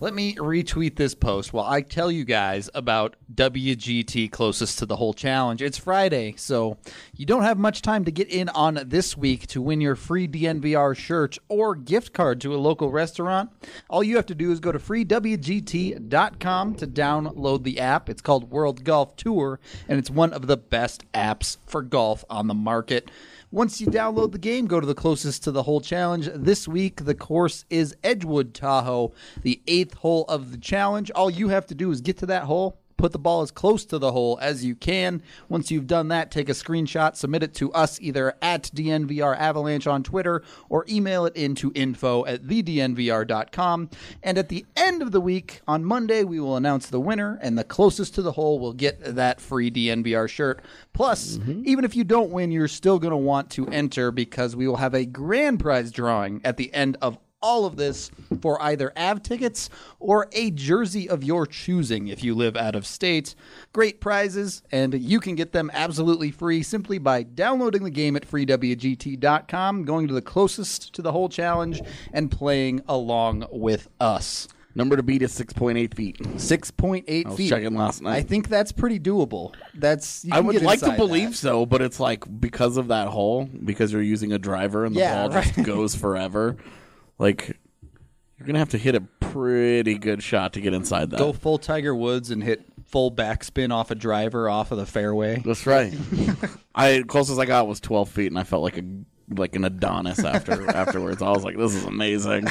Let me retweet this post while I tell you guys about WGT closest to the whole challenge. It's Friday, so you don't have much time to get in on this week to win your free DNVR shirt or gift card to a local restaurant. All you have to do is go to freewgt.com to download the app. It's called World Golf Tour, and it's one of the best apps for golf on the market. Once you download the game, go to the closest to the whole challenge. This week, the course is Edgewood Tahoe, the 8th hole of the challenge. All you have to do is get to that hole, put the ball as close to the hole as you can. Once you've done that, take a screenshot, submit it to us either at DNVR Avalanche on Twitter or email it into info@thednvr.com. And at the end of the week, on Monday, we will announce the winner, and the closest to the hole will get that free DNVR shirt. Plus, even if you don't win, you're still going to want to enter because we will have a grand prize drawing at the end of all of this for either AV tickets or a jersey of your choosing if you live out of state. Great prizes, and you can get them absolutely free simply by downloading the game at freewgt.com, going to the closest to the whole challenge, and playing along with us. Number to beat is 6.8 feet. 6.8 feet. I was checking last night. I think that's pretty doable. I would like to believe so, but it's like because of that hole, because you're using a driver and the ball just goes forever. Like, you're going to have to hit a pretty good shot to get inside that. Go full Tiger Woods and hit full backspin off a driver off of the fairway. That's right. Closest I got was 12 feet, and I felt like an Adonis afterwards. I was like, this is amazing.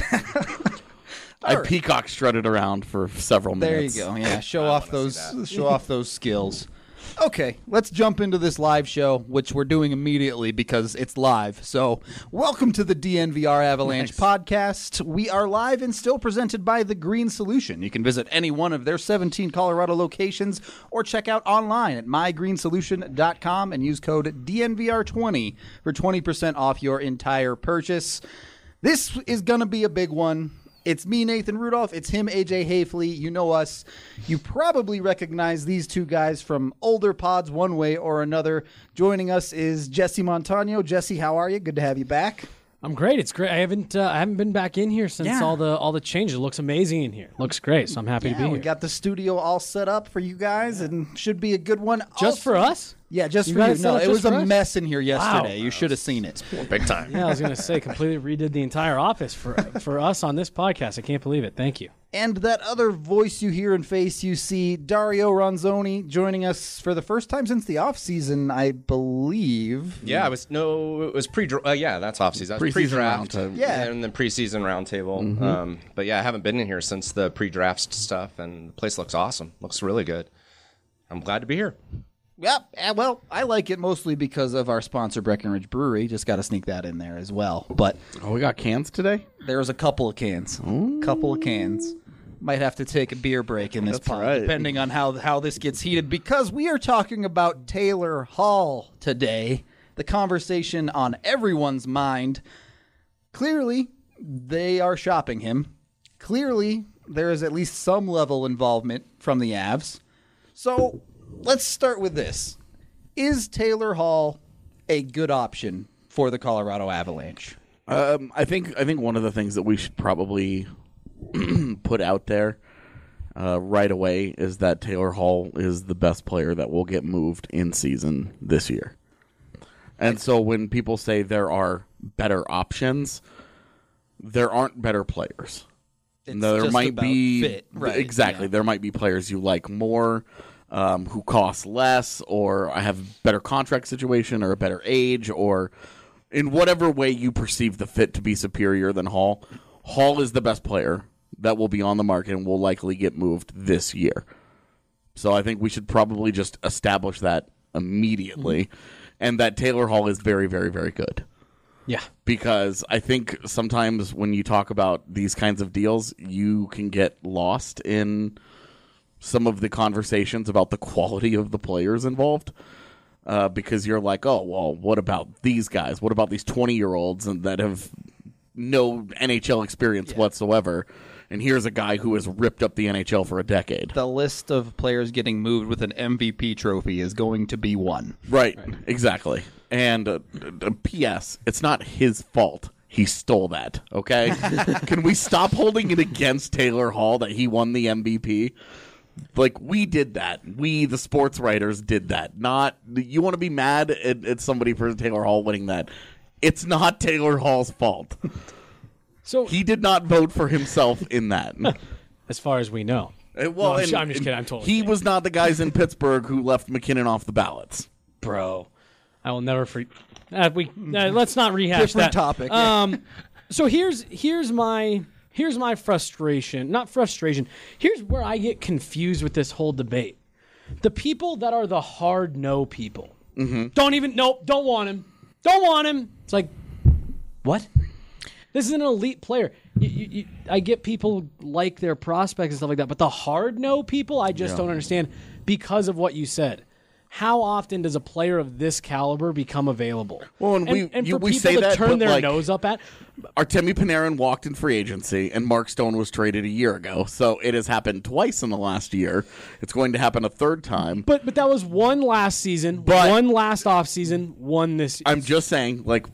I peacock strutted around for several minutes. There you go. Yeah, show off those skills. Okay, let's jump into this live show, which we're doing immediately because it's live. So, welcome to the DNVR Avalanche podcast. We are live and still presented by The Green Solution. You can visit any one of their 17 Colorado locations or check out online at mygreensolution.com and use code DNVR20 for 20% off your entire purchase. This is going to be a big one. It's me, Nathan Rudolph. It's him, AJ Hayfley. You know us. You probably recognize these two guys from older pods one way or another. Joining us is Jesse Montano. Jesse, how are you? Good to have you back. I'm great. It's great. I haven't been back in here since all the changes. It looks amazing in here. Looks great. So I'm happy to be here. We got the studio all set up for you guys, and should be a good one. Just for us? Yeah, just for you. No, it was a mess in here yesterday. Wow. You should have seen it. Big time. Yeah, I was going to say, completely redid the entire office for us on this podcast. I can't believe it. Thank you. And that other voice you hear and face you see, Dario Ronzoni, joining us for the first time since the off-season, I believe. Yeah, it was pre-draft. Yeah, that's off-season. Pre-draft. Yeah. And the preseason roundtable. But yeah, I haven't been in here since the pre-draft stuff, and the place looks awesome. Looks really good. I'm glad to be here. Yep. Well, I like it mostly because of our sponsor, Breckenridge Brewery. Just got to sneak that in there as well. But we got cans today? There's a couple of cans. Might have to take a beer break in this pod, depending on how this gets heated, because we are talking about Taylor Hall today. The conversation on everyone's mind. Clearly, they are shopping him. Clearly, there is at least some level involvement from the Avs. So let's start with this. Is Taylor Hall a good option for the Colorado Avalanche? I think one of the things that we should probably put out there right away is that Taylor Hall is the best player that will get moved in season this year. And so when people say there are better options, there aren't better players. There might be fit, right? Exactly. Yeah. There might be players you like more, who cost less, or I have better contract situation, or a better age, or in whatever way you perceive the fit to be superior than Hall. Hall is the best player that will be on the market and will likely get moved this year. So I think we should probably just establish that immediately, and that Taylor Hall is very, very, very good. Yeah. Because I think sometimes when you talk about these kinds of deals, you can get lost in some of the conversations about the quality of the players involved, because you're like, oh, well, what about these guys? What about these 20-year-olds that have no NHL experience whatsoever? And here's a guy who has ripped up the NHL for a decade. The list of players getting moved with an MVP trophy is going to be one. Right. Exactly. And P.S., it's not his fault He stole that, okay? Can we stop holding it against Taylor Hall that he won the MVP? Like, we did that. We, the sports writers, did that. Not, you want to be mad at somebody for Taylor Hall winning that. It's not Taylor Hall's fault. So He did not vote for himself in that. as far as we know. Well, I'm just kidding. I'm totally He kidding. was not the guys in Pittsburgh who left McKinnon off the ballots. Bro, I will never let's not rehash Different that topic. So here's my frustration. Not frustration. Here's where I get confused with this whole debate. The people that are the hard no people don't want him. Don't want him. It's like, what? This is an elite player. I get people like their prospects and stuff like that, but the hard no people, I just don't understand because of what you said. How often does a player of this caliber become available? Well, and for we people say to that, turn but, their like, nose up at. Artemi Panarin walked in free agency, and Mark Stone was traded a year ago. So it has happened twice in the last year. It's going to happen a third time. But that was one last season, one last offseason, one this year. I'm just saying, like,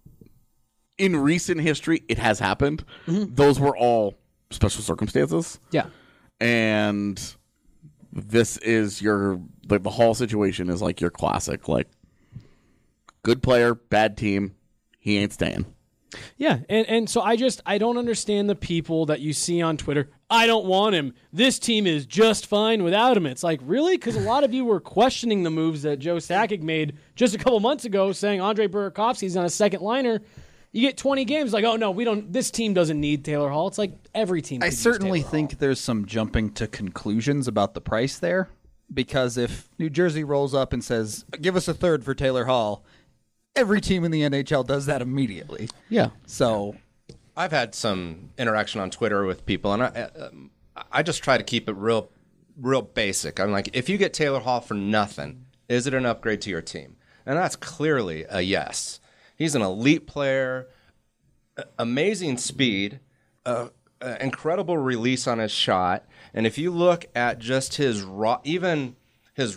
in recent history, it has happened. Those were all special circumstances. Yeah. And this is your, like, the Hall situation is like your classic, like, good player, bad team, he ain't staying. Yeah, and so I don't understand the people that you see on Twitter. I don't want him. This team is just fine without him. It's like, really? Because a lot of you were questioning the moves that Joe Sakic made just a couple months ago, saying Andre Burakovsky's on a second liner. You get 20 games, like, oh no, we don't. This team doesn't need Taylor Hall. It's like every team. I could use certainly Taylor think Hall. there's some jumping to conclusions about the price there, because if New Jersey rolls up and says, "Give us a third for Taylor Hall," every team in the NHL does that immediately. Yeah. So I've had some interaction on Twitter with people, and I just try to keep it real basic. I'm like, if you get Taylor Hall for nothing, is it an upgrade to your team? And that's clearly a yes. He's an elite player, amazing speed, incredible release on his shot, and if you look at just his raw, even his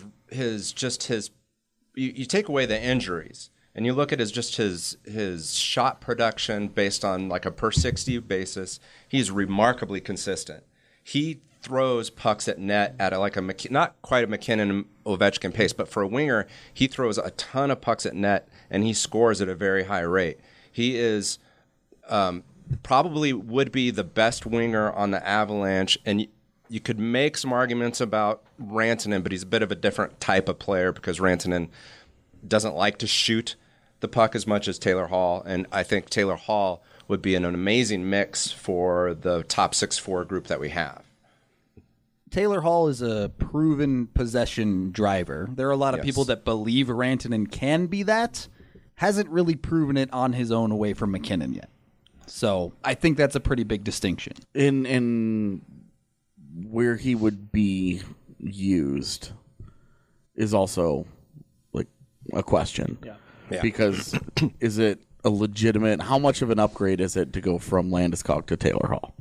you take away the injuries. And you look at his shot production based on like a per 60 basis, he's remarkably consistent. He throws pucks at net at not quite a McKinnon Ovechkin pace, but for a winger, he throws a ton of pucks at net and he scores at a very high rate. He is probably would be the best winger on the Avalanche, and you could make some arguments about Rantanen, but he's a bit of a different type of player because Rantanen doesn't like to shoot the puck as much as Taylor Hall, and I think Taylor Hall would be an amazing mix for the top 6-4 group that we have. Taylor Hall is a proven possession driver. There are a lot of Yes. people that believe Rantanen can be that. Hasn't really proven it on his own away from McKinnon yet. So I think that's a pretty big distinction. In where he would be used is also like a question. Yeah. Because is it a legitimate, how much of an upgrade is it to go from Landeskog to Taylor Hall?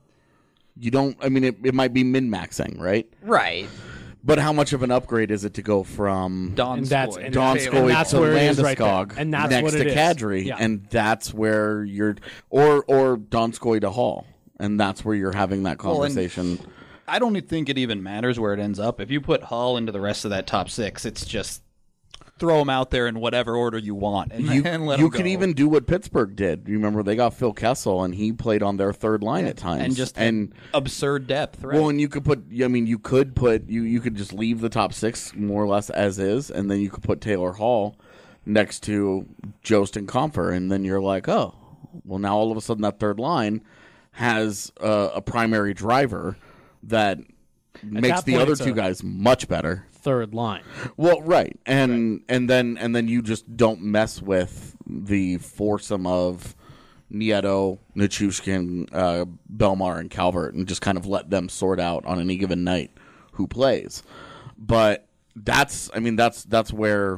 You don't, I mean, it might be min-maxing, right? Right. But how much of an upgrade is it to go from Donskoy. Donskoy to where it is right there. Landeskog And that's next what to it is. Kadri? Yeah. And that's where you're, or Donskoy to Hall. And that's where you're having that conversation. I don't think it even matters where it ends up. If you put Hall into the rest of that top six, it's just throw him out there in whatever order you want and let him You could go. even do what Pittsburgh did. You remember they got Phil Kessel, and he played on their third line at times, and just absurd depth, right? well, and you could put. I mean, you could just leave the top six more or less as is, and then you could put Taylor Hall next to Jost and Comfer, and then you're like, oh, well, now all of a sudden that third line has a primary driver that makes that the point, other it's two a- guys much better. Third line. Well, right, and then you just don't mess with the foursome of Nieto, Nichushkin, Belmar, and Calvert, and just kind of let them sort out on any given night who plays. But that's where,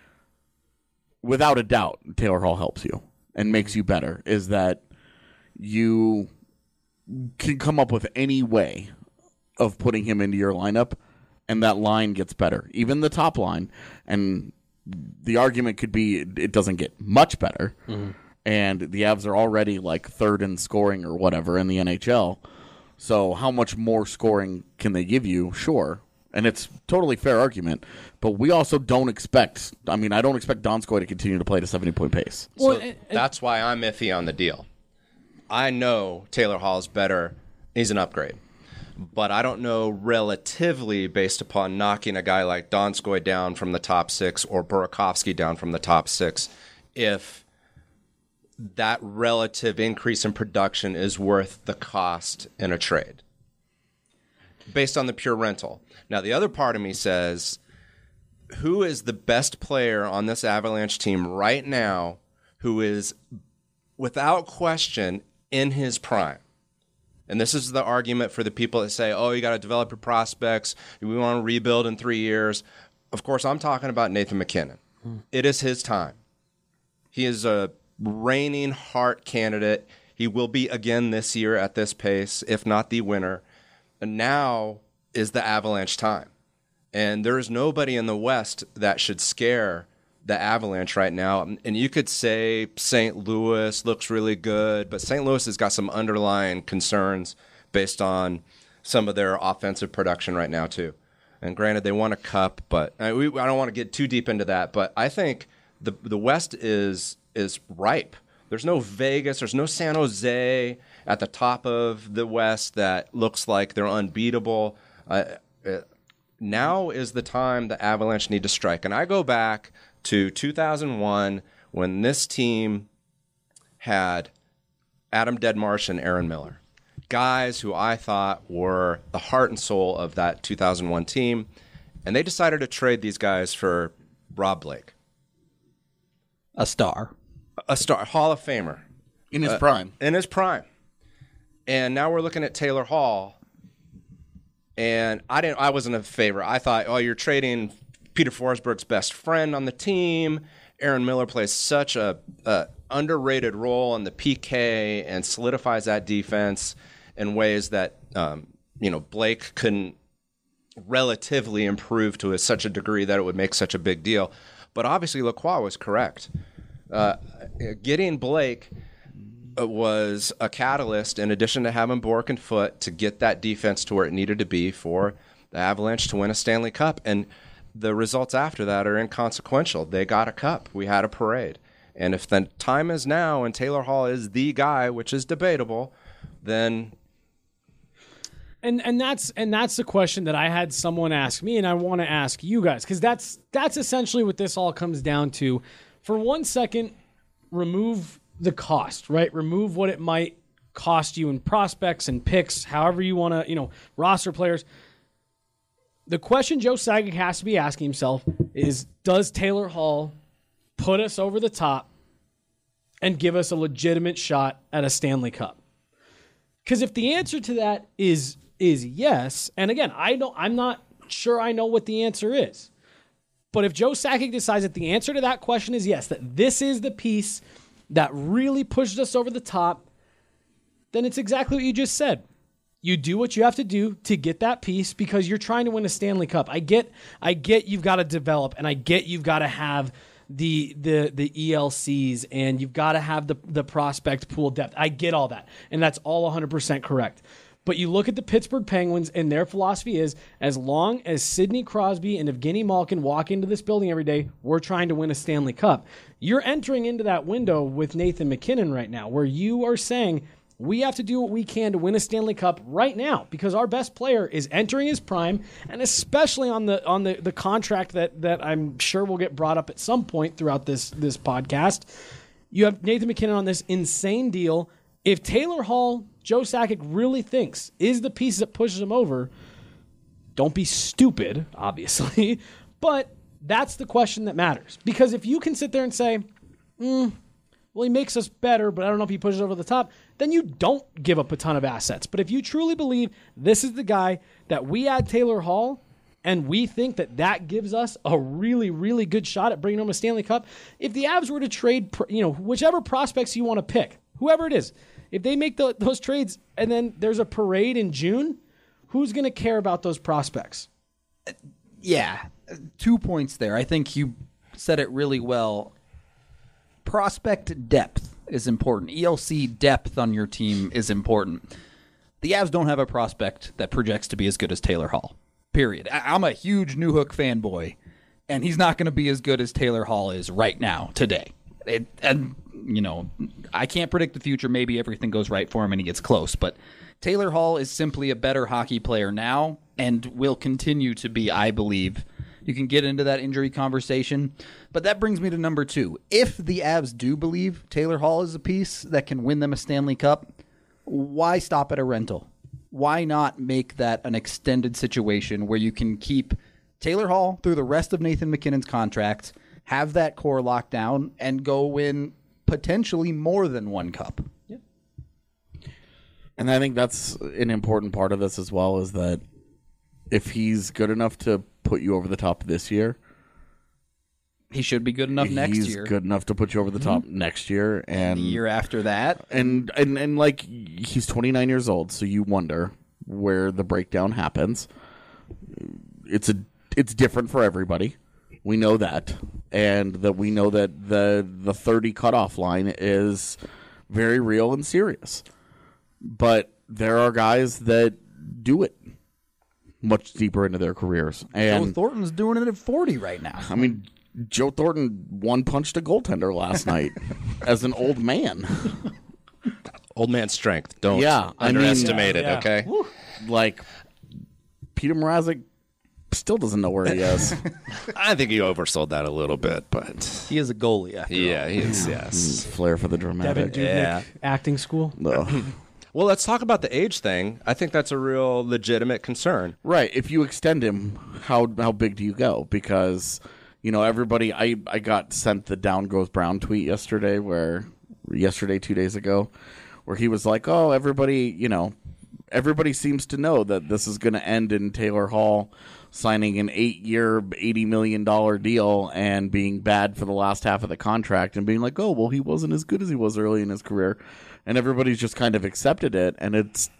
without a doubt, Taylor Hall helps you and makes you better. Is that you can come up with any way of putting him into your lineup, and that line gets better, even the top line. And the argument could be it doesn't get much better, and the Avs are already like third in scoring or whatever in the NHL. So how much more scoring can they give you? Sure. And it's totally fair argument, but we also don't expect. I mean, I don't expect Donskoy to continue to play at a 70-point pace. Well, So that's why I'm iffy on the deal. I know Taylor Hall is better. He's an upgrade. But I don't know relatively based upon knocking a guy like Donskoy down from the top 6 or Burakovsky down from the top 6 if that relative increase in production is worth the cost in a trade based on the pure rental. Now, the other part of me says, who is the best player on this Avalanche team right now who is, without question, in his prime? And this is the argument for the people that say, oh, you got to develop your prospects. We want to rebuild in 3 years. Of course, I'm talking about Nathan MacKinnon. It is his time. He is a reigning Hart candidate. He will be again this year at this pace, if not the winner. And now is the Avalanche time. And there is nobody in the West that should scare the Avalanche right now. And you could say St. Louis looks really good, but St. Louis has got some underlying concerns based on some of their offensive production right now too. And granted, they won a cup, but I don't want to get too deep into that. But I think the West is ripe. There's no Vegas, there's no San Jose at the top of the West that looks like they're unbeatable. Now is the time the Avalanche need to strike. And I go back to 2001 when this team had Adam Deadmarsh and Aaron Miller, guys who I thought were the heart and soul of that 2001 team, and they decided to trade these guys for Rob Blake. A star, Hall of Famer. In his prime. In his prime. And now we're looking at Taylor Hall, and I wasn't a favorite. I thought, oh, you're trading Peter Forsberg's best friend on the team. Aaron Miller plays such a underrated role in the PK and solidifies that defense in ways that Blake couldn't relatively improve to such a degree that it would make such a big deal. But obviously, Lacroix was correct. Getting Blake was a catalyst, in addition to having Bourque and Foote, to get that defense to where it needed to be for the Avalanche to win a Stanley Cup. And the results after that are inconsequential. They got a cup. We had a parade. And if the time is now and Taylor Hall is the guy, which is debatable, then... And that's the question that I had someone ask me, and I want to ask you guys, because that's essentially what this all comes down to. For 1 second, remove the cost, right? Remove what it might cost you in prospects and picks, however you want to, roster players. The question Joe Sakic has to be asking himself is, does Taylor Hall put us over the top and give us a legitimate shot at a Stanley Cup? Because if the answer to that is yes, and again, I'm not sure I know what the answer is, but if Joe Sakic decides that the answer to that question is yes, that this is the piece that really pushed us over the top, then it's exactly what you just said. You do what you have to do to get that piece because you're trying to win a Stanley Cup. I get you've got to develop, and I get you've got to have the ELCs, and you've got to have the prospect pool depth. I get all that, and that's all 100% correct. But you look at the Pittsburgh Penguins, and their philosophy is, as long as Sidney Crosby and Evgeny Malkin walk into this building every day, we're trying to win a Stanley Cup. You're entering into that window with Nathan MacKinnon right now, where you are saying, we have to do what we can to win a Stanley Cup right now because our best player is entering his prime, and especially on the contract that I'm sure will get brought up at some point throughout this podcast. You have Nathan MacKinnon on this insane deal. If Taylor Hall, Joe Sakic really thinks is the piece that pushes him over, don't be stupid, obviously, but that's the question that matters. Because if you can sit there and say, well, he makes us better, but I don't know if he pushes over the top, then you don't give up a ton of assets. But if you truly believe this is the guy that we add Taylor Hall, and we think that gives us a really, really good shot at bringing home a Stanley Cup, if the Avs were to trade, whichever prospects you want to pick, whoever it is, if they make those trades and then there's a parade in June, who's going to care about those prospects? Yeah, 2 points there. I think you said it really well. prospect depth is important. ELC depth on your team is important. The Avs don't have a prospect that projects to be as good as Taylor Hall. Period. I'm a huge Newhook fanboy, and he's not going to be as good as Taylor Hall is right now, today. And, you know, I can't predict the future. Maybe everything goes right for him and he gets close. But Taylor Hall is simply a better hockey player now and will continue to be, I believe. You can get into that injury conversation. But that brings me to number 2. If the Avs do believe Taylor Hall is a piece that can win them a Stanley Cup, why stop at a rental? Why not make that an extended situation where you can keep Taylor Hall through the rest of Nathan MacKinnon's contract, have that core locked down, and go win potentially more than one cup? Yeah. And I think that's an important part of this as well, is that if he's good enough to put you over the top this year, he should be good enough next year. He's good enough to put you over the top next year, and the year after that. And like, he's 29 years old, so you wonder where the breakdown happens. It's different for everybody. We know that, and that we know that the 30 cutoff line is very real and serious. But there are guys that do it much deeper into their careers. And Joe Thornton's doing it at 40 right now. I mean, Joe Thornton one-punched a goaltender last night as an old man. Old man strength. Don't I underestimate mean, it, okay? Like, Peter Mrazek still doesn't know where he is. I think he oversold that a little bit, but He is a goalie after all. he is, yes. Flair for the Devin dramatic. Dubnyk Yeah. acting school. Ugh. Well, let's talk about the age thing. I think that's a real legitimate concern. Right. If you extend him, how big do you go? Because, you know, everybody, I got sent the Down Goes Brown tweet yesterday, 2 days ago, where he was like, oh, everybody seems to know that this is going to end in Taylor Hall signing an 8-year, $80 million deal and being bad for the last half of the contract and being like, oh, well, he wasn't as good as he was early in his career. And everybody's just kind of accepted it. And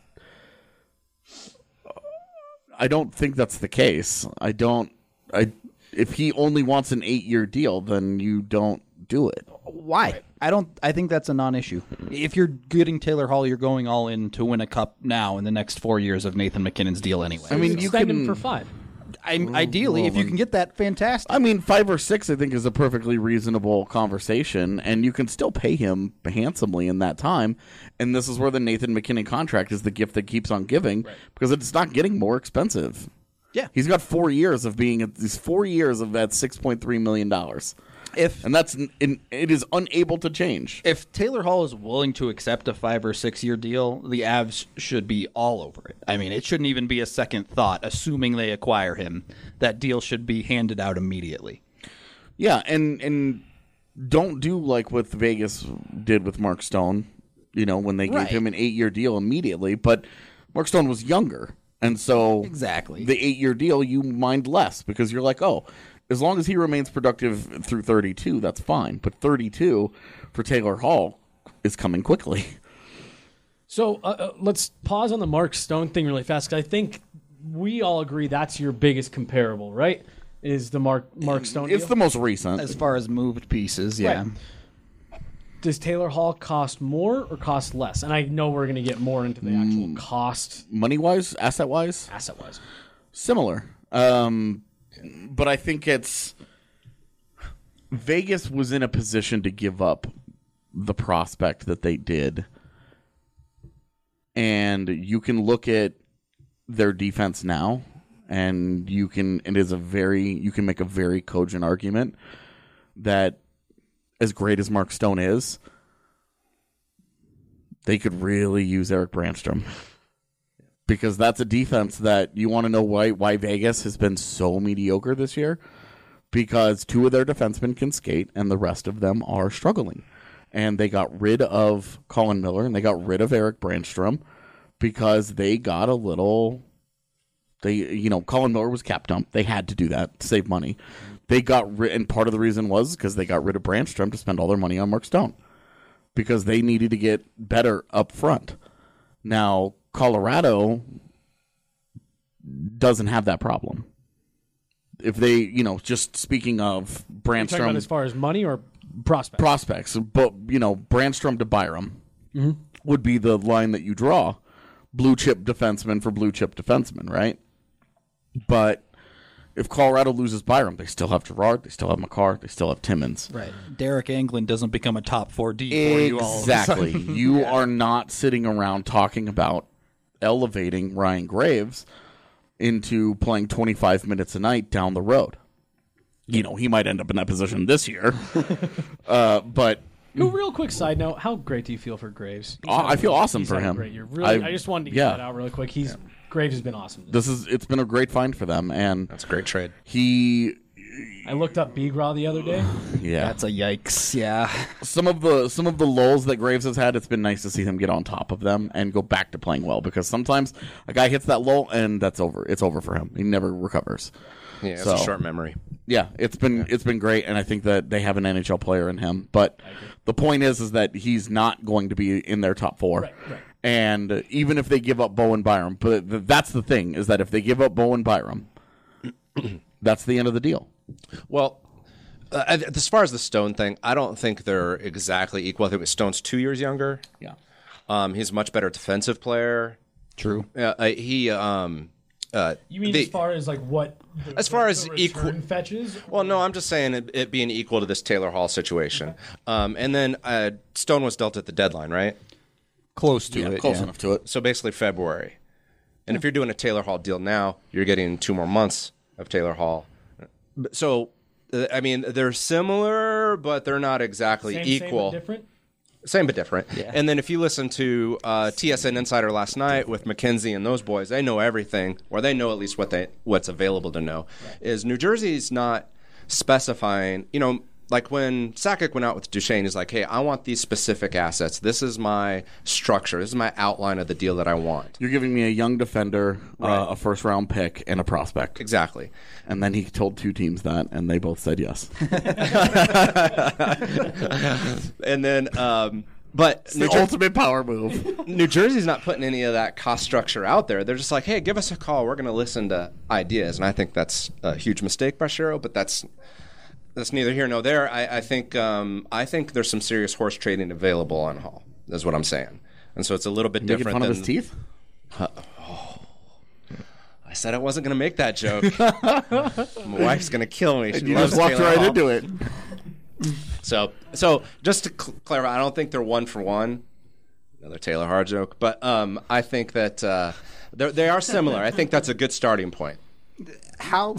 I don't think that's the case. If he only wants an 8-year deal, then you don't do it. Why? I think that's a non-issue. If you're getting Taylor Hall, you're going all in to win a cup now in the next 4 years of Nathan MacKinnon's deal anyway. I mean, you Extend can him for 5. Ideally, if you can get that, fantastic. I mean, 5 or 6, I think, is a perfectly reasonable conversation, and you can still pay him handsomely in that time. And this is where the Nathan MacKinnon contract is the gift that keeps on giving, because it's not getting more expensive. Yeah. He's got 4 years of being at these 4 years of that $6.3 million. And it is unable to change. If Taylor Hall is willing to accept a 5 or 6 year deal, the Avs should be all over it. I mean, it shouldn't even be a second thought, assuming they acquire him. That deal should be handed out immediately. Yeah, and don't do like what Vegas did with Mark Stone, when they gave him an 8-year deal immediately. But Mark Stone was younger. And so exactly the 8-year deal, you mind less because you're like, oh, as long as he remains productive through 32, that's fine. But 32 for Taylor Hall is coming quickly. So let's pause on the Mark Stone thing really fast, because I think we all agree that's your biggest comparable, right? Is the Mark Stone It's deal? the most recent. as far as moved pieces, yeah. Right. Does Taylor Hall cost more or cost less? And I know we're going to get more into the actual cost. Money-wise, asset-wise? Asset-wise. Similar. But I think Vegas was in a position to give up the prospect that they did. And you can look at their defense now, and you can make a very cogent argument that as great as Mark Stone is, they could really use Eric Brandstrom. Because that's a defense that you want to know why Vegas has been so mediocre this year. Because 2 of their defensemen can skate, and the rest of them are struggling. And they got rid of Colin Miller, and they got rid of Eric Brandstrom because they got a little... Colin Miller was cap dump. They had to do that to save money. They got and part of the reason was because they got rid of Brandstrom to spend all their money on Mark Stone. Because they needed to get better up front. Now, Colorado doesn't have that problem. If they, just speaking of Are you talking about Brandstrom, as far as money or prospects. But, Brandstrom to Byram would be the line that you draw. Blue chip defenseman for blue chip defenseman, right? But if Colorado loses Byram, they still have Gerard, they still have McCarr, they still have Timmins. Right. Derek Anglin doesn't become a top 4D for you all of a Exactly. sudden. You are not sitting around talking about elevating Ryan Graves into playing 25 minutes a night down the road. He might end up in that position this year. But Real quick side note, how great do you feel for Graves? I feel awesome He's for had a him. great year. Really, I just wanted to get that out really quick. Graves has been awesome. It's been a great find for them, and That's a great trade. I looked up Bigra the other day. Yeah, That's a yikes. Yeah. some of the lulls that Graves has had, it's been nice to see him get on top of them and go back to playing well, because sometimes a guy hits that lull and that's over. It's over for him. He never recovers. Yeah, it's So- a short memory. Yeah, it's been great, and I think that they have an NHL player in him. But the point is that he's not going to be in their top 4. Right. And even if they give up Bowen Byram, but that's the thing, is that if they give up Bowen Byram, that's the end of the deal. Well, as far as the Stone thing, I don't think they're exactly equal. I think Stone's 2 years younger. Yeah. He's a much better defensive player. True. You mean as far as like what? As far as return fetches? Well, no, I'm just saying it being equal to this Taylor Hall situation. And then Stone was dealt at the deadline, right? Close to it. Close enough to it. So basically February. And if you're doing a Taylor Hall deal now, you're getting 2 more months of Taylor Hall. So, they're similar, but they're not exactly equal. Same but different? Same but different. Yeah. And then if you listen to TSN Insider last night with McKenzie and those boys, they know everything, or they know at least what's available to know. Right. Is New Jersey's not specifying, like when Sakic went out with Duchesne, he's like, hey, I want these specific assets. This is my structure. This is my outline of the deal that I want. You're giving me a young defender, a first-round pick, and a prospect. Exactly. And then he told 2 teams that, and they both said yes. And then, but It's the ultimate power move. New Jersey's not putting any of that cost structure out there. They're just like, hey, give us a call. We're going to listen to ideas. And I think that's a huge mistake by Shero, but that's neither here nor there. I think there's some serious horse trading available on Hall. That's what I'm saying. And so it's a little bit Making different fun than of his teeth? I said I wasn't going to make that joke. My wife's going to kill me. She You loves just walked Taylor right Hall. into it. So just to clarify, I don't think they're 1 for 1. Another Taylor Hall joke, but I think that they are similar. I think that's a good starting point. How?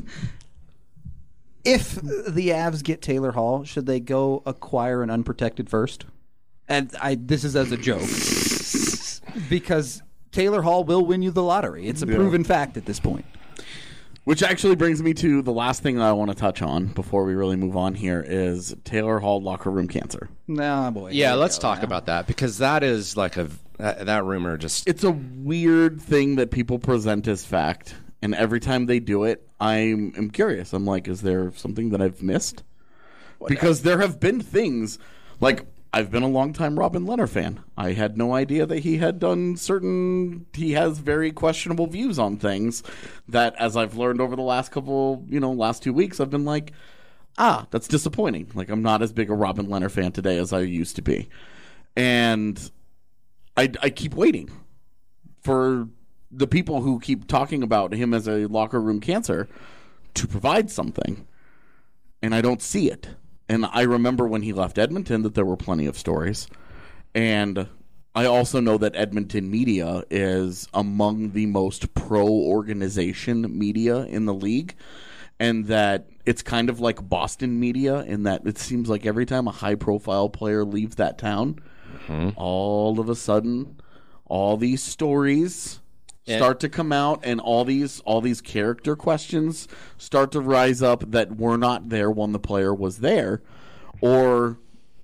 If the Avs get Taylor Hall, should they go acquire an unprotected first? And this is as a joke, because Taylor Hall will win you the lottery. It's a proven fact at this point. Which actually brings me to the last thing that I want to touch on before we really move on here is Taylor Hall locker room cancer. Nah, boy. Yeah, let's talk about that, because that is like that rumor just... It's a weird thing that people present as fact, and every time they do it, I'm curious. I'm like, is there something that I've missed? Because there have been things, like, I've been a longtime Robin Lehner fan. I had no idea that he had done he has very questionable views on things that, as I've learned over the last last 2 weeks, I've been like, that's disappointing. Like, I'm not as big a Robin Lehner fan today as I used to be. And I keep waiting for the people who keep talking about him as a locker room cancer to provide something. And I don't see it. And I remember when he left Edmonton that there were plenty of stories. And I also know that Edmonton media is among the most pro-organization media in the league. And that it's kind of like Boston media in that it seems like every time a high-profile player leaves that town, all of a sudden, all these stories start to come out, and all these character questions start to rise up that were not there when the player was there, or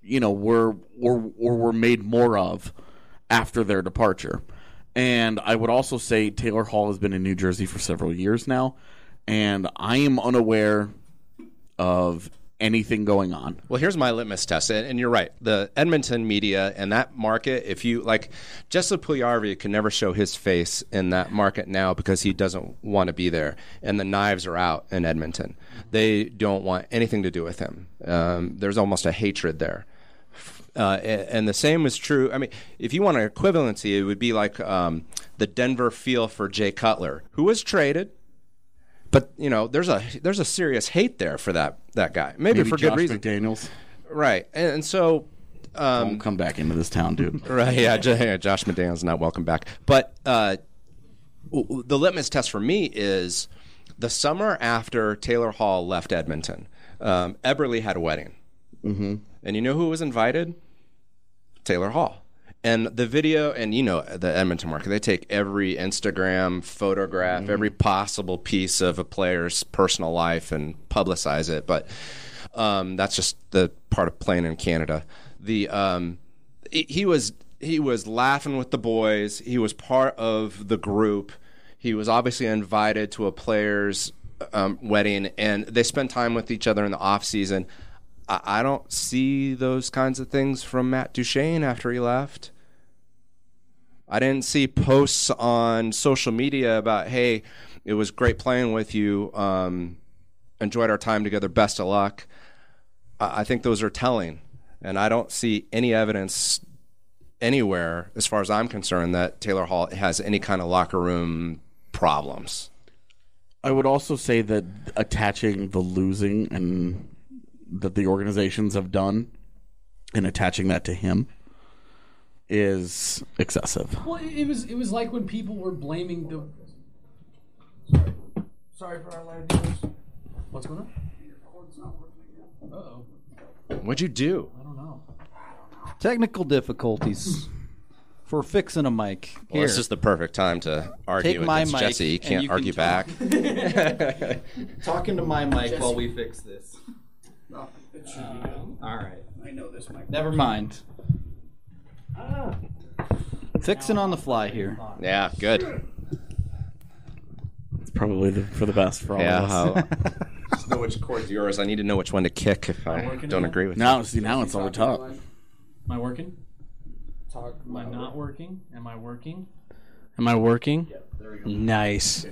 were made more of after their departure. And I would also say Taylor Hall has been in New Jersey for several years now, and I am unaware of anything going on. Well, here's my litmus test, and you're right. The Edmonton media and that market, if you like, Jesse Puljujarvi can never show his face in that market now because he doesn't want to be there, and the knives are out in Edmonton. They don't want anything to do with him. There's almost a hatred there. And the same is true. I mean, if you want an equivalency, it would be like the Denver feel for Jay Cutler, who was traded. But there's a serious hate there for that guy. Maybe for Josh good reason. McDaniels. Right, and so Don't come back into this town, dude. right, yeah, Josh McDaniels not welcome back. But the litmus test for me is the summer after Taylor Hall left Edmonton. Eberle had a wedding, and you know who was invited? Taylor Hall. And the video, and the Edmonton market, they take every Instagram photograph, every possible piece of a player's personal life and publicize it. But that's just the part of playing in Canada. He was laughing with the boys. He was part of the group. He was obviously invited to a player's wedding, and they spent time with each other in the off season. I don't see those kinds of things from Matt Duchene after he left. I didn't see posts on social media about, hey, it was great playing with you, enjoyed our time together, best of luck. I think those are telling, and I don't see any evidence anywhere, as far as I'm concerned, that Taylor Hall has any kind of locker room problems. I would also say that attaching the losing and that the organizations have done and attaching that to him is excessive. Well, it was like when people were blaming the. Sorry for our live viewers. What's going on? Uh-oh. What'd you do? I don't know. Technical difficulties for fixing a mic. Well, Here, this is the perfect time to argue Take my against mic Jesse. You and can't you can argue talk. back. talking to my mic while we fix this. All right. I know this mic. Never mind. Fixing on the fly here. Yeah, good. It's probably for the best for all Yeah, of us. just know which chord's yours. I need to know which one to kick if I working don't now? agree with Now it's over top. Am I working? Am I not working? Am I working? Am I working? Yeah, there we go. Nice.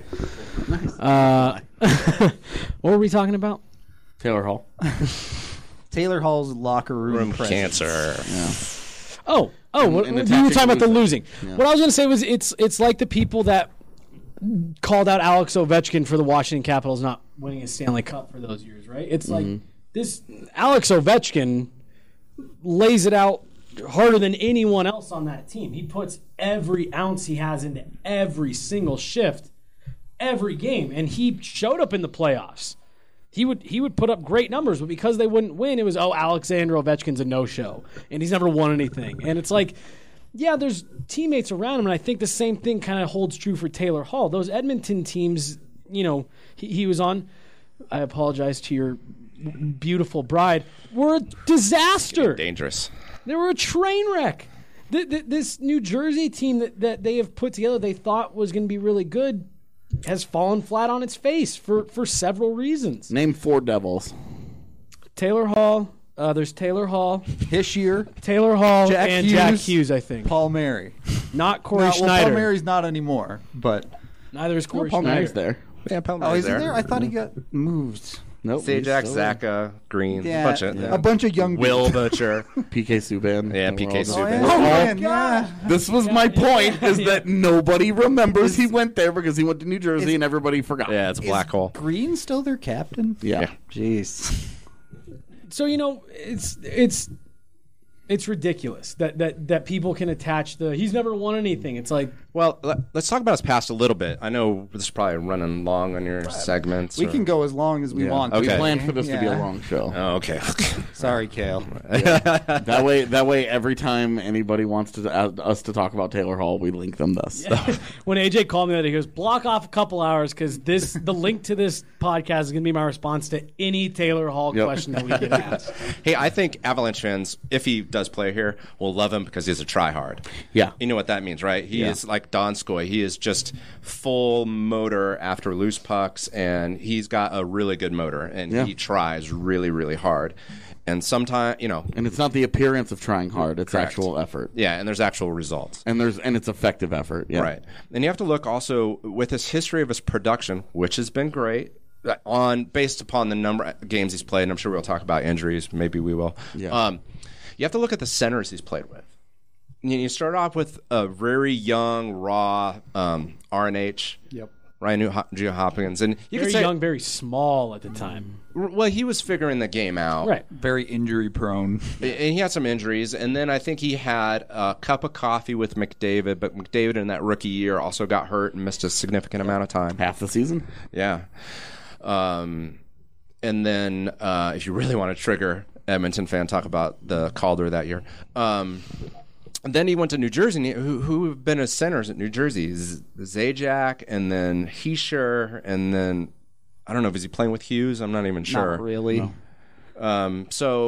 What were we talking about? Taylor Hall. Taylor Hall's locker room presence. cancer. Yeah. Oh, And you were attaching talking about the losing. losing. Yeah. What I was going to say was it's like the people that called out Alex Ovechkin for the Washington Capitals not winning a Stanley Cup for those years, right? It's like this Alex Ovechkin lays it out harder than anyone else on that team. He puts every ounce he has into every single shift, every game, and he showed up in the playoffs. He would put up great numbers, but because they wouldn't win, it was, Alexander Ovechkin's a no-show, and he's never won anything. And it's like, yeah, there's teammates around him, and I think the same thing kind of holds true for Taylor Hall. Those Edmonton teams, he was on, I apologize to your beautiful bride, were a disaster. Dangerous. They were a train wreck. This New Jersey team that they have put together, they thought was going to be really good, has fallen flat on its face for several reasons. Name 4 Devils. Taylor Hall. There's Taylor Hall, Hischier, Taylor Hall, Jack and Hughes. Jack Hughes, I think. Paul Mary. Not Corey Well, Schneider. Paul Mary's not anymore, but Neither is Corey Paul Schneider. Mary's there. Yeah, oh, Palmer's is he there? I thought he got moved. Nope. Sajak, he's still there. Zaka, Green, Yeah, a a bunch of young Will Butcher. PK Subban. Yeah, We're PK all Subban. there. Oh, man, yeah. This was my point, is that nobody remembers he went there because he went to New Jersey and everybody forgot. Yeah, it's a black hole. Green still their captain? Yeah. Jeez. So it's ridiculous that people can attach he's never won anything. It's like, Well, let's talk about his past a little bit. I know this is probably running long on your segments. We can go as long as we want. We Okay. planned for this to be a Yeah. long show. Oh, okay. Sorry, Kale. That way, every time anybody wants us to talk about Taylor Hall, we link them thus. when AJ called me that, he goes, block off a couple hours because the link to this podcast is going to be my response to any Taylor Hall Yep. question that we get asked. Hey, I think Avalanche fans, if he does play here, will love him because he's a tryhard. Yeah. You know what that means, right? He Yeah. is like like Donskoy. He is just full motor after loose pucks, and he's got a really good motor, and he tries really, really hard. And sometimes, and it's not the appearance of trying hard; it's actual effort. Yeah, and there's actual results, and it's effective effort. Yeah. Right. And you have to look also with his history of his production, which has been great, based upon the number of games he's played. And I'm sure we'll talk about injuries. Maybe we will. Yeah. You have to look at the centers he's played with. You start off with a very young, raw RNH. Yep. Ryan Nugent-Hopkins, and you very could say, young, very small at the time. Well, he was figuring the game out, right? Very injury prone, and he had some injuries. And then I think he had a cup of coffee with McDavid, but McDavid in that rookie year also got hurt and missed a significant amount of time, half the season. Yeah, and then if you really want to trigger Edmonton fan, talk about the Calder that year. And then he went to New Jersey. Who have been his centers at New Jersey? Zajac, and then Hischier, and then I don't know. Is he playing with Hughes? I'm not even sure. Not really. No.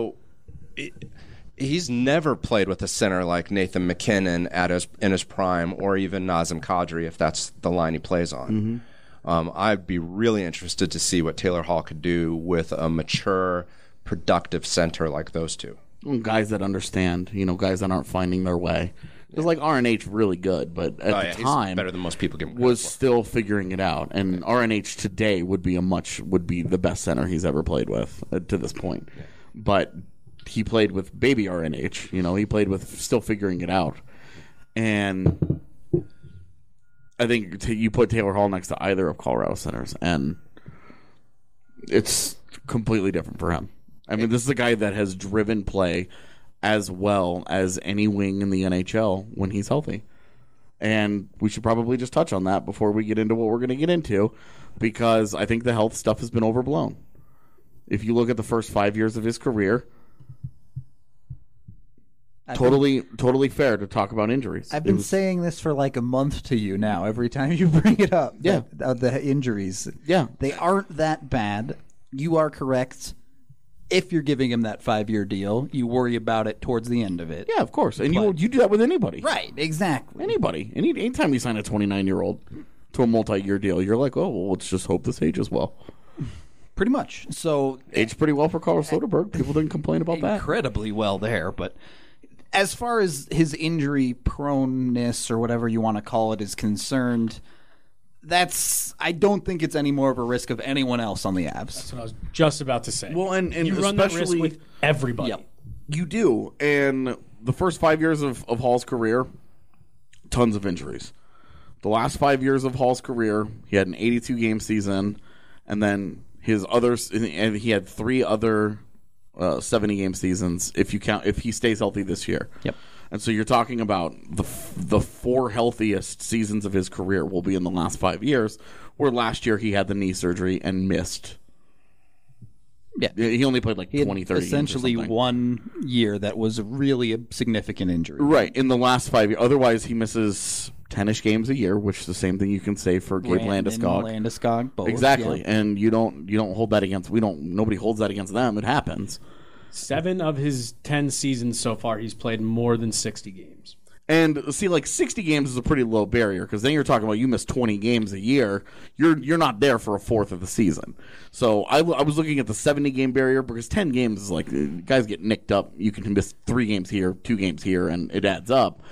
He's never played with a center like Nathan McKinnon in his prime, or even Nazem Kadri, if that's the line he plays on. Mm-hmm. I'd be really interested to see what Taylor Hall could do with a mature, productive center like those two. Guys that understand, guys that aren't finding their way. Because like RNH really good, but at the time he's better than most people give was still figuring it out. And RNH today would be the best center he's ever played with to this point. Yeah. But he played with baby RNH. He played with still figuring it out. And I think you put Taylor Hall next to either of Colorado centers, and it's completely different for him. I mean, this is a guy that has driven play as well as any wing in the NHL when he's healthy. And we should probably just touch on that before we get into what we're going to get into, because I think the health stuff has been overblown. If you look at the first 5 years of his career, totally fair to talk about injuries. I've been saying this for like a month to you now, every time you bring it up. Yeah. The injuries. Yeah. They aren't that bad. You are correct. If you're giving him that 5-year deal, you worry about it towards the end of it. Yeah, of course. And you do that with anybody. Right, exactly. Anybody. Anytime you sign a 29-year-old to a multi-year deal, you're like, oh, well, let's just hope this ages well. Pretty much. So aged pretty well for Carl Soderberg. People didn't complain about that. Incredibly well there. But as far as his injury proneness, or whatever you want to call it, is concerned, I don't think it's any more of a risk of anyone else on the Avs. That's what I was just about to say. Well, and you run that risk with everybody. Yep. You do. And the first 5 years of Hall's career, tons of injuries. The last 5 years of Hall's career, he had an 82-game season, and then and he had 3 other 70-game seasons if he stays healthy this year. Yep. And so you're talking about the 4 healthiest seasons of his career will be in the last 5 years, where last year he had the knee surgery and missed. Yeah. He only played like 20, 30 essentially games or 1 year that was really a significant injury. Right, in the last 5 years. Otherwise, he misses 10-ish games a year, which is the same thing you can say for Gabe Landeskog. Landeskog, both. Exactly, yeah. and you don't hold that against. Nobody holds that against them. It happens. 7 of his 10 seasons so far, he's played more than 60 games. And see, like 60 games is a pretty low barrier, because then you're talking about you miss 20 games a year. You're not there for a fourth of the season. So I was looking at the 70-game barrier, because 10 games is like guys get nicked up. You can miss 3 games here, 2 games here, and it adds up.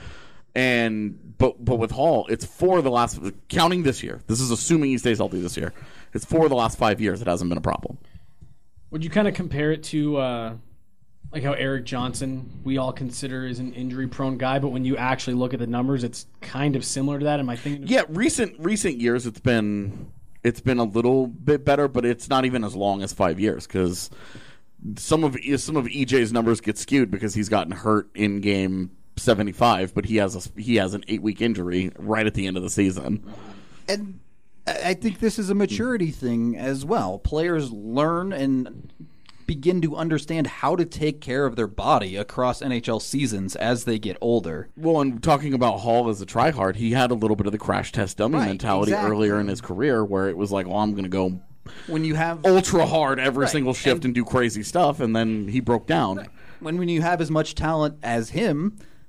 But with Hall, it's 4 of the last, counting this year. This is assuming he stays healthy this year. It's 4 of the last 5 years. It hasn't been a problem. Would you kind of compare it to like how Eric Johnson we all consider is an injury-prone guy, but when you actually look at the numbers, it's kind of similar to that? Am I thinking? Yeah, recent years it's been a little bit better, but it's not even as long as 5 years, because some of EJ's numbers get skewed because he's gotten hurt in game 75, but he has an 8-week injury right at the end of the season. And I think this is a maturity thing as well. Players learn and begin to understand how to take care of their body across NHL seasons as they get older. Well, and talking about Hall as a tryhard, he had a little bit of the crash test dummy mentality earlier in his career, where it was like, well, I'm going to go when you have ultra hard every single shift and do crazy stuff, and then he broke down. When you have as much talent as him,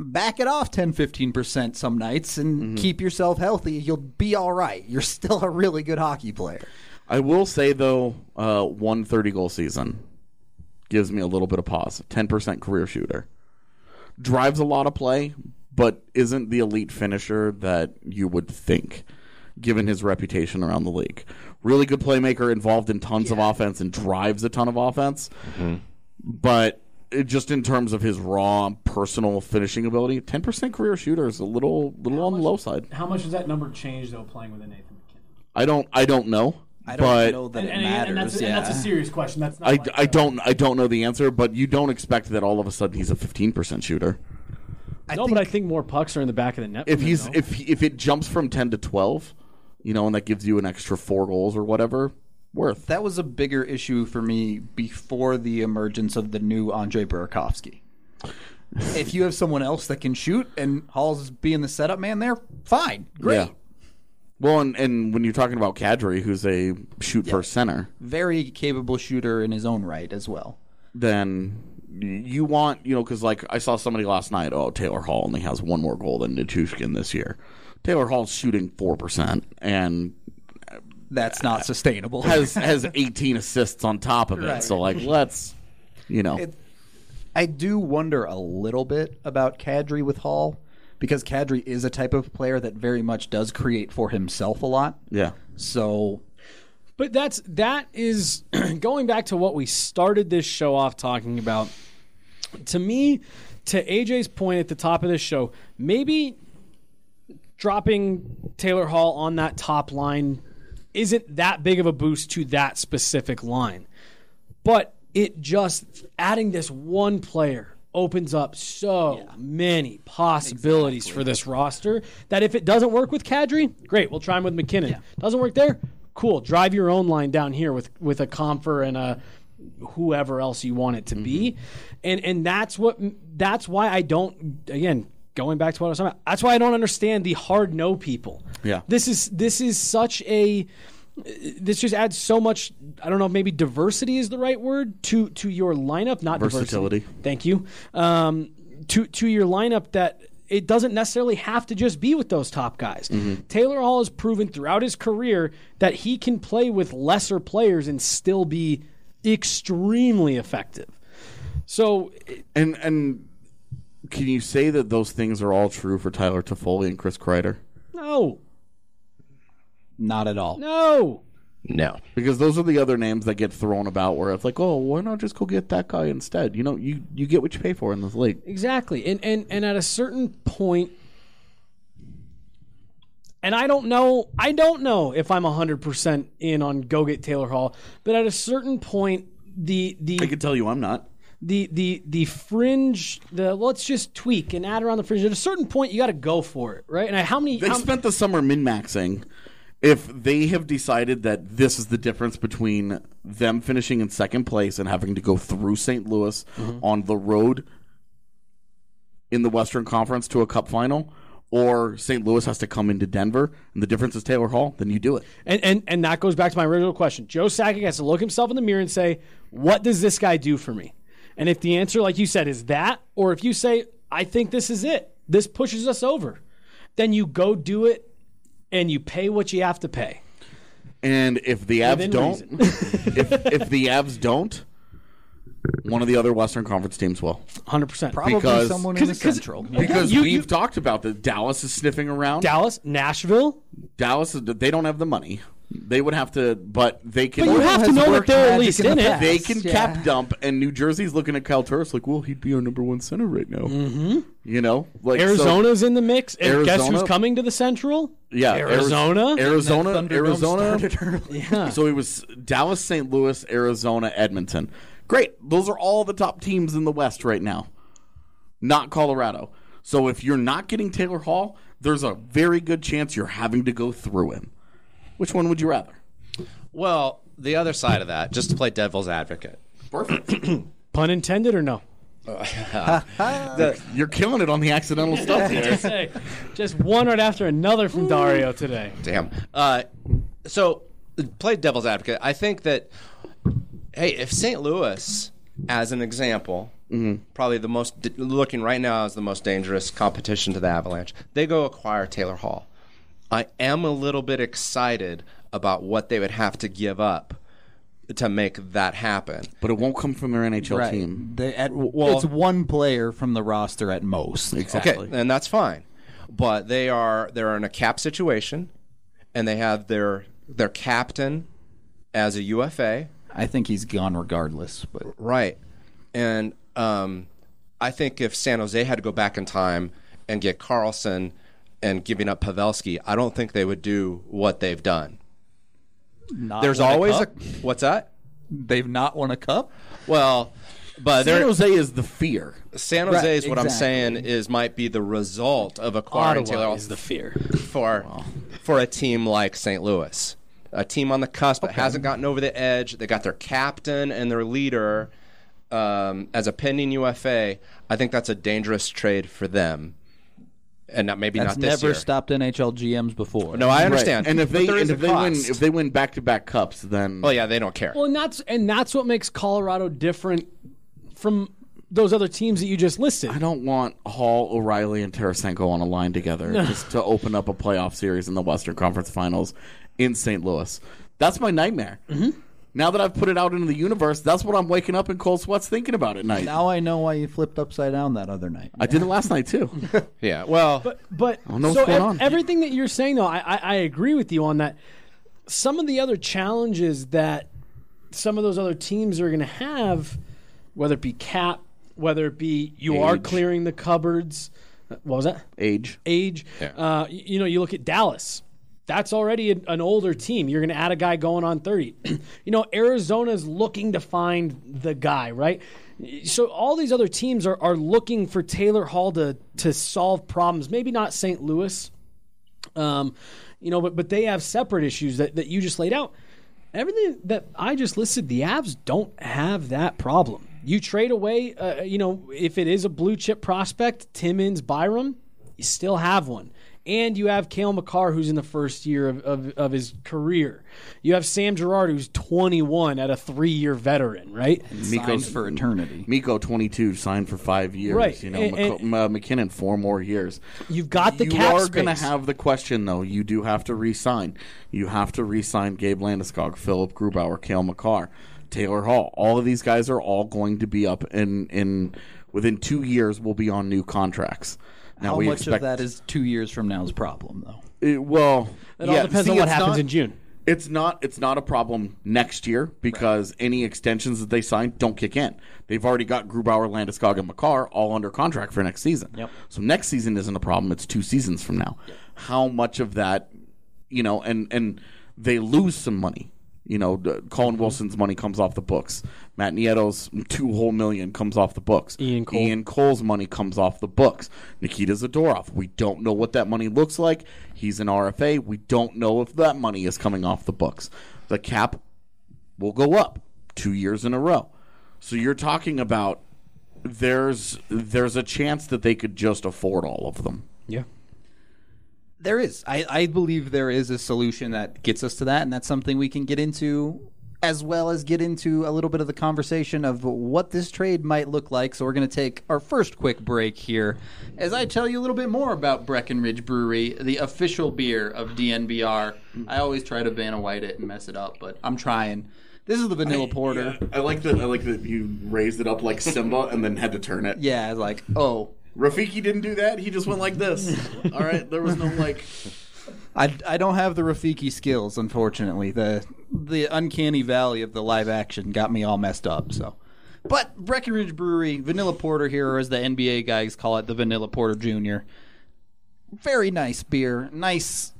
back it off 10-15% some nights and keep yourself healthy. You'll be all right. You're still a really good hockey player. I will say, though, 130-goal season gives me a little bit of pause. 10% career shooter. Drives a lot of play, but isn't the elite finisher that you would think, given his reputation around the league. Really good playmaker, involved in tons of offense and drives a ton of offense. But just in terms of his raw personal finishing ability, 10% career shooter is a little on the low side. How much does that number change, though, playing with a Nathan McKinnon? I don't know. I don't know that it matters. And that's a serious question. That's not I don't know the answer, but you don't expect that all of a sudden he's a 15% shooter. But I think more pucks are in the back of the net. If it jumps from 10 to 12, and that gives you an extra 4 goals or whatever, worth. That was a bigger issue for me before the emergence of the new Andre Burakovsky. If you have someone else that can shoot and Hall's being the setup man there, fine, great. Yeah. Well, and when you're talking about Kadri, who's a shoot-first center, very capable shooter in his own right as well, then you want, because like I saw somebody last night, Taylor Hall only has 1 more goal than Nichushkin this year. Taylor Hall's shooting 4%, and that's not sustainable. has 18 assists on top of it. Right. So, let's, I do wonder a little bit about Kadri with Hall, because Kadri is a type of player that very much does create for himself a lot. Yeah. So, but that is going back to what we started this show off talking about. To me, to AJ's point at the top of this show, maybe dropping Taylor Hall on that top line isn't that big of a boost to that specific line. But it just adding this one player opens up so many possibilities for this roster that if it doesn't work with Kadri, great, we'll try him with McKinnon. Yeah. Doesn't work there? Cool. Drive your own line down here with a Comfer and a whoever else you want it to be. And that's why I don't, again, going back to what I was talking about, that's why I don't understand the hard no people. Yeah. This is such a this just adds so much, I don't know if maybe diversity is the right word, to your lineup, not versatility. Diversity. Thank you. To your lineup that it doesn't necessarily have to just be with those top guys. Taylor Hall has proven throughout his career that he can play with lesser players and still be extremely effective. So And can you say that those things are all true for Tyler Toffoli and Chris Kreider? no. not at all. No. No. Because those are the other names that get thrown about where it's like, oh, why not just go get that guy instead? You get what you pay for in this league. Exactly. And at a certain point, and I don't know if I'm 100% in on go get Taylor Hall, but at a certain point, I can tell you I'm not. the fringe, let's just tweak and add around the fringe. At a certain point, you got to go for it, right? And They spent the summer min-maxing. If they have decided that this is the difference between them finishing in second place and having to go through St. Louis on the road in the Western Conference to a cup final, or St. Louis has to come into Denver, and the difference is Taylor Hall, then you do it. And that goes back to my original question. Joe Sakic has to look himself in the mirror and say, what does this guy do for me? And if the answer, like you said, is that, or if you say, I think this is it, this pushes us over, then you go do it and you pay what you have to pay. And if the Avs don't, if the Avs don't, one of the other Western Conference teams will. 100%. Probably someone in the Central. Because we've talked about that. Dallas is sniffing around. Dallas, Nashville. Dallas, they don't have the money. They would have to, but they can. But you have to know that they're at least in it. They can cap dump, and New Jersey's looking at Kyle Turris like, well, he'd be our number one center right now. Mm-hmm. You know? Like, Arizona's in the mix. And guess Arizona- who's coming to the Central? Yeah, Arizona. Arizona. Yeah. So it was Dallas, St. Louis, Arizona, Edmonton. Great. Those are all the top teams in the West right now. Not Colorado. So if you're not getting Taylor Hall, there's a very good chance you're having to go through him. Which one would you rather? Well, the other side of that, just to play devil's advocate. Perfect. Pun intended or no? You're killing it on the accidental stuff here. Hey, just one right after another from Dario today. Damn. So, play devil's advocate. I think that, hey, if St. Louis, as an example, Probably the most, looking right now as the most dangerous competition to the Avalanche. They go acquire Taylor Hall. I am a little bit excited about what they would have to give up to make that happen. But it won't come from their NHL team. It's one player from the roster at most. Exactly. Okay, and that's fine. But they're in a cap situation, and they have their captain as a UFA. I think he's gone regardless. But Right. And I think if San Jose had to go back in time and get Carlson and giving up Pavelski, I don't think they would do what they've done. There's always a what's that? They've not won a cup? Well, but San Jose is the fear. San Jose is Right, what I'm exactly. saying might be the result of acquiring Taylor Hall is the fear. for a team like St. Louis, a team on the cusp that hasn't gotten over the edge. They got their captain and their leader as a pending UFA. I think that's a dangerous trade for them, and That's not this never year. stopped NHL GMs before. No, I understand. Right. And if But there is a they cost. win, if they win back-to-back cups, then Well, yeah, they don't care. Well, and that's what makes Colorado different from those other teams that you just listed. I don't want Hall, O'Reilly, and Tarasenko on a line together just to open up a playoff series in the Western Conference Finals in St. Louis. That's my nightmare. Mm-hmm. Now that I've put it out into the universe, that's what I'm waking up in cold sweats thinking about at night. Now I know why you flipped upside down that other night. I did it last night too. Yeah, well, But don't know so what's going on. everything that you're saying, though, I agree with you on that. Some of the other challenges that some of those other teams are going to have, whether it be cap, whether it be you are Age. clearing the cupboards. What was that? Age. Yeah. You look at Dallas. That's already an older team. You're going to add a guy going on 30. Arizona's looking to find the guy, right? So all these other teams are looking for Taylor Hall to solve problems. Maybe not St. Louis, but they have separate issues that you just laid out. Everything that I just listed, the Avs don't have that problem. You trade away, if it is a blue chip prospect, Timmins, Byram, you still have one. And you have Cale Makar, who's in the first year of his career. You have Sam Girard, who's 21 at a 3-year veteran, right? Signs for eternity. Miko, 22, signed for 5 years. Right. McKinnon, 4 more years. You've got the you cap are space. going to have the question, though. You do have to re-sign. You have to re-sign Gabe Landeskog, Philip Grubauer, Cale Makar, Taylor Hall. All of these guys are all going to be up in within 2 years will be on new contracts. Now How we much expect, of that is 2 years from now's problem, though? It all depends on what happens in June. It's not a problem next year because any extensions that they sign don't kick in. They've already got Grubauer, Landeskog, and Makar all under contract for next season. Yep. So next season isn't a problem. It's 2 seasons from now. Yep. How much of that, and they lose some money. Colin Wilson's money comes off the books. Matt Nieto's $2 whole million comes off the books. Ian Cole's money comes off the books. Nikita Zadorov, we don't know what that money looks like. He's an RFA. We don't know if that money is coming off the books. The cap will go up 2 years in a row. So you're talking about there's a chance that they could just afford all of them. Yeah. There is. I believe there is a solution that gets us to that, and that's something we can get into, as well as get into a little bit of the conversation of what this trade might look like. So we're going to take our first quick break here as I tell you a little bit more about Breckenridge Brewery, the official beer of DNVR. I always try to Vanna White it and mess it up, but I'm trying. This is the vanilla porter. Yeah, I like that you raised it up like Simba and then had to turn it. Yeah, I was like, oh. Rafiki didn't do that. He just went like this. All right, there was no like. I don't have the Rafiki skills, unfortunately. The uncanny valley of the live action got me all messed up. So, but Breckenridge Brewery Vanilla Porter here, or as the NBA guys call it, the Vanilla Porter Jr. Very nice beer. Nice.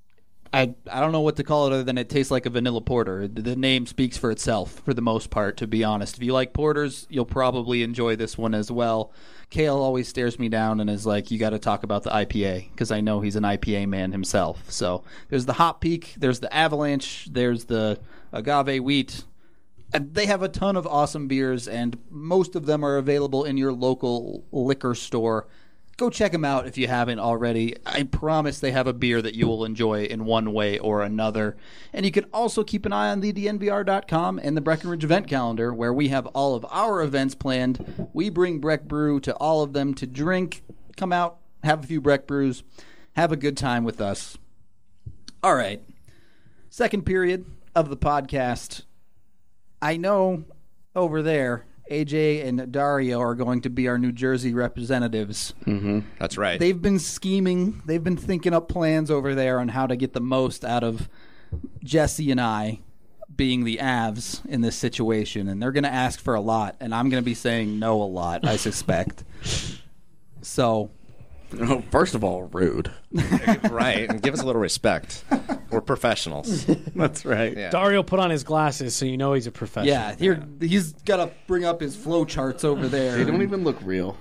I don't know what to call it other than it tastes like a vanilla porter. The name speaks for itself for the most part, to be honest. If you like porters, you'll probably enjoy this one as well. Kale always stares me down and is like, you got to talk about the IPA, because I know he's an IPA man himself. So there's the Hop Peak, there's the Avalanche, there's the Agave Wheat. They have a ton of awesome beers, and most of them are available in your local liquor store. go check them out if you haven't already. I promise they have a beer that you will enjoy in one way or another. And you can also keep an eye on the DNVR.com and the Breckenridge event calendar, where we have all of our events planned. We bring Breck Brew to all of them to drink. Come out, have a few Breck Brews, have a good time with us. All right. Second period of the podcast. I know over there, AJ and Dario are going to be our New Jersey representatives. Mm-hmm. That's right. They've been scheming. They've been thinking up plans over there on how to get the most out of Jesse and I being the Avs in this situation. And they're going to ask for a lot, and I'm going to be saying no a lot, I suspect. So... Oh, first of all, rude. Right. And give us a little respect. We're professionals. That's right. Yeah. Dario put on his glasses, so you know he's a professional. Yeah, he's got to bring up his flow charts over there. They don't even look real.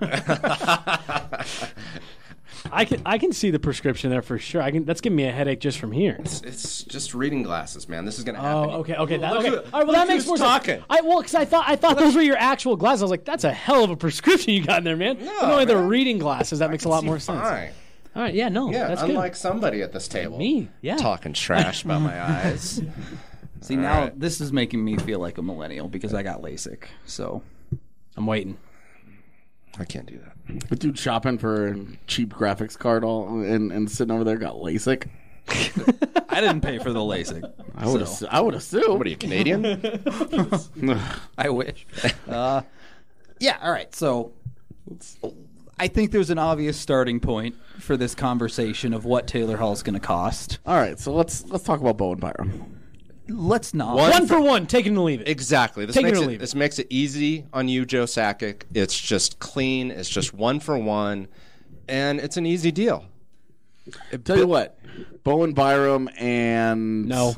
I can see the prescription there for sure. That's giving me a headache just from here. It's just reading glasses, man. This is going to happen. Oh, okay. All right, well, look that makes more who's sense. talking. Because I thought those were your actual glasses. I was like, that's a hell of a prescription you got in there, man. No, But only the man. reading glasses. That makes a lot more sense. Fine. All right, yeah, no, Yeah, that's unlike good. somebody at this table. Me, yeah. Talking trash about my eyes. See, All now right. this is making me feel like a millennial because I got LASIK. So I'm waiting. I can't do that. The dude shopping for a cheap graphics card and sitting over there got LASIK. I didn't pay for the LASIK. I would assume. What are you, Canadian? I wish. Yeah, all right. So I think there's an obvious starting point for this conversation of what Taylor Hall is going to cost. All right, so let's talk about Bowen Byram. Let's not. One for one, take it and leave it. Exactly. Take it or leave it. This makes it easy on you, Joe Sakic. It's just clean. It's just one for one, and it's an easy deal. Tell you what, Bowen Byram and No.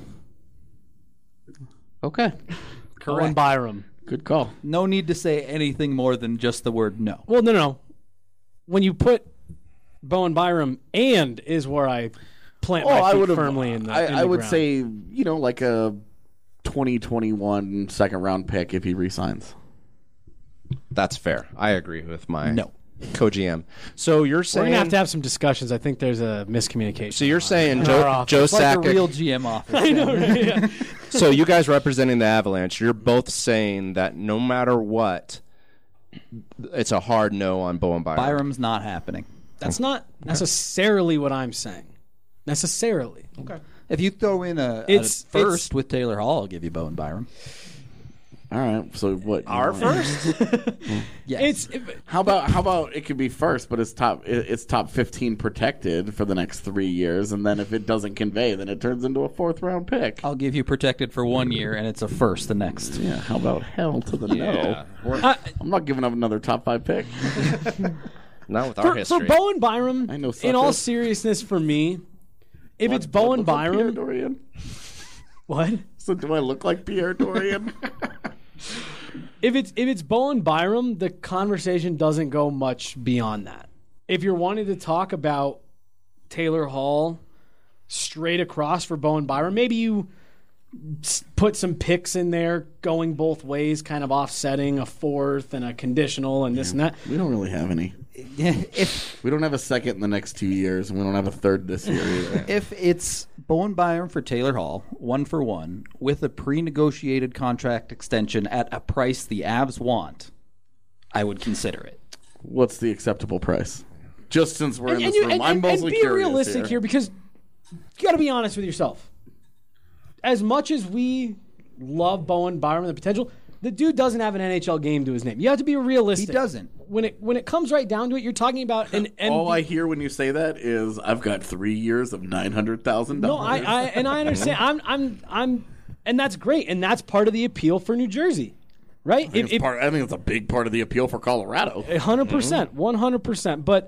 Okay, Owen Byram. good call. No need to say anything more than just the word no. Well, no. When you put Bowen Byram and is where I plant my feet firmly in the I would ground. say like a 2021 second round pick if he resigns. That's fair. I agree with my No. co-GM. So you're We're saying going to have some discussions. I think there's a miscommunication. So you're saying In Joe our office. Joe It's like a Sakic. real GM office. I know, right? Yeah. So you guys representing the Avalanche, you're both saying that no matter what, it's a hard no on Bowen Byram. Byram's not happening. That's not necessarily what I'm saying. Necessarily. Okay. If you throw in a first with Taylor Hall, I'll give you Bowen Byram. All right, so what? Our first? Yes. How about it could be first, but it's top 15 protected for the next 3 years, and then if it doesn't convey, then it turns into a fourth round pick. I'll give you protected for 1 year, and it's a first the next. Yeah, how about hell to the Yeah. no? I'm not giving up another top 5 pick. Not with our For history. Bowen Byram, I know in all suckers. seriousness for me, if it's Do I Bowen look like Pierre Byram... Dorian? What? So do I look like Pierre Dorian? If it's Bowen Byram, the conversation doesn't go much beyond that. If you're wanting to talk about Taylor Hall straight across for Bowen Byram, maybe you put some picks in there going both ways, kind of offsetting a fourth and a conditional and this and that. We don't really have any. If We don't have a second in the next 2 years, and we don't have a third this year either. if it's Bowen Byram for Taylor Hall, 1 for 1, with a pre-negotiated contract extension at a price the Avs want, I would consider it. What's the acceptable price? Just since we're in this room, I'm and mostly be curious realistic here because you got to be honest with yourself. As much as we love Bowen Byram and the potential, the dude doesn't have an NHL game to his name. You have to be realistic. He doesn't. When it comes right down to it, you're talking about an All I hear when you say that is, I've got 3 years of $900,000. No, I understand. I'm and that's great, and that's part of the appeal for New Jersey, right? I think it's a big part of the appeal for Colorado. 100%, 100%. But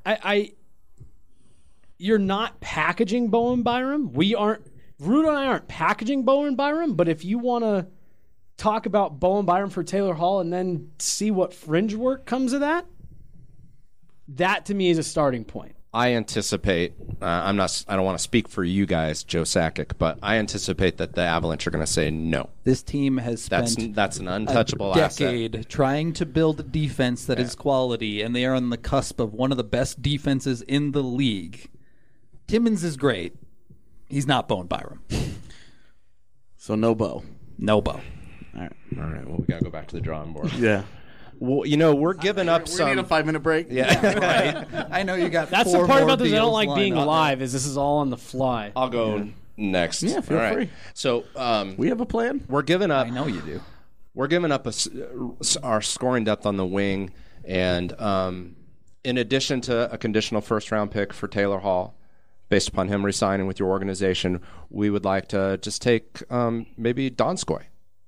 you're not packaging Bowen Byram. Rudo and I aren't packaging Bowen Byram. But if you want to talk about Bowen Byram for Taylor Hall and then see what fringe work comes of that, that to me is a starting point. I anticipate. I don't want to speak for you guys, Joe Sakic, but I anticipate that the Avalanche are going to say no. This team has spent That's an untouchable a decade asset. trying to build a defense that is quality, and they are on the cusp of one of the best defenses in the league. Timmins is great. He's not Bowen Byram. So no Bo. No Bo. All right. Well, we got to go back to the drawing board. Yeah. Well, we're giving up We need a 5-minute break. Yeah, right. I know you got That's four the part more about this I don't deals like being lined up. live is this is all on the fly. I'll go next. Yeah, feel All right. free. So We have a plan. we're giving up. I know you do. We're giving up our scoring depth on the wing, and in addition to a conditional first-round pick for Taylor Hall, based upon him resigning with your organization, we would like to just take maybe Donskoy.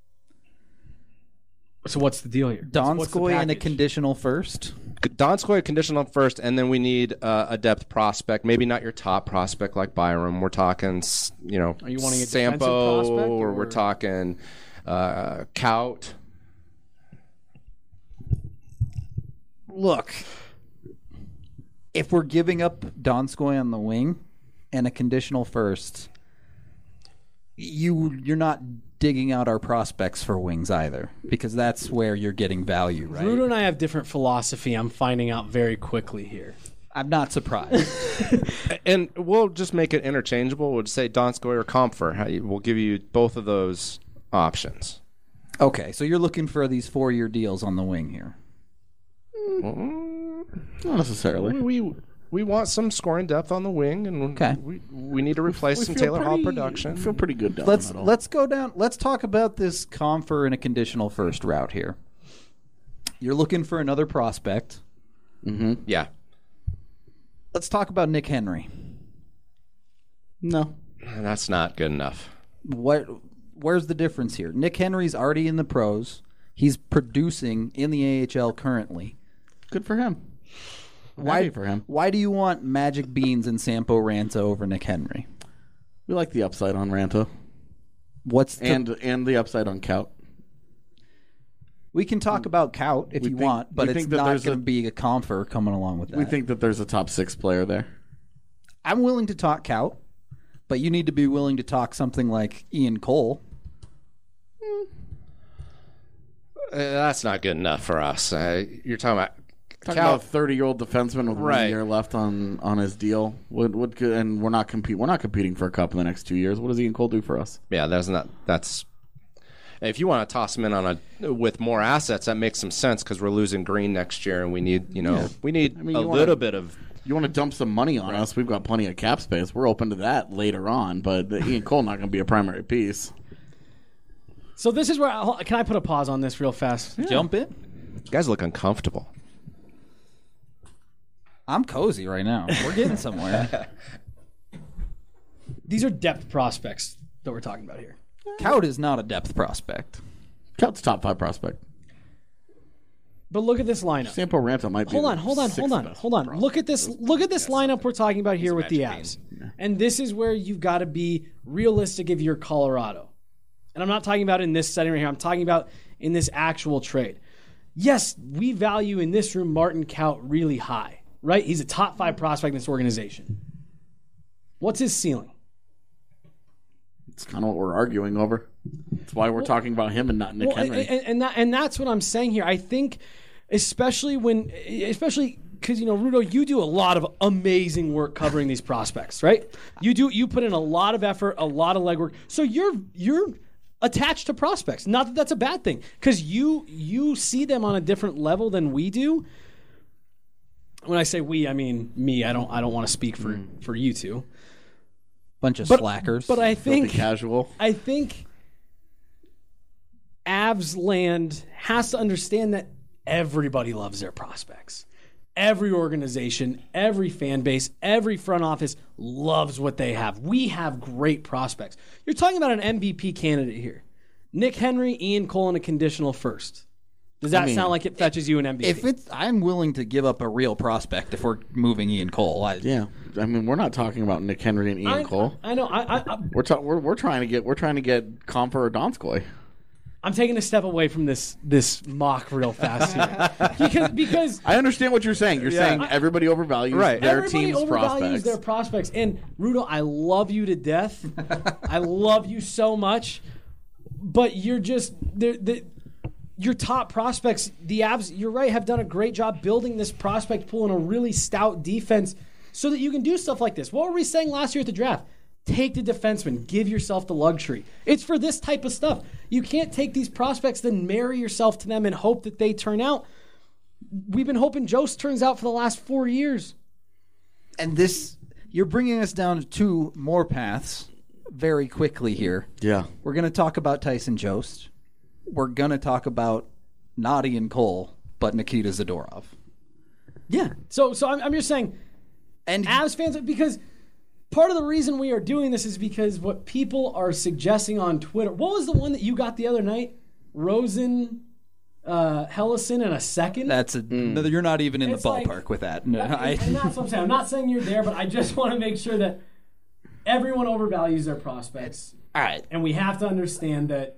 So what's the deal here? What's the Donskoy and a package? conditional first. Donskoy conditional first, and then we need a depth prospect. Maybe not your top prospect like Byram. We're talking, Are you wanting a defensive Sampo, prospect, or or we're talking Kaut. Look, if we're giving up Donskoy on the wing and a conditional first, you're not digging out our prospects for wings either, because that's where you're getting value, right? Rudo and I have different philosophy. I'm finding out very quickly here. I'm not surprised. And we'll just make it interchangeable. We'll just say Donskoy or Comfer. We'll give you both of those options. Okay, so you're looking for these 4-year deals on the wing here. Not necessarily. We want some scoring depth on the wing, and Okay. we need to replace some Taylor Hall production. I feel pretty good down Let's the middle. let's go down. Let's talk about this Comfer and a conditional first route here. You're looking for another prospect. Yeah. Let's talk about Nick Henry. No. That's not good enough. Where's the difference here? Nick Henry's already in the pros. He's producing in the AHL currently. Good for him. Why for him? Why do you want Magic Beans and Sampo Ranta over Nick Henry? We like the upside on Ranta What's the, and the upside on Kaut. we can talk about Kaut if we you think- want, but we it's think that not there's going a- to be a Comfer coming along with that. We think that there's a top 6 player there. I'm willing to talk Kaut, but you need to be willing to talk something like Ian Cole. That's not good enough for us. You're talking about Talking about a 30-year-old defenseman with 1 Right. year left on his deal. And we're not competing for a cup in the next 2 years. What does Ian Cole do for us? Yeah, that's. If you want to toss him in with more assets, that makes some sense because we're losing Green next year, and we need a little bit of. You want to dump some money on us? We've got plenty of cap space. We're open to that later on, but Ian Cole not going to be a primary piece. So this is where can I put a pause on this real fast? Jump in. You guys look uncomfortable. I'm cozy right now. We're getting somewhere. These are depth prospects that we're talking about here. Kaut is not a depth prospect. Cout's top 5 prospect. But look at this lineup. Sampo Ranta might be. Hold the on. sixth best Look at this. prospect. Look at this lineup we're talking about here with the Magic Avs. And this is where you've got to be realistic if you're Colorado. And I'm not talking about in this setting right here. I'm talking about in this actual trade. Yes, we value in this room Martin Kaut really high, right? He's a top 5 prospect in this organization. What's his ceiling? It's kind of what we're arguing over. That's why we're talking about him and not Nick Henry. And that's what I'm saying here. I think, especially because Rudo, you do a lot of amazing work covering these prospects, right? You put in a lot of effort, a lot of legwork. So you're attached to prospects. Not that that's a bad thing, because you see them on a different level than we do. When I say we, I mean me. I don't want to speak for you two. Bunch of slackers. But I Filthy think casual. Avs land has to understand that everybody loves their prospects. Every organization, every fan base, every front office loves what they have. We have great prospects. You're talking about an MVP candidate here. Nick Henry, Ian Cole, and a conditional first. Does that sound like it fetches you an MVP? I'm willing to give up a real prospect if we're moving Ian Cole. Yeah, I mean, we're not talking about Nick Henry and Ian Cole. I know. We're trying to get Comfer or Donskoy. I'm taking a step away from this mock real fast here. because I understand what you're saying. You're saying everybody overvalues their everybody team's overvalues prospects. their prospects. And Rudo, I love you to death. I love you so much. But you're just your top prospects, the Avs, you're right, have done a great job building this prospect pool in a really stout defense so that you can do stuff like this. What were we saying last year at the draft? Take the defenseman. Give yourself the luxury. It's for this type of stuff. You can't take these prospects, then marry yourself to them and hope that they turn out. We've been hoping Jost turns out for the last 4 years. And this, you're bringing us down to two more paths very quickly here. Yeah. We're going to talk about Tyson Jost. We're going to talk about not Ian Cole, but Nikita Zadorov. Yeah. So I'm just saying, And Avs fans, because part of the reason we are doing this is because what people are suggesting on Twitter. What was the one that you got the other night? Rosen, Hellison, and a second? that's no, you're not even in It's the like- ballpark with that. No, and that's what I'm saying. I'm not saying you're there, but I just want to make sure that everyone overvalues their prospects. All right. And we have to understand that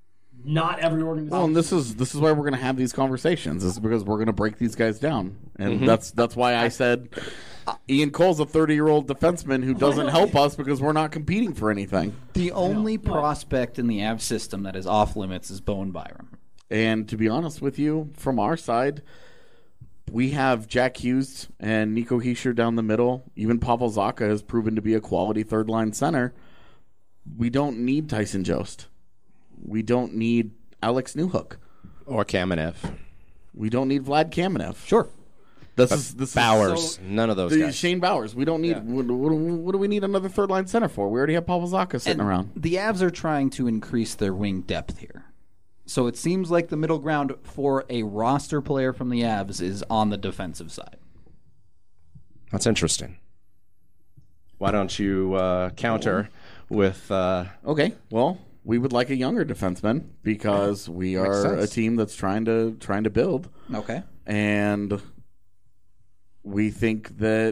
not every organization. Well, and this is why we're going to have these conversations. This is because we're going to break these guys down, and that's why I said Ian Cole's a 30-year-old defenseman who doesn't help us because we're not competing for anything. the only prospect in the Avs system that is off limits is Bowen Byram. And to be honest with you, from our side, we have Jack Hughes and Nico Hischier down the middle. Even Pavel Zacha has proven to be a quality third-line center. We don't need Tyson Jost. We don't need Alex Newhook. Or Kamenev. We don't need Vlad Kamenev. Sure. This is Bowers. None of those guys. Shane Bowers. We don't need. What do we need another third line center for? We already have Pavel Zacha sitting around. The Avs are trying to increase their wing depth here. So it seems like the middle ground for a roster player from the Avs is on the defensive side. That's interesting. Why don't you counter with... Okay, well, we would like a younger defenseman because we are a sense. team that's trying to build, Okay. and we think that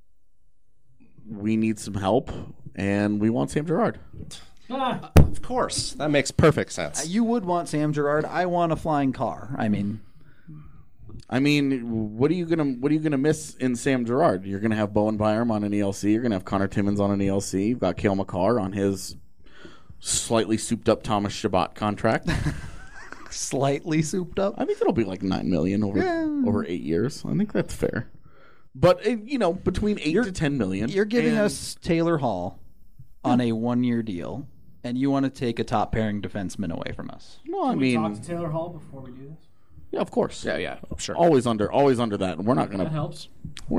we need some help, and we want Sam Girard. Of course. That makes perfect sense. You would want Sam Girard. I want a flying car. I mean, what are you gonna miss in Sam Girard? You're gonna have Bowen Byram on an ELC. You're gonna have Connor Timmins on an ELC. You've got Cale Makar on his slightly souped up Thomas Chabot contract. slightly souped up. I think it'll be like $9 million over 8 years. I think that's fair. But between $8 to $10 million. You're giving and- us Taylor Hall on a 1-year deal, and you want to take a top pairing defenseman away from us. Well, I Can we talk mean, to Taylor Hall before we do this? yeah, of course. Yeah, sure. Always under that. We're not That gonna. helps.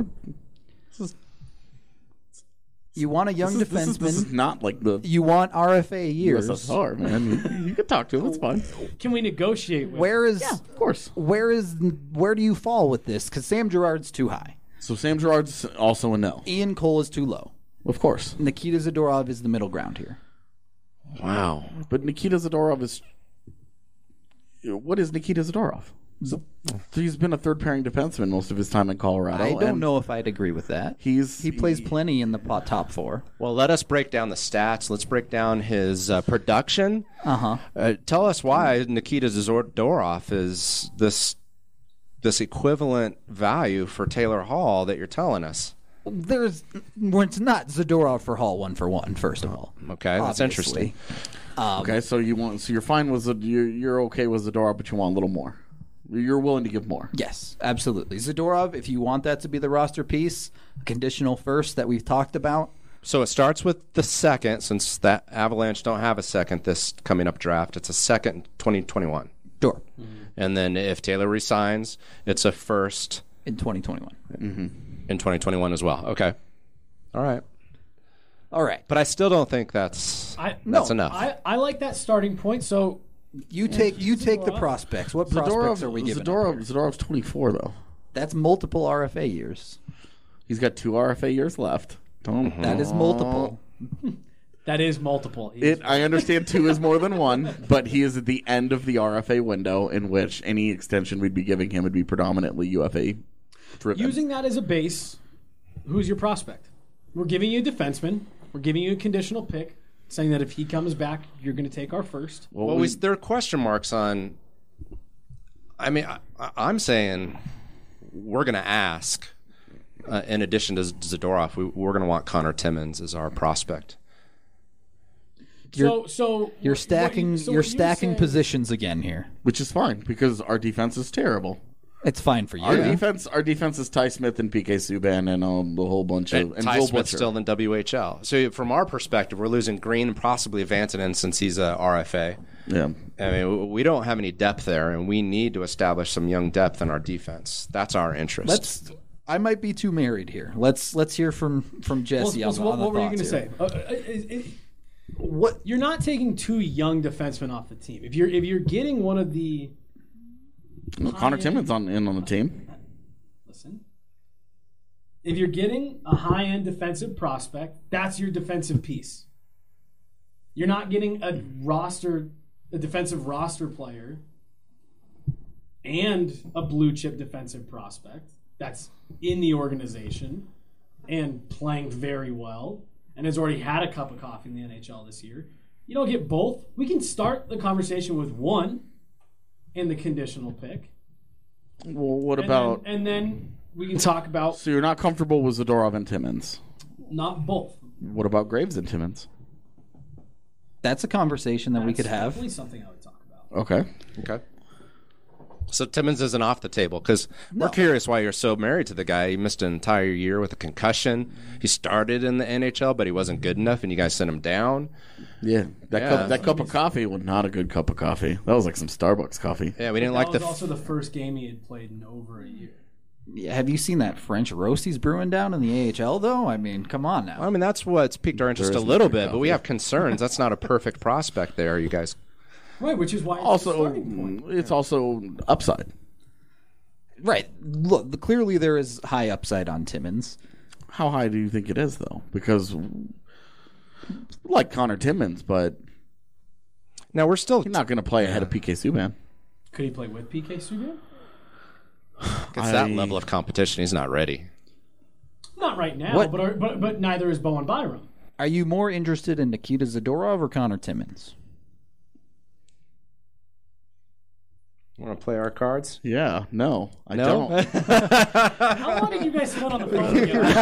You want a young This defenseman. is not like the You want RFA years. USSR, man. You can talk to him. It's fine. Can we negotiate with Where is Of course. where do you fall with this? Because Sam Girard's too high. So Sam Girard's also a no. Ian Cole is too low. Of course. Nikita Zadorov is the middle ground here. Wow. But Nikita Zadorov is. What is Nikita Zadorov? He's been a third pairing defenseman most of his time in Colorado. I don't and know if I'd agree with that. He plays plenty in the top four. Well, let us break down the stats. Let's break down his production. Uh-huh. Tell us why Nikita Zadorov is this equivalent value for Taylor Hall that you're telling us. It's not Zadorov for Hall 1-for-1, first of all. Okay, that's Obviously. interesting. Okay, so you're fine with you're okay with Zadorov, but you want a little more. You're willing to give more. Yes, absolutely. Zadorov, if you want that to be the roster piece, a conditional first that we've talked about. So it starts with the second, since that Avalanche don't have a second this coming up draft. It's a second in 2021. Sure. And then if Taylor resigns, it's a first In 2021. in 2021 as well. Okay. All right. All right. But I still don't think that's enough. I like that starting point. So You take the prospects. What prospects are we giving up here? Zadorov's 24 though. That's multiple RFA years. He's got 2 RFA years left. That is multiple. that is multiple. I understand 2 is more than 1, but he is at the end of the RFA window in which any extension we'd be giving him would be predominantly UFA driven. Using that as a base, who's your prospect? We're giving you a defenseman. We're giving you a conditional pick. saying that if he comes back, you're going to take our first. Well, there are question marks on. I mean, I'm saying we're going to ask. In addition to Zadorov, we're going to want Connor Timmins as our prospect. You're stacking you're stacking saying- positions again here. which is fine because our defense is terrible. It's fine for you. Our defense is Ty Smith and PK Subban and a whole bunch of and Ty Joel Smith's Butcher. still in WHL. So from our perspective, we're losing Green and possibly Vantanen since he's a RFA. Yeah. I mean, we don't have any depth there, and we need to establish some young depth in our defense. That's our interest. I might be too married here. Let's hear from Jesse. What were you going to say? What you're not taking two young defensemen off the team. If you're getting one of the Connor Timmins on the team. listen, if you're getting a high-end defensive prospect, that's your defensive piece. You're not getting a defensive roster player and a blue chip defensive prospect that's in the organization and playing very well and has already had a cup of coffee in the NHL this year. You don't get both. We can start the conversation with one in the conditional pick. Well, what about? And then we can talk about So you're not comfortable with Zadorov and Timmins. not both. What about Graves and Timmins? That's a conversation that we could That's have. definitely something I would talk about. Okay. Okay. So Timmins isn't off the table because we're curious why you're so married to the guy. He missed an entire year with a concussion. He started in the NHL, but he wasn't good enough, and you guys sent him down. Yeah. That cup of coffee was not a good cup of coffee. That was like some Starbucks coffee. Yeah, we didn't That like was the. also the first game he had played in over a year. Yeah, have you seen that French roast he's brewing down in the AHL, though? I mean, come on now. I mean, that's what's piqued our interest There a is little no free bit, but we coffee. have concerns. That's not a perfect prospect there, you guys. Right, which is why it's a Also, starting point. it's also upside. Right. Look, clearly there is high upside on Timmins. How high do you think it is, though? Because, like Connor Timmins, but Now, we're still. he's not going to play ahead of PK Subban. Could he play with PK Subban? It's that level of competition. He's not ready. Not right now, What- but neither is Bowen Byram. Are you more interested in Nikita Zadorov or Connor Timmins? Want to play our cards? Yeah, no, I No? don't. How long did you guys spend on the phone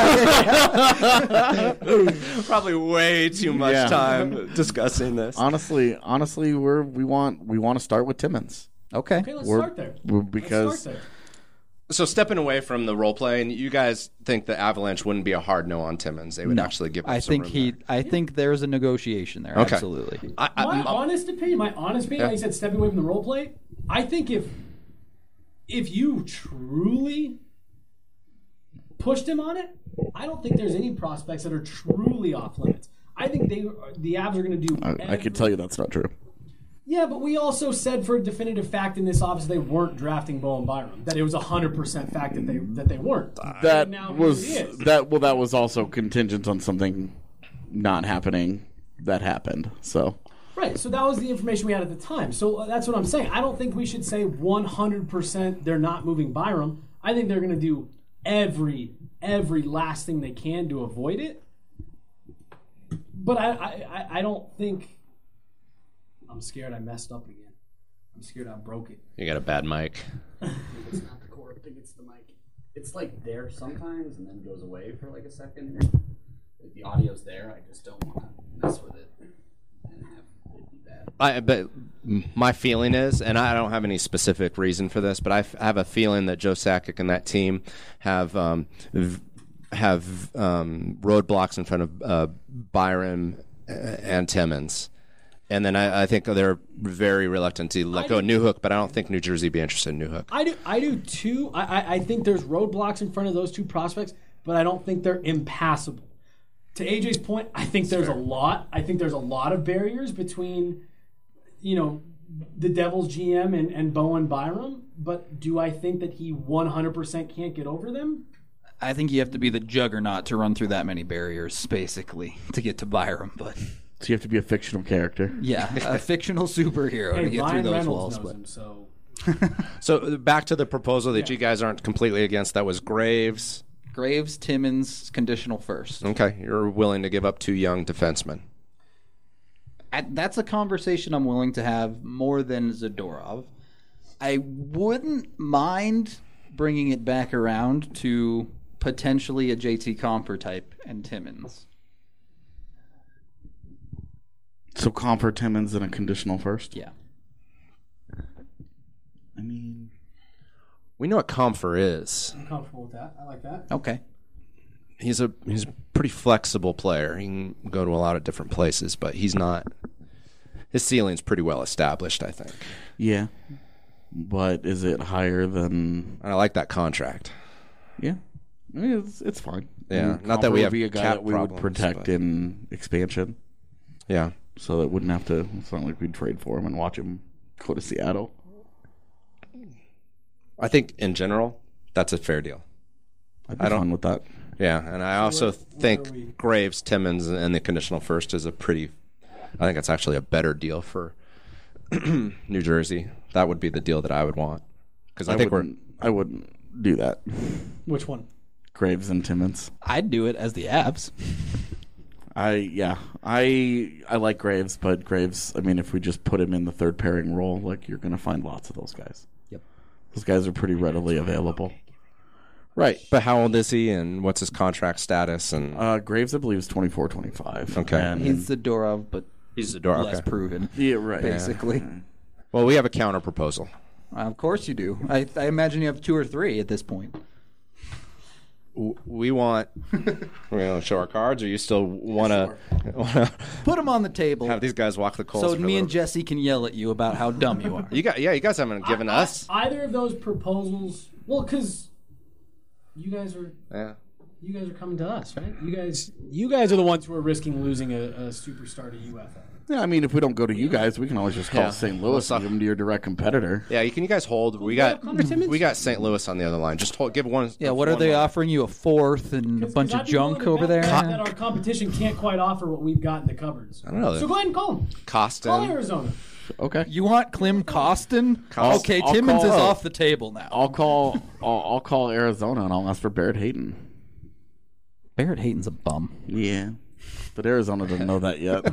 together? Probably way too much Yeah. time discussing this. honestly, we want to start with Timmins. Okay. Okay, let's We're- start there. because Let's start there. So stepping away from the role play, and you guys think the Avalanche wouldn't be a hard no on Timmins? They would actually give. Him I some think room there. I think there's a negotiation there. Okay. Absolutely. My honest opinion, like you said, stepping away from the role play, I think if you truly pushed him on it, I don't think there's any prospects that are truly off limits. I think the Avs are going to do. I can tell you that's not true. Yeah, but we also said for a definitive fact in this office they weren't drafting Bowen Byram. That it was 100% fact that they weren't. That now was here it is. that was also contingent on something not happening that happened. So Right, so that was the information we had at the time. So that's what I'm saying. I don't think we should say 100% they're not moving Byram. I think they're going to do every last thing they can to avoid it. But I don't think. I'm scared I messed up again. I'm scared I broke it. You got a bad mic. It's not the cord. I think it's the mic. It's like there sometimes and then goes away for like a second. Like the audio's there. I just don't want to mess with it and have it be bad. But my feeling is, and I don't have any specific reason for this, but I have a feeling that Joe Sakic and that team have roadblocks in front of Byram and Timmins. And then I think they're very reluctant to let go of Newhook, but I don't think New Jersey would be interested in Newhook. I do too. I think there's roadblocks in front of those two prospects, but I don't think they're impassable. To AJ's point, I think there's a lot. I think there's a lot of barriers between, the Devils GM and Bowen Byram. But do I think that he 100% can't get over them? I think you have to be the juggernaut to run through that many barriers, basically, to get to Byram. But you have to be a fictional character. yeah, a fictional superhero to Hey, get Ryan through those Reynolds walls. knows But him, so So back to the proposal that you guys aren't completely against. That was Graves. Graves, Timmins, conditional first. Okay, you're willing to give up two young defensemen. That's a conversation I'm willing to have more than Zadorov. I wouldn't mind bringing it back around to potentially a JT Compher type and Timmins. So Compher, Timmins, and a conditional first? Yeah. I mean, We know what Compher is. I'm comfortable with that. I like that. Okay. He's a pretty flexible player. He can go to a lot of different places, but he's not. His ceiling's pretty well established, I think. yeah. But is it higher than... And I like that contract. Yeah. I mean, it's fine. Yeah, I mean, not that Compher we would have be a guy cap that we problems, would protect but- in expansion. Yeah. So it wouldn't have to... It's not like we'd trade for him and watch him go to Seattle. I think in general, that's a fair deal. I'd be fine with that. Yeah, and I also where are think we? Graves, Timmins, and the conditional first is a pretty. I think it's actually a better deal for New Jersey. That would be the deal that I would want because I think I wouldn't do that. Which one? Graves and Timmins. I'd do it as the Avs. I like Graves, but Graves, I mean, if we just put him in the third pairing role, like, you're going to find lots of those guys. Yep. Those guys are pretty readily available. right. But how old is he, and what's his contract status? And Graves, I believe, is 24, 25. Okay. And He's Zadorov, but he's the door. less Okay. proven. yeah, right. Basically. Well, we have a counter proposal. Of course you do. I imagine you have 2 or 3 at this point. We want. We're going to show our cards, or you still want to Put them on the table have these guys walk the coals? so for a me and little- Jesse can yell at you about how dumb you are. you guys haven't given us. Either of those proposals. Well, because you guys are coming to us, right? You guys are the ones who are risking losing a superstar to UFA. Yeah, I mean, if we don't go to you guys, we can always just call Yeah. St. Louis and give them to your direct competitor. Yeah, can you guys hold? We got St. Louis on the other line. Just give one. Yeah, what are one they line. offering you? A 4th and a bunch of junk over there? That our competition can't quite offer what we've got in the cupboards. I don't know. So go ahead and call them. Call Costin. Arizona. Okay. You want Klim Kostin? Okay, I'll Timmins is call- off the table now. I'll call Arizona and I'll ask for Barrett Hayton. Barrett Hayton's a bum. Yeah. But Arizona doesn't know that yet.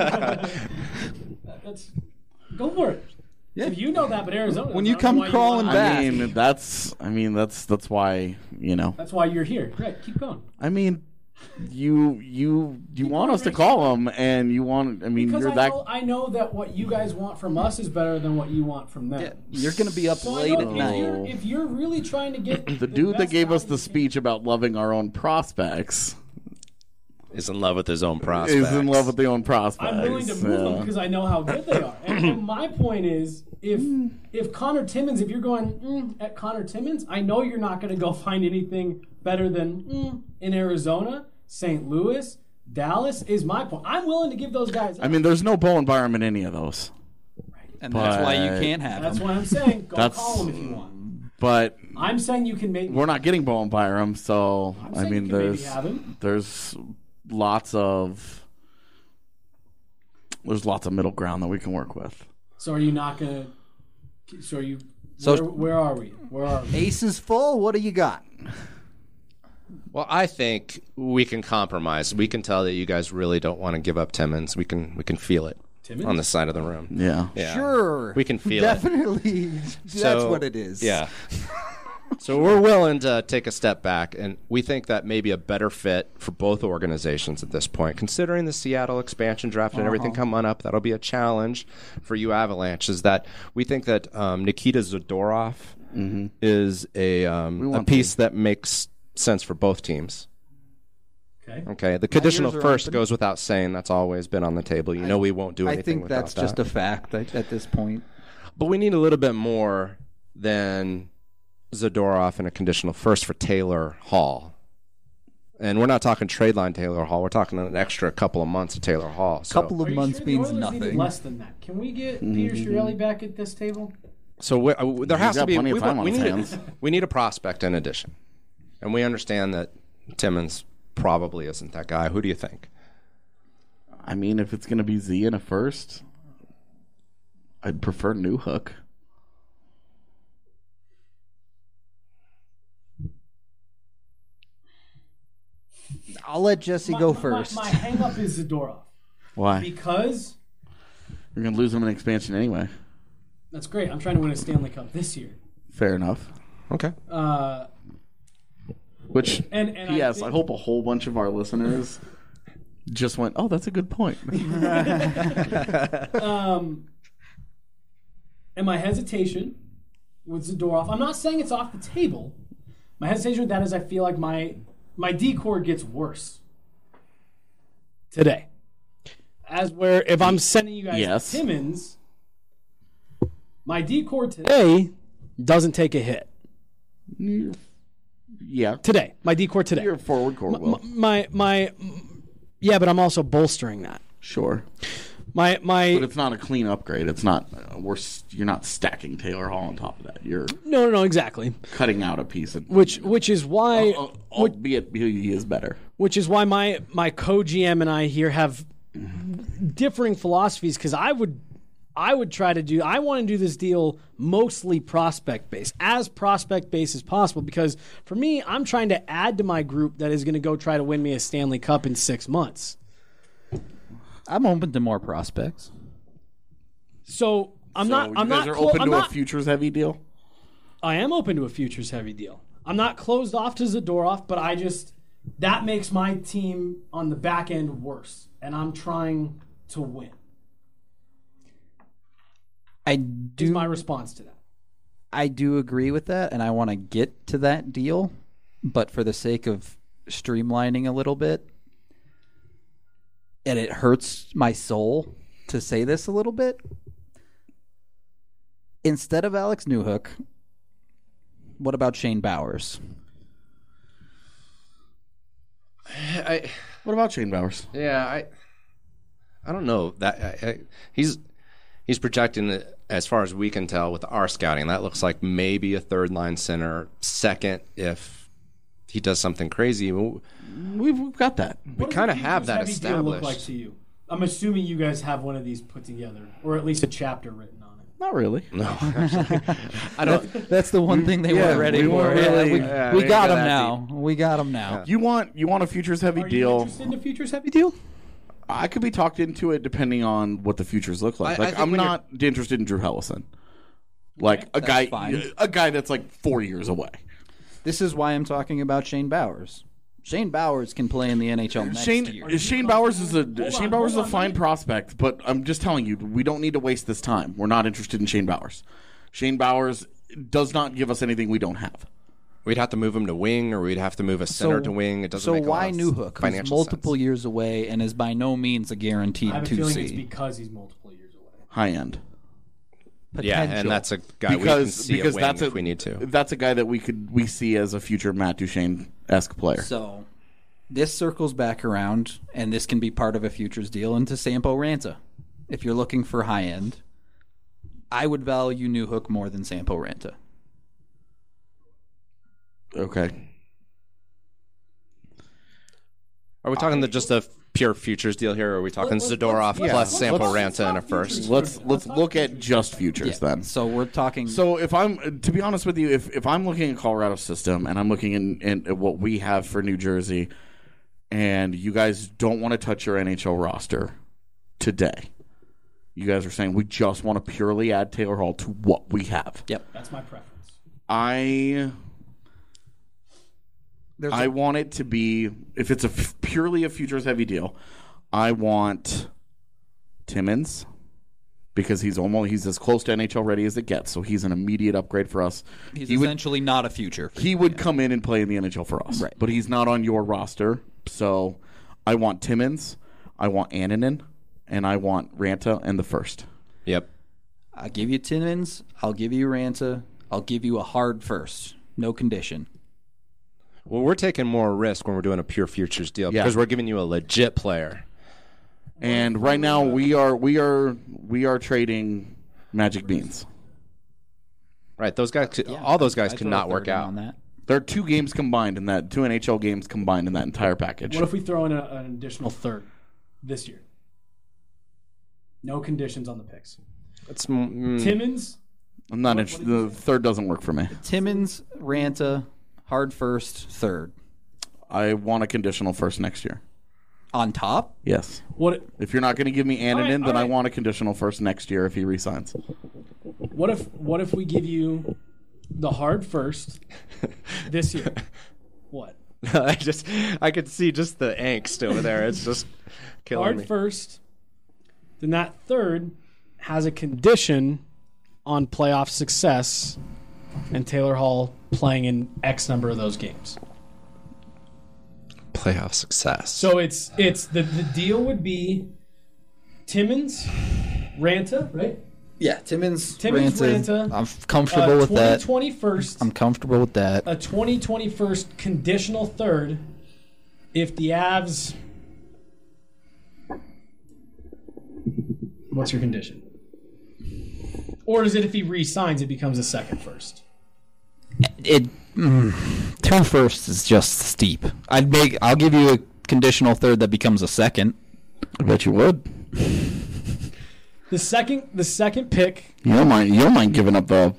Go for it. Yeah. If you know that, but Arizona. When you doesn't, I don't come know why crawling want- back. I mean, that's why, you know. That's why you're here. Right, keep going. I mean, you want us to call them, and you want. I mean, Because you're that. I know that what you guys want from us is better than what you want from them. Yeah, you're going to be up So I late know at night. if you're really trying to get The dude that best gave us value the you speech about loving our own prospects Is in love with his own prospects. is in love with their own prospects. I'm willing to move them because I know how good they are. And my point is, if Connor Timmins, if you're going at Connor Timmins, I know you're not going to go find anything better than in Arizona, St. Louis, Dallas. Is my point. I'm willing to give those guys. I mean, there's no Bowen Byram in any of those. And that's why you but- can't have that's him. why I'm saying go That's- call them if you want. But I'm saying you can maybe. we're not getting Bowen Byram, so I saying mean, you can maybe have him. there's lots of middle ground that we can work with. So are you not going to? So are you? So- where are we? Where are we? Ace is full. What do you got? Well, I think we can compromise. We can tell that you guys really don't want to give up Timmins. We can feel it Timmins? on the side of the room. Yeah. Yeah. Sure. We can feel it. Definitely. That's So- what it is. Yeah. So we're willing to take a step back, and we think that may be a better fit for both organizations at this point. Considering the Seattle expansion draft and everything coming up, that'll be a challenge for you Avalanche, is that we think that Nikita Zadorov is a piece that makes sense for both teams. Okay. Okay, the conditional ears are first open. goes without saying. That's always been on the table. You know we won't do I anything think without that's that. just a fact at this point. But we need a little bit more than Zadorov and a conditional first for Taylor Hall. And we're not talking trade line Taylor Hall. We're talking an extra couple of months of Taylor Hall. So, Couple Are of you months sure the means Oilers needed nothing. less than that? Can we get Peter Chiarelli back at this table? there has to got be. plenty of We, time want- on we his need hands. we need a prospect in addition, and we understand that Timmins probably isn't that guy. Who do you think? I mean, if it's going to be Z in a first, I'd prefer Newhook. I'll let Jesse go first. My hang up is Zadorov Why? because We're going to lose him in expansion anyway. That's great. I'm trying to win a Stanley Cup this year. Fair enough. Okay. Which, And P.S., I hope a whole bunch of our listeners just went, oh, that's a good point. And my hesitation with Zadorov, I'm not saying it's off the table. My hesitation with that is I feel like my D-core gets worse today. As where if I'm sending you guys Yes. Timmins, my D-core today doesn't take a hit. Yeah. Today, my D-core today. Your forward core will. Yeah, but I'm also bolstering that. Sure. My But it's not a clean upgrade. It's not. You're not stacking Taylor Hall on top of that. You're no, exactly. cutting out a piece. And, Which is why albeit he is better. which is why my co-GM and I here have differing philosophies because I would try to do. I want to do this deal mostly prospect based, as prospect based as possible. Because for me, I'm trying to add to my group that is going to go try to win me a Stanley Cup in 6 months. I'm open to more prospects. So I'm So not. you I'm guys not. are open I'm to not. a futures heavy deal. I am open to a futures heavy deal. I'm not closed off to Zadorov, but that makes my team on the back end worse, and I'm trying to win. Is my response to that. I do agree with that, and I want to get to that deal, but for the sake of streamlining a little bit, and it hurts my soul to say this a little bit, instead of Alex Newhook, what about Shane Bowers? What about Shane Bowers? I don't know that he's projecting as far as we can tell with our scouting. That looks like maybe a third line center, second if he does something crazy. We've got that. We kind of have that Heavy deal look like established. to you? I'm assuming you guys have one of these put together, or at least a chapter written on it. Not really. No, I don't. That's the one thing they weren't ready we for. weren't really- we we got got him that now. We got him now. You want a futures heavy Are you deal? interested in a futures heavy deal? I could be talked into it depending on what the futures look like. I Like think I'm when not interested in Drew Hellison. Like a guy, fine. a guy that's like 4 years away. This is why I'm talking about Shane Bowers. Shane Bowers can play in the NHL next year. Shane Bowers is a fine prospect, but I'm just telling you, we don't need to waste this time. We're not interested in Shane Bowers. Shane Bowers does not give us anything we don't have. We'd have to move him to wing, or we'd have to move a center to wing. It doesn't So make a why lot of Newhook, who's financial multiple sense. years away and is by no means a guaranteed I have a feeling it's 2C? because he's multiple years away. High end. Yeah, Potential. and that's a guy we can see at wing that's if we need to. That's a guy that we see as a future Matt Duchene-esque player. So this circles back around, and this can be part of a futures deal into Sampo Ranta. If you're looking for high end, I would value Newhook more than Sampo Ranta. Okay. Are we talking just a pure futures deal here, or are we talking Zadorov plus Sampo Ranta in a first? Let's look at just futures then. So we're talking. So if I'm, to be honest with you, if I'm looking at Colorado's system and I'm looking in at what we have for New Jersey, and you guys don't want to touch your NHL roster today, you guys are saying we just want to purely add Taylor Hall to what we have. Yep. That's my preference. I want it to be, if it's purely a futures heavy deal, I want Timmins because he's as close to NHL ready as it gets. So he's an immediate upgrade for us. He's He would- essentially not a future. He would come in and play in the NHL for us. Right. But he's not on your roster. So I want Timmins, I want Annunen, and I want Ranta and the first. Yep. I'll give you Timmins. I'll give you Ranta. I'll give you a hard first. No condition. Well, we're taking more risk when we're doing a pure futures deal Yeah. because we're giving you a legit player. And right now we are trading Magic Beans. Right? Those guys, all those guys I'd could throw not a work third in out. on that. There are two games combined in that, two NHL games combined in that entire package. What if we throw in an additional third this year? No conditions on the picks. It's Timmins, I'm not interested. The third doesn't work for me. Timmins, Ranta, hard first, third. I want a conditional first next year. On top? Yes. What If you're not going to give me Annunen, right, then all I right. want a conditional first next year if he resigns. what if we give you the hard first this year? What? I could see just the angst over there. It's just killing Hard me. first. Then that third has a condition on playoff success and Taylor Hall playing in X number of those games. Playoff success. So it's the deal would be Timmins, Ranta, right? Yeah, Timmins, Ranta. I'm comfortable with that. 2021st. I'm comfortable with that. A 2021st conditional third if the Avs. What's your condition? Or is it if he re-signs, it becomes a second first? Two firsts is just steep. I'll give you a conditional third that becomes a second. I bet you would. The second pick. You don't mind giving up the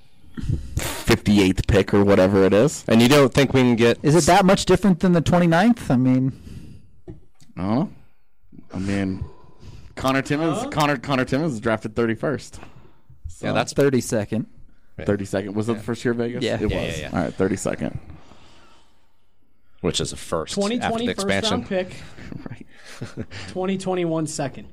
58th pick or whatever it is. And you don't think we can get? Is it that much different than the 29th? I mean, I don't know. I mean, Connor Timmins. Connor Timmins is drafted 31st. Yeah, that's 32nd. 32nd. Was it the first year of Vegas? Yeah. It Yeah, was. yeah. All right, 32nd. which is a first after 2020 the first expansion. round pick. Right. 2021 second.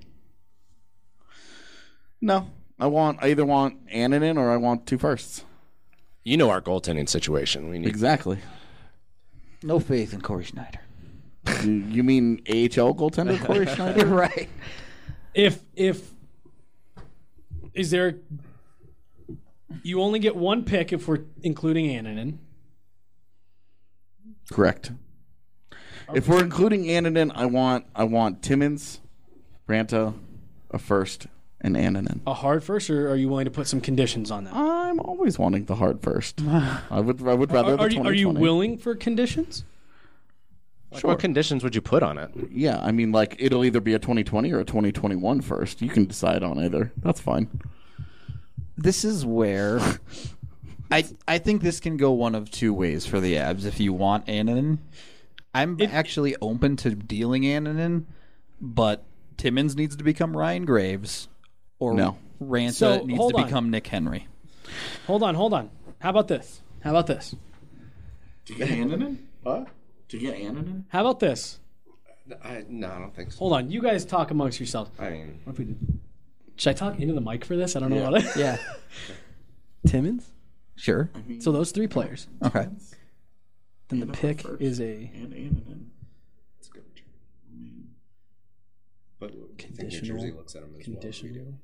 No, I either want Annunen or I want two firsts. You know our goaltending situation. We need Exactly. No faith in Corey Schneider. You mean AHL goaltender Corey Schneider? Right. If is there, you only get one pick if we're including Annunen. Correct. If we're including Annunen, I want Timmins, Ranta, a first, and Annunen. A hard first, or are you willing to put some conditions on that? I'm always wanting the hard first. I would rather the Are 2020. you willing for conditions? Like, what conditions would you put on it? Yeah, I mean, like, it'll either be a 2020 or a 2021 first. You can decide on either. That's fine. This is where I think this can go one of two ways for the Avs. If you want Annunen, I'm actually open to dealing Annunen, but Timmins needs to become Ryan Graves, or No. Ranta So, needs hold to on. become Nick Henry. Hold on. How about this? To get Annunen? What? To get Annunen? How about this? No, I don't think so. Hold on. You guys talk amongst yourselves. I mean, What if we did? Should I talk into the mic for this? I don't know what it. Yeah, Timmins. sure. So those three players. Okay. Then the pick is a And Annunen. it's a good return. But I think New Conditional- Jersey looks at him as conditional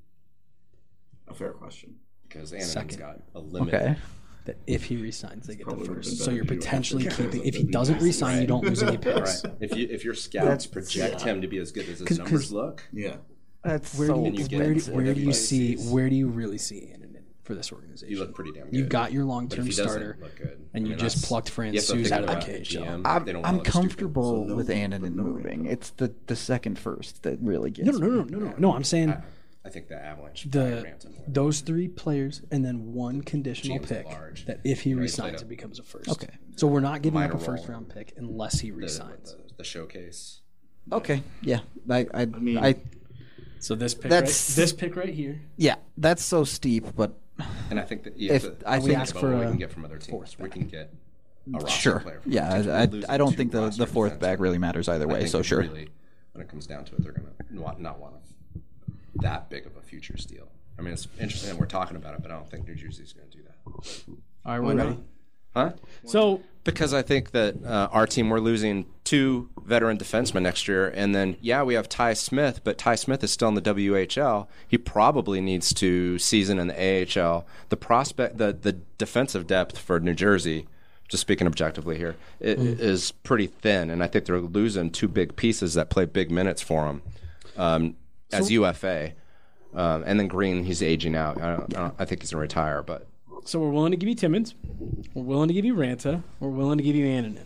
A fair question. because Annan's Second. got a limit. Okay. that if he resigns, they get the probably would've first. been So better you're if you potentially actually keeping. had If he something doesn't nice, resign, you don't lose any Right. picks. If your scouts project him to be as good as his 'Cause- numbers look, Yeah. That's Where do And you you, get where do, four where do you see? WICs. Where do you really see Annunen for this organization? you look pretty damn good. You got your But if long-term he doesn't starter, look good, and you just plucked Francouz out of the KHL. I'm They don't wanna I'm look stupid. comfortable with Annunen moving. It's the second first that really gets No. I'm saying I think the Avalanche should probably the rant him more. those three players and then one conditional James pick Large. that if he Right, resigns, played it becomes a first. Okay. So we're not giving up Minor a first role. round pick unless he the, resigns. the showcase. Okay. Yeah. I mean- So this pick, That's- this pick right here. yeah. That's so steep, but And I think that If- I we think- ask for what we can get from other teams. We can get a roster sure. player from Yeah. other teams. We're I losing don't two think the roster fourth defensemen. back really matters either I way. think So that sure. Really, when it comes down to it, they're going to not want that big of a futures deal. I mean, it's interesting that we're talking about it, but I don't think New Jersey's going to do that. All right, we're ready. Huh? So Because I think that our team, we're losing two veteran defensemen next year. And then, yeah, we have Ty Smith, but Ty Smith is still in the WHL. He probably needs to season in the AHL. The prospect, the defensive depth for New Jersey, just speaking objectively here, is pretty thin. And I think they're losing two big pieces that play big minutes for them as UFA. And then Green, he's aging out. I think he's going to retire, but So we're willing to give you Timmins. We're willing to give you Ranta. We're willing to give you Annunen.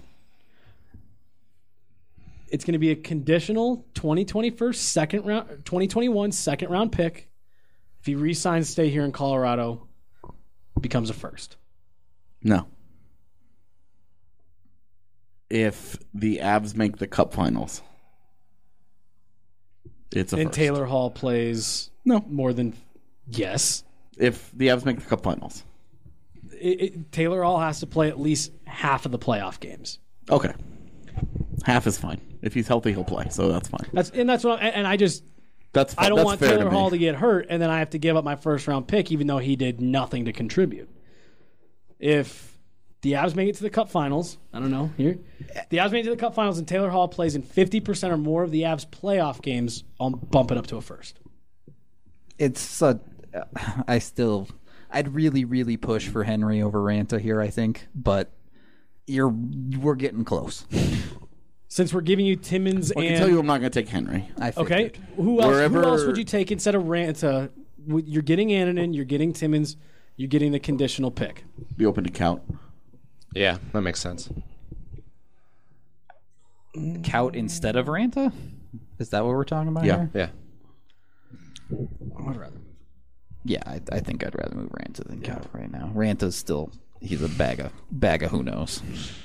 It's going to be a conditional 2021 second round pick. If he re-signs, stay here in Colorado, becomes a first. No. If the Avs make the Cup Finals, It's a And first. Taylor Hall plays No. more than yes. If the Avs make the Cup Finals. Taylor Hall has to play at least half of the playoff games. Okay. Half is fine. If he's healthy, he'll play, so that's fine. That's what I just That's I don't that's want fair Taylor to Hall me. to get hurt and then I have to give up my first round pick even though he did nothing to contribute. If the Avs make it to the Cup Finals, I don't know here. The Avs make it to the Cup Finals and Taylor Hall plays in 50% or more of the Avs playoff games, I'll bump it up to a first. I'd really, really push for Henry over Ranta here, I think, but we're getting close. Since we're giving you Timmins I can and tell you I'm not going to take Henry. I okay, figured. who Wherever- else would you take instead of Ranta? You're getting Annunen, you're getting Timmins, you're getting the conditional pick. Be open to count. Yeah, that makes sense. Kaut instead of Ranta? Is that what we're talking about Yeah. here? Yeah. Yeah, I think I'd rather move Ranta than Kaut right now. Ranta's still he's a bag of who knows.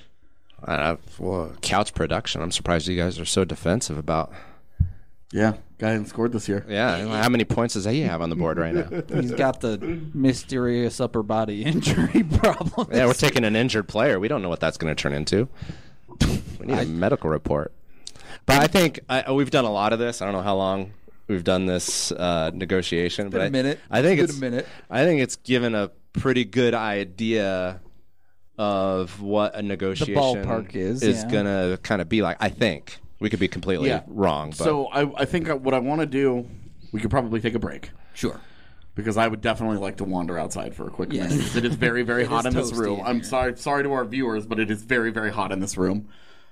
Well, couch production. I'm surprised you guys are so defensive about. Yeah, guy hasn't scored this year. Yeah, how many points does he have on the board right now? He's got the mysterious upper body injury problem. Yeah, we're taking an injured player. We don't know what that's going to turn into. We need a medical report. But I think we've done a lot of this. I don't know how long we've done this negotiation. been but a minute. I think It's it's been a minute. I think it's given a pretty good idea of what a negotiation ballpark is, yeah. going to kind of be like. I think we could be completely wrong. But So I think what I want to do, we could probably take a break. Sure. Because I would definitely like to wander outside for a quick Yes. minute. It is very, very hot is in this toasty room. in I'm here. sorry to our viewers, but it is very, very hot in this room.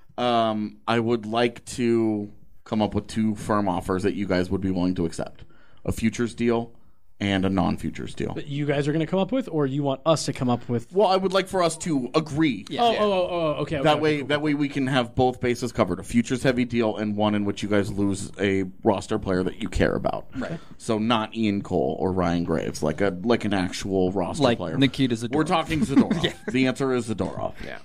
I would like to come up with 2 firm offers that you guys would be willing to accept: a futures deal and a non-futures deal. That you guys are going to come up with, or you want us to come up with? Well, I would like for us to agree. Okay. That way we can have both bases covered: a futures heavy deal and one in which you guys lose a roster player that you care about. Right. So not Ian Cole or Ryan Graves, like an actual roster Like player. Nikita Zadorov. We're talking Zadorov. The answer is Zadorov. yeah.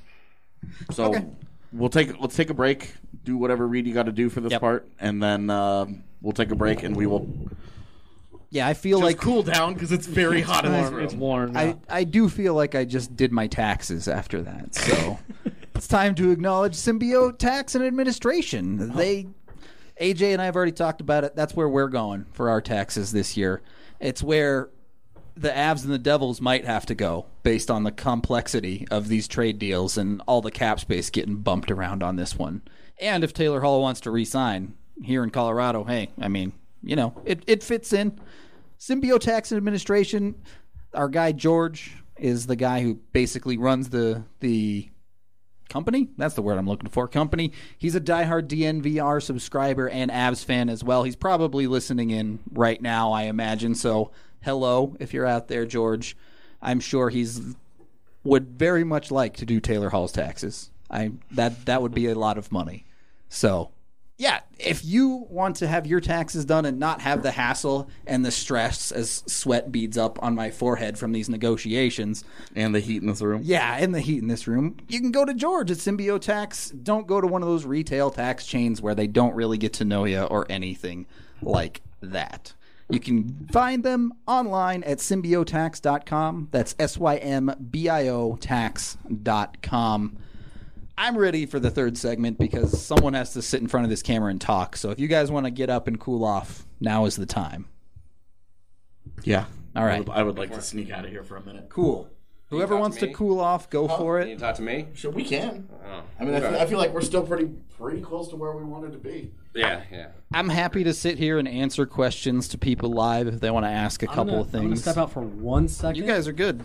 So let's take a break. Do whatever read you got to do for this Yep. part, and then we'll take a break and we will Yeah, I feel like cool down because it's very hot in this room. It's warm. I do feel like I just did my taxes after that. So it's time to acknowledge Symbiote Tax and Administration. AJ and I have already talked about it. That's where we're going for our taxes this year. It's where the Avs and the Devils might have to go based on the complexity of these trade deals and all the cap space getting bumped around on this one. And if Taylor Hall wants to re-sign here in Colorado, hey, I mean, you know, it fits in. Symbiote Tax and Administration, our guy George is the guy who basically runs the company. That's the word I'm looking for. Company. He's a diehard DNVR subscriber and Avs fan as well. He's probably listening in right now, I imagine. So, hello, if you're out there, George. I'm sure would very much like to do Taylor Hall's taxes. That would be a lot of money. So, yeah, if you want to have your taxes done and not have the hassle and the stress as sweat beads up on my forehead from these negotiations, And the heat in this room. yeah, and the heat in this room, you can go to George at Symbiote Tax. Don't go to one of those retail tax chains where they don't really get to know you or anything like that. You can find them online at symbiotax.com. That's SYMBIO tax.com. I'm ready for the third segment because someone has to sit in front of this camera and talk. So if you guys want to get up and cool off, now is the time. Yeah. All right. I would like to sneak out of here for a minute. Cool. Whoever talk wants to to me? cool off, go for Can you it. talk to me? Sure, we can. Oh, I mean, I feel like we're still pretty close to where we wanted to be. yeah. I'm happy to sit here and answer questions to people live if they want to ask a couple of I'm gonna things. step out for 1 second. You guys are good.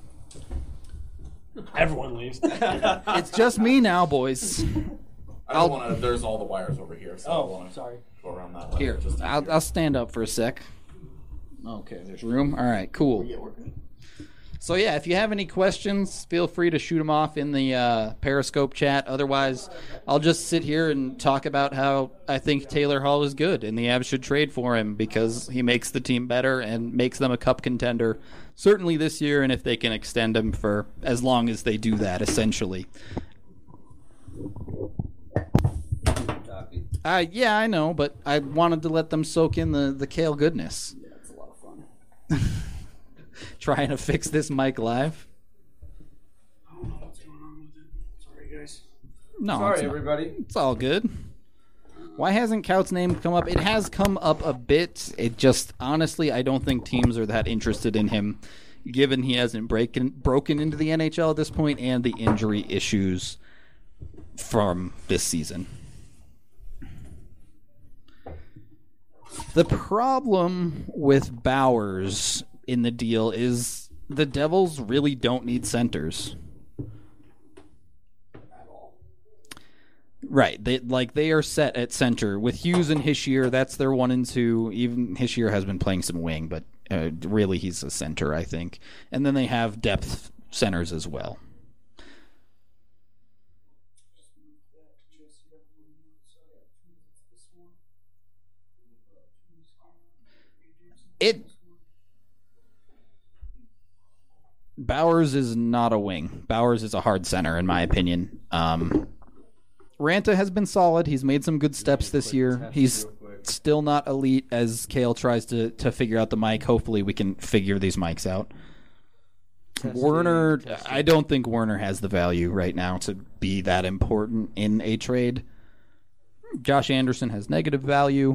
Everyone leaves. It's just me now, boys. I don't want to. There's all the wires over here, so I don't want to sorry. go around that way. Here, I'll stand up for a sec. Okay, there's room. All right, cool. Yeah, we're good. So yeah, if you have any questions, feel free to shoot them off in the Periscope chat. Otherwise, I'll just sit here and talk about how I think Taylor Hall is good and the Avs should trade for him because he makes the team better and makes them a cup contender, certainly this year, and if they can extend him for as long as they do that, essentially. Yeah, I know, but I wanted to let them soak in the kale goodness. Yeah, it's a lot of fun. Trying to fix this mic live. I don't know what's going on with it. Sorry, guys. No, Sorry, it's not. everybody. It's all good. Why hasn't Coutts' name come up? It has come up a bit. It just, honestly, I don't think teams are that interested in him, given he hasn't broken into the NHL at this point and the injury issues from this season. The problem with Bowers in the deal is the Devils really don't need centers. Right, they are set at center with Hughes and Hischier. That's their 1 and 2. Even Hischier has been playing some wing, but really he's a center, I think. And then they have depth centers as well. Bowers is not a wing. Bowers is a hard center, in my opinion. Ranta has been solid. He's made some good steps this year. He's still not elite as Kale tries to figure out the mic. Hopefully we can figure these mics out. Werner, I don't think Werner has the value right now to be that important in a trade. Josh Anderson has negative value.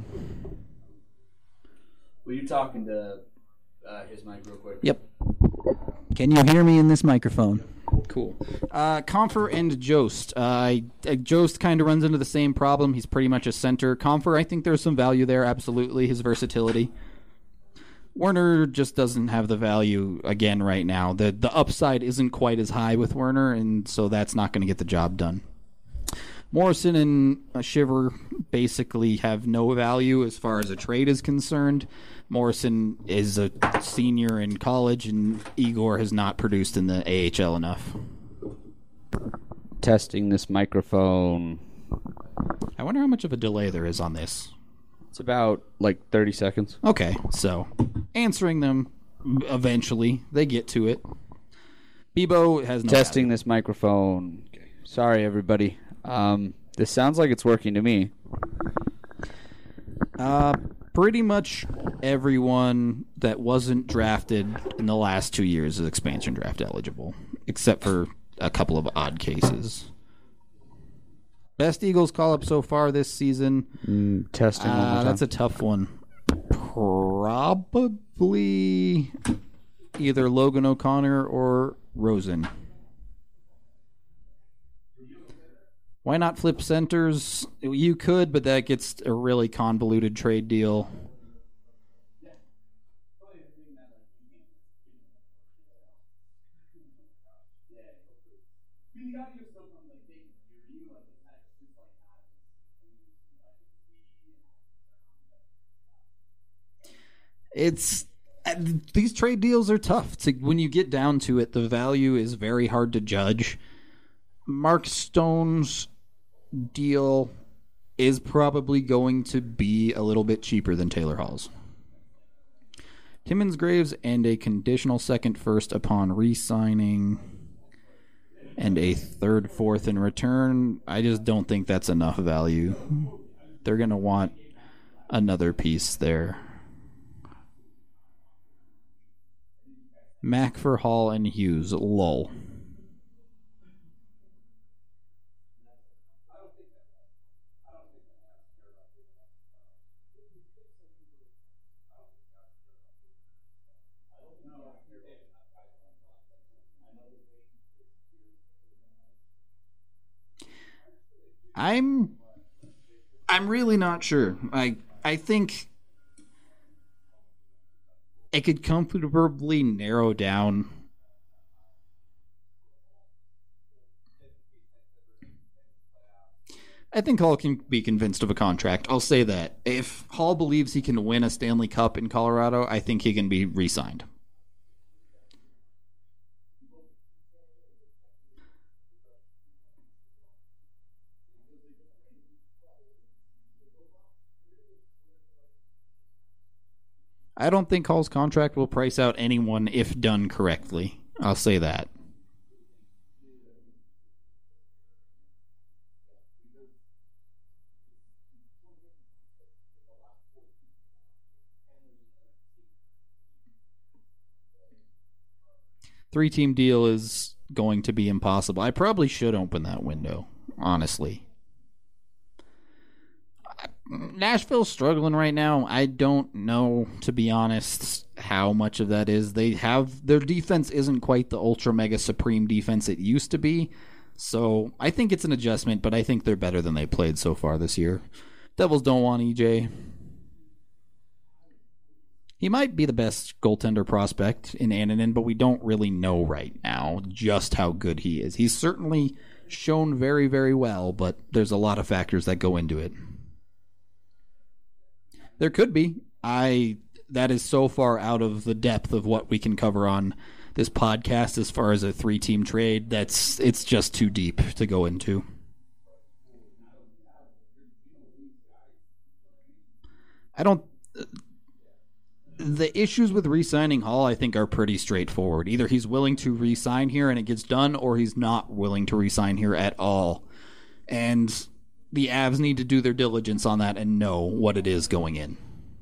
Were you talking to his mic real quick? Yep. Can you hear me in this microphone? Cool. Compher and Jost. Jost kind of runs into the same problem. He's pretty much a center. Compher, I think there's some value there, absolutely, his versatility. Werner just doesn't have the value, again, right now. The upside isn't quite as high with Werner, and so that's not going to get the job done. Morrison and Shiver basically have no value as far as a trade is concerned. Morrison is a senior in college, and Igor has not produced in the AHL enough. Testing this microphone. I wonder how much of a delay there is on this. It's about like 30 seconds. Okay, so answering them eventually. They get to it. Bebo has no Testing value. this microphone. Okay. Sorry, everybody. This sounds like it's working to me. Pretty much everyone that wasn't drafted in the last 2 years is expansion draft eligible, except for a couple of odd cases. Best Eagles call-up so far this season. Testing one more time. That's a tough one. Probably either Logan O'Connor or Rosen. Why not flip centers? You could, but that gets a really convoluted trade deal. These trade deals are tough. When you get down to it, the value is very hard to judge. Mark Stone's deal is probably going to be a little bit cheaper than Taylor Hall's. Timmins Graves and a conditional second first upon re-signing and a third fourth in return. I just don't think that's enough value. They're going to want another piece there. Mac for Hall and Hughes. Lol. I'm really not sure. I think it could comfortably narrow down. I think Hall can be convinced of a contract. I'll say that. If Hall believes he can win a Stanley Cup in Colorado, I think he can be re-signed. I don't think Hall's contract will price out anyone if done correctly. I'll say that. 3-team deal is going to be impossible. I probably should open that window, honestly. Nashville's struggling right now. I don't know, to be honest, how much of that is. Their defense isn't quite the ultra mega supreme defense it used to be. So I think it's an adjustment, but I think they're better than they played so far this year. Devils don't want EJ. He might be the best goaltender prospect in Annunen, but we don't really know right now just how good he is. He's certainly shown very, very well, but there's a lot of factors that go into it. There could be. That is so far out of the depth of what we can cover on this podcast as far as a 3-team trade. It's just too deep to go into. The issues with re-signing Hall, I think, are pretty straightforward. Either he's willing to re-sign here and it gets done, or he's not willing to re-sign here at all. And the Avs need to do their diligence on that and know what it is going in.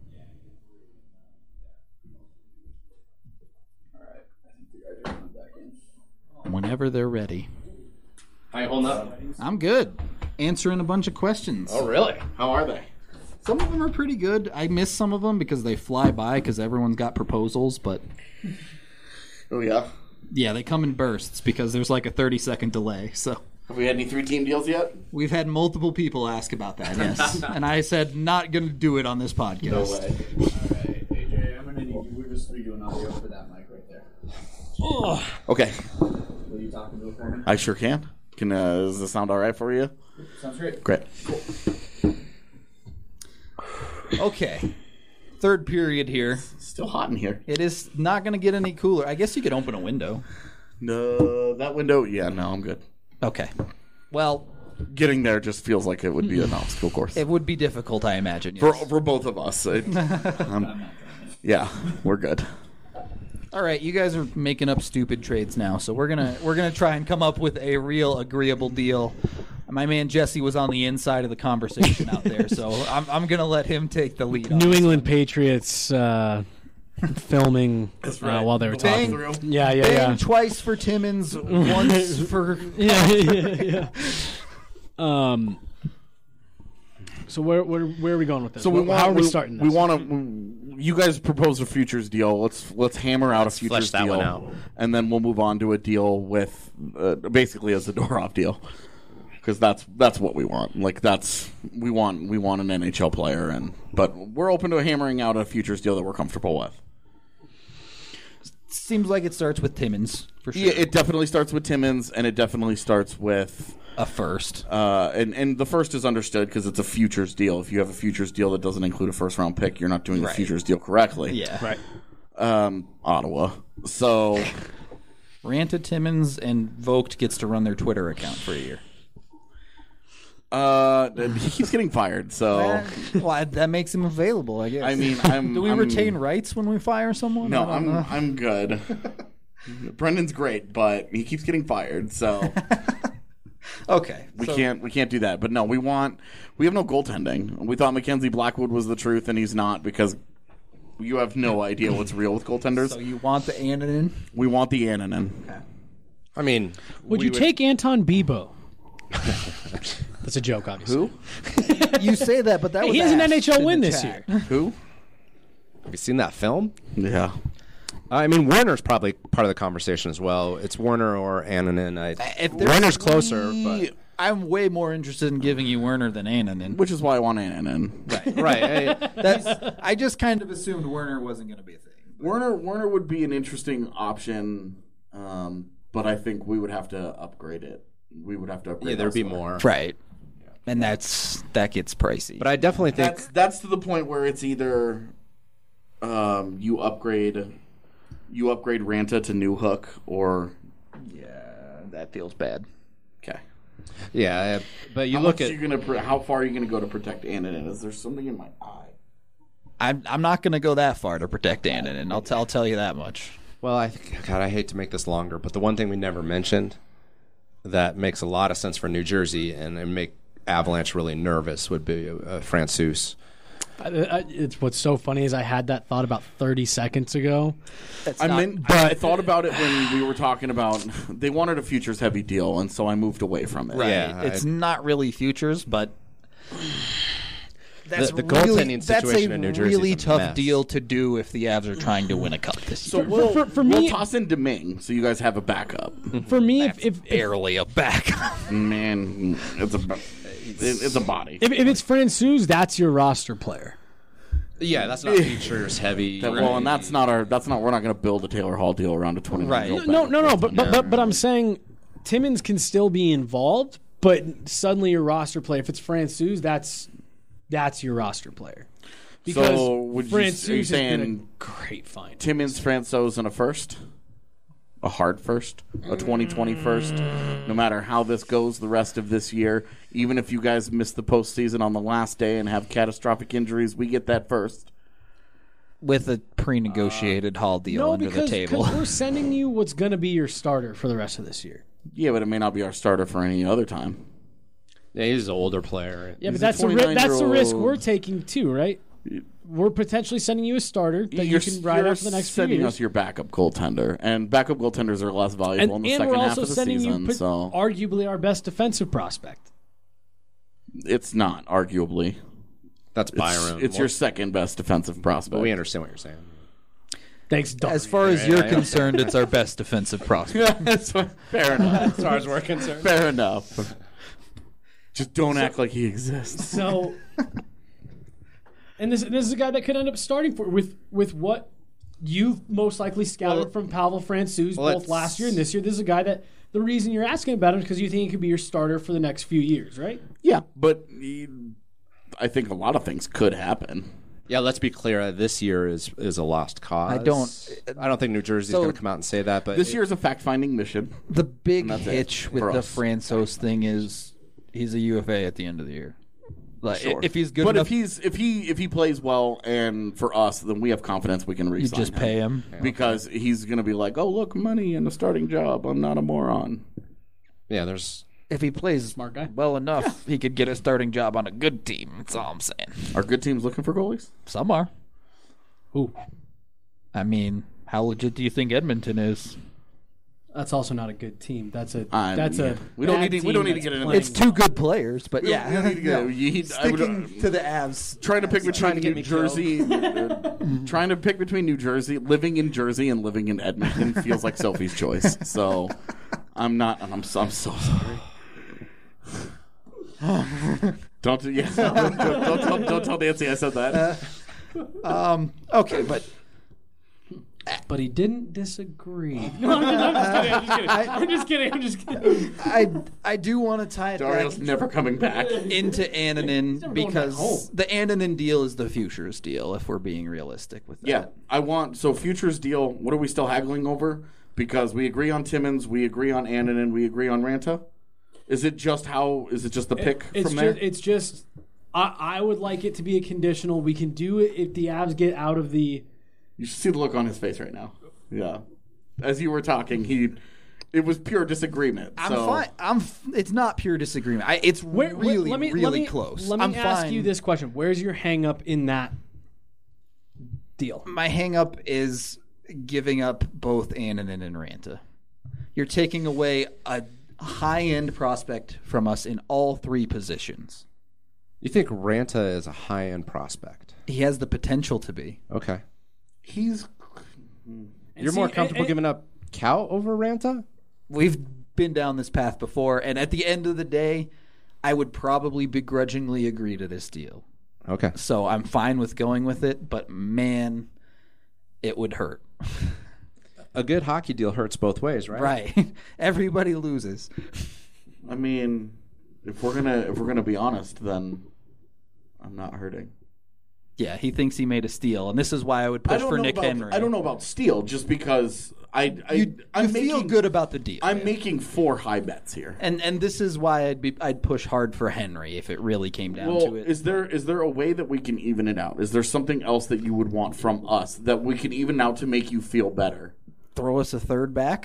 Whenever they're ready. How you holding up? I'm good. Answering a bunch of questions. Oh, really? How are they? Some of them are pretty good. I miss some of them because they fly by because everyone's got proposals, but... Oh, yeah? Yeah, they come in bursts because there's like a 30-second delay, so... Have we had any 3-team deals yet? We've had multiple people ask about that, yes. And I said, not going to do it on this podcast. No way. All right, AJ, I'm going to need you. We're just redoing audio for that mic right there. Oh. Okay. Will you talk into it for me? I sure can. Does this sound all right for you? Sounds great. Great. Okay. Third period here. Still hot in here. It is not going to get any cooler. I guess you could open a window. No, that window, yeah, no, I'm good. Okay. Well, getting there just feels like it would be an obstacle course. It would be difficult, I imagine. Yes. For both of us. Yeah, we're good. All right, you guys are making up stupid trades now, so we're gonna try and come up with a real agreeable deal. My man Jesse was on the inside of the conversation out there, so I'm gonna let him take the lead. New England Patriots filming while they were talking. Bang twice for Timmins, once for yeah. So where are we going with this? So how are we starting this? We want to. You guys proposed a futures deal. Let's hammer out a futures flesh that deal, one out. And then we'll move on to a deal with basically a Zadorov deal, because that's what we want. Like we want an NHL player, but we're open to hammering out a futures deal that we're comfortable with. Seems like it starts with Timmins for sure. Yeah, it definitely starts with Timmins, and it definitely starts with a first. And the first is understood because it's a futures deal. If you have a futures deal that doesn't include a first-round pick, you're not doing the futures deal correctly. Yeah. Right. Ottawa. So Ranta, Timmins, and Vogt gets to run their Twitter account for a year. He keeps getting fired, so well, that makes him available, I guess. I mean, do we retain rights when we fire someone? No, I'm good. Brendan's great, but he keeps getting fired, so okay, we can't do that. But no, we have no goaltending. We thought Mackenzie Blackwood was the truth, and he's not, because you have no idea what's real with goaltenders. So you want the Annunen? We want the Annunen. Okay. I mean, would you take Anton Bibeau? That's a joke, obviously. Who? You say that, but that was he has an NHL win this year. Who? Have you seen that film? Yeah. I mean, Werner's probably part of the conversation as well. It's Werner or Annunen. Werner's closer, but I'm way more interested in giving you Werner than Annunen. Which is why I want Annunen. Right. I just kind of assumed Werner wasn't going to be a thing. Werner would be an interesting option, but I think we would have to upgrade it. We would have to upgrade. Yeah, there'd be more. Right. And that gets pricey. But I definitely think that's to the point where it's either you upgrade Ranta to New Hook, or that feels bad. Okay. Yeah, but you how far are you gonna go to protect Annunen? Is there something in my eye? I'm not gonna go that far to protect Annunen. I'll tell you that much. Well, I hate to make this longer, but the one thing we never mentioned that makes a lot of sense for New Jersey and make Avalanche really nervous would be Francouz. It's what's so funny is I had that thought about 30 seconds ago. I thought about it when we were talking about they wanted a futures heavy deal, and so I moved away from it. Right. Yeah, It's not really futures, but the goaltending situation in New Jersey really is a tough mess. deal to do if the Avs are trying to win a cup this So year. we'll me- toss in Deming, so you guys have a backup. For me, if Barely a back. Man, it's a body. if it's Francouz, that's your roster player. Yeah, that's not futures heavy. Well, and that's not we're not going to build a Taylor Hall deal around a 20 Right. No. But I'm saying Timmins can still be involved, but suddenly your roster player, if it's Francouz, that's your roster player. Because So would you, are you Francouz has been a saying great find. Timmins, Francouz, and a first? A hard first? A 2020 first? No matter how this goes the rest of this year, even if you guys miss the postseason on the last day and have catastrophic injuries, we get that first. With a pre-negotiated Hall deal under the table. because we're sending you what's going to be your starter for the rest of this year. Yeah, but it may not be our starter for any other time. Yeah, he's an older player. Yeah, He's but a that's the risk 29-year-old. we're taking too, right? We're potentially sending you a starter that you can ride out for the next few sending years. us your backup goaltender, and backup goaltenders are less valuable in the and second we're half also of the sending season. you So arguably our best defensive prospect. it's not arguably. That's It's, Byron. it's your second best defensive prospect. But we understand what you're saying. Thanks, Doug. As far as you're concerned, it's our best defensive prospect. Fair enough. As far as we're concerned. Fair enough. Just don't act like he exists. So, and this is a guy that could end up starting for with what you've most likely scouted from Pavel Francouz both last year and this year. This is a guy that the reason you're asking about him is because you think he could be your starter for the next few years, right? Yeah, but I think a lot of things could happen. Yeah, let's be clear. This year is a lost cause. I don't think New Jersey's So- going to come out and say that. But This year's a fact-finding mission. The big that's it hitch with for the us. Francouz thing is he's a UFA at the end of the year. Like Sure. if he's good But enough, if he plays well and for us, then we have confidence we can you re-sign just pay him. because he's going to be like, oh look, money and a starting job. I'm not a moron. yeah, there's If he plays Smart guy. well enough, he could get a starting job on a good team. That's all I'm saying. Are good teams looking for goalies? Some are. Ooh, I mean, how legit do you think Edmonton is? that's also not a good team. That's a we don't bad need to- we don't team need to that's get into playing It's two good players, but yeah. We don't need to go. Sticking to the Avs. Trying to pick between get New me Jersey, trying to pick between New Jersey, living in Jersey and living in Edmonton feels like Sophie's choice. So I'm not. I'm so sorry. Don't tell Nancy I said that. Okay, but But he didn't disagree. No, I'm just kidding. I'm just kidding. I do want to tie it Dario's back never coming back. into Annunen going back because home. the Annunen deal is the futures deal. If we're being realistic with that. Yeah, I want futures deal. What are we still haggling over? Because we agree on Timmins, we agree on Annunen, we agree on Ranta. Is it just the pick from there? It's just I would like it to be a conditional. We can do it if the Avs get out of the. You should see the look on his face right now. Yeah, as you were talking, it was pure disagreement. I'm so. fine. It's not pure disagreement. It's really close. Let me I'm ask fine. you this question: where's your hang up in that deal? My hang up is giving up both Annunen and Ranta. You're taking away a high-end prospect from us in all three positions. You think Ranta is a high-end prospect? He has the potential to be. Okay. He's You're more comfortable giving up Cal over Ranta? We've been down this path before, and at the end of the day, I would probably begrudgingly agree to this deal. Okay. So I'm fine with going with it, but man, it would hurt. A good hockey deal hurts both ways, right? Right. Everybody loses. I mean, if we're gonna be honest, then I'm not hurting. Yeah, he thinks he made a steal, and this is why I would push for Nick Henry. I don't know about steal, just because I'm you feel good about the deal. I'm making 4 high bets here. And this is why I'd push hard for Henry if it really came down to it. Is there a way that we can even it out? Is there something else that you would want from us that we can even out to make you feel better? Throw us a third back.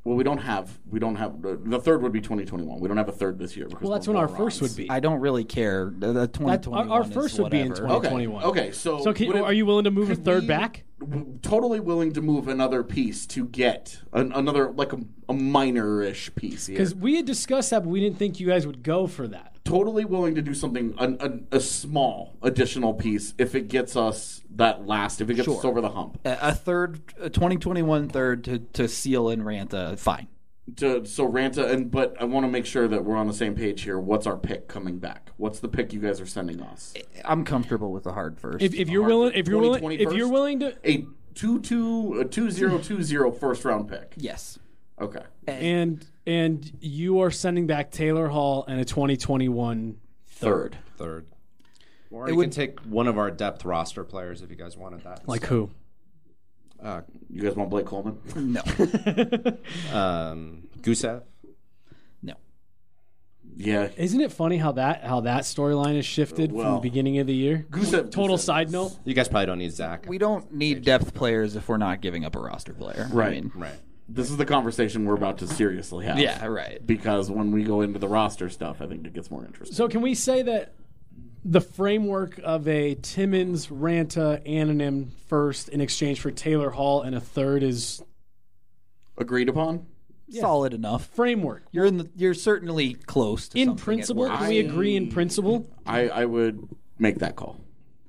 Well, we don't have the third would be 2021. We don't have a third this year. Because Well, that's we're when our more first on. would be. I don't really care. The 2021 Our first is would be in whatever. 2021. Okay, so So are you willing to move a could third we- back? Totally willing to move another piece to get another like a minor-ish piece. Because we had discussed that, but we didn't think you guys would go for that. Totally willing to do something a small additional piece if it gets us if it gets us over the hump. A third, a 2021 third to seal in Ranta, fine. So Ranta, but I want to make sure that we're on the same page here. What's our pick coming back? What's the pick you guys are sending us? I'm comfortable with the hard first. If you're willing, if you're willing, 2020 if you're first? willing to, A 2020 first round pick. yes. Okay. and you are sending back Taylor Hall and a 2021 Third. Or you can take one of our depth roster players if you guys wanted that. Like who? You guys want Blake Coleman? No. Gusev. No. Yeah. Isn't it funny how that storyline has shifted from the Well, beginning of the year? Total Gusev side note. You guys probably don't need Zach. We don't need depth players if we're not giving up a roster player. Right. I mean, Right. This is the conversation we're about to seriously have. yeah, right. Because when we go into the roster stuff, I think it gets more interesting. So can we say that the framework of a Timmins, Ranta, Anonym first in exchange for Taylor Hall and a third is Agreed upon? Solid enough. framework? You're certainly close to In something at principle, worst. can we agree in principle? I would make that call.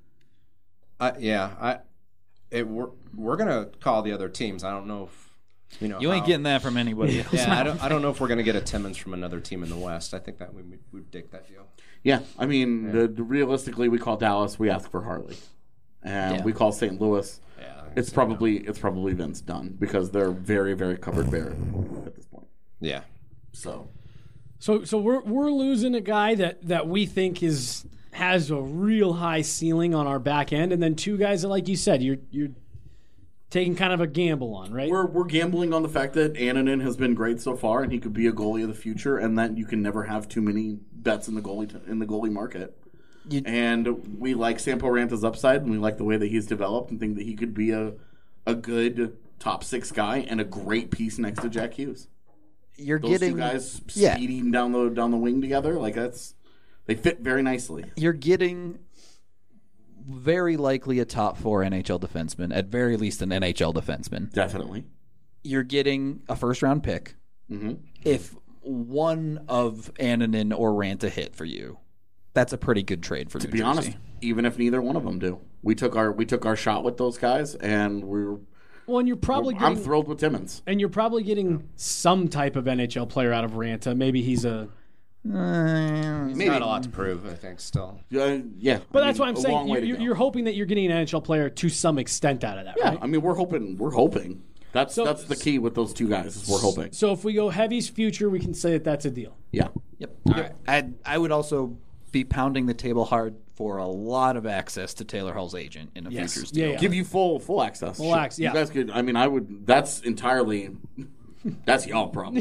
We're gonna call the other teams. I don't know if you know. You ain't how- getting that from anybody else. Yeah, I don't know if we're gonna get a Timmins from another team in the West. I think that we'd dig that deal. Yeah, I mean, realistically, we call Dallas, we ask for Harley, and Yeah. we call St. Louis. Yeah, It's probably Vince Dunn because they're very, very covered bare at this point. yeah. So So we're losing a guy that we think has a real high ceiling on our back end, and then two guys that, like you said, you're taking kind of a gamble on, right? we're gambling on the fact that Annunen has been great so far, and he could be a goalie of the future, and that you can never have too many bets in the goalie market. And we like Sampo Ranta's upside, and we like the way that he's developed, and think that he could be a good top six guy and a great piece next to Jack Hughes. You're Those getting two guys yeah. speeding down the wing together, they fit very nicely. You're getting very likely a top 4 NHL defenseman, at very least an NHL defenseman. Definitely. You're getting a first round pick. Mm-hmm. If one of Annunen or Ranta hit for you, that's a pretty good trade for New To be Jersey. honest, even if neither one of them do, we took our shot with those guys, and Well, and you're probably I'm getting, thrilled with Timmins. and you're probably getting some type of NHL player out of Ranta. Maybe he's a. He's got a lot to prove, I think, still. Yeah, But that's what I'm a long way saying. to go. You're hoping that you're getting an NHL player to some extent out of that, Yeah, right? I mean, we're hoping. That's the key with those two guys. Is we're hoping. So if we go Heavy's future, we can say that that's a deal. Yeah. Yep. All right. I would also be pounding the table hard for a lot of access to Taylor Hall's agent in a Yes. futures Yeah, deal. yeah. Give you full access. Full access, yeah. You guys could. I mean, I would. That's entirely. That's y'all problem.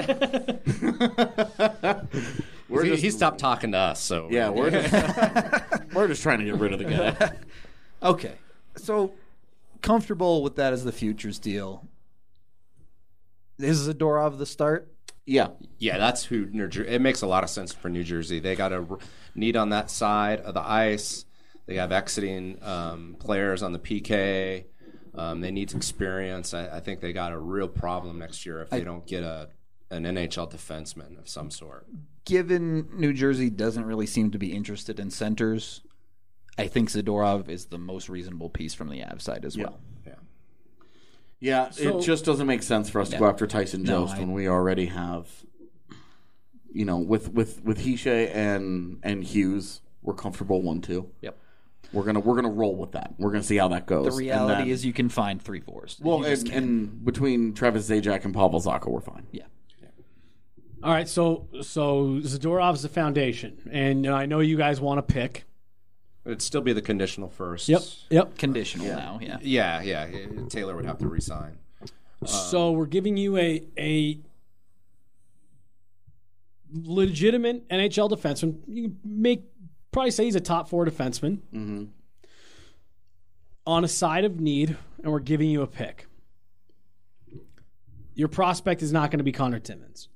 He stopped talking to us, so Yeah, we're just trying to get rid of the guy. Okay. So comfortable with that as the futures deal. Is Zadorov the start? Yeah. Yeah, that's who New Jersey. It makes a lot of sense for New Jersey. They got a need on that side of the ice. They have exiting players on the PK. They need experience. I think they got a real problem next year if they don't get an NHL defenseman of some sort. Given New Jersey doesn't really seem to be interested in centers, I think Zadorov is the most reasonable piece from the Avs side as well. Yeah. Yeah, So- it just doesn't make sense for us to go after Tyson No, Jost when we already have, with Hische and Hughes, we're comfortable 1-2. Yep. We're gonna roll with that. We're gonna see how that goes. The reality is you can find 3-4s. well, You just can't. and between Travis Zajac and Pavel Zacha, we're fine. Yeah. All right, so Zadorov's the foundation, and I know you guys want to pick. It'd still be the conditional first. Yep. Conditional now, yeah. Yeah. Taylor would have to resign. So we're giving you a legitimate NHL defenseman. You can probably say he's a top 4 defenseman on a side of need, and we're giving you a pick. Your prospect is not going to be Connor Timmins.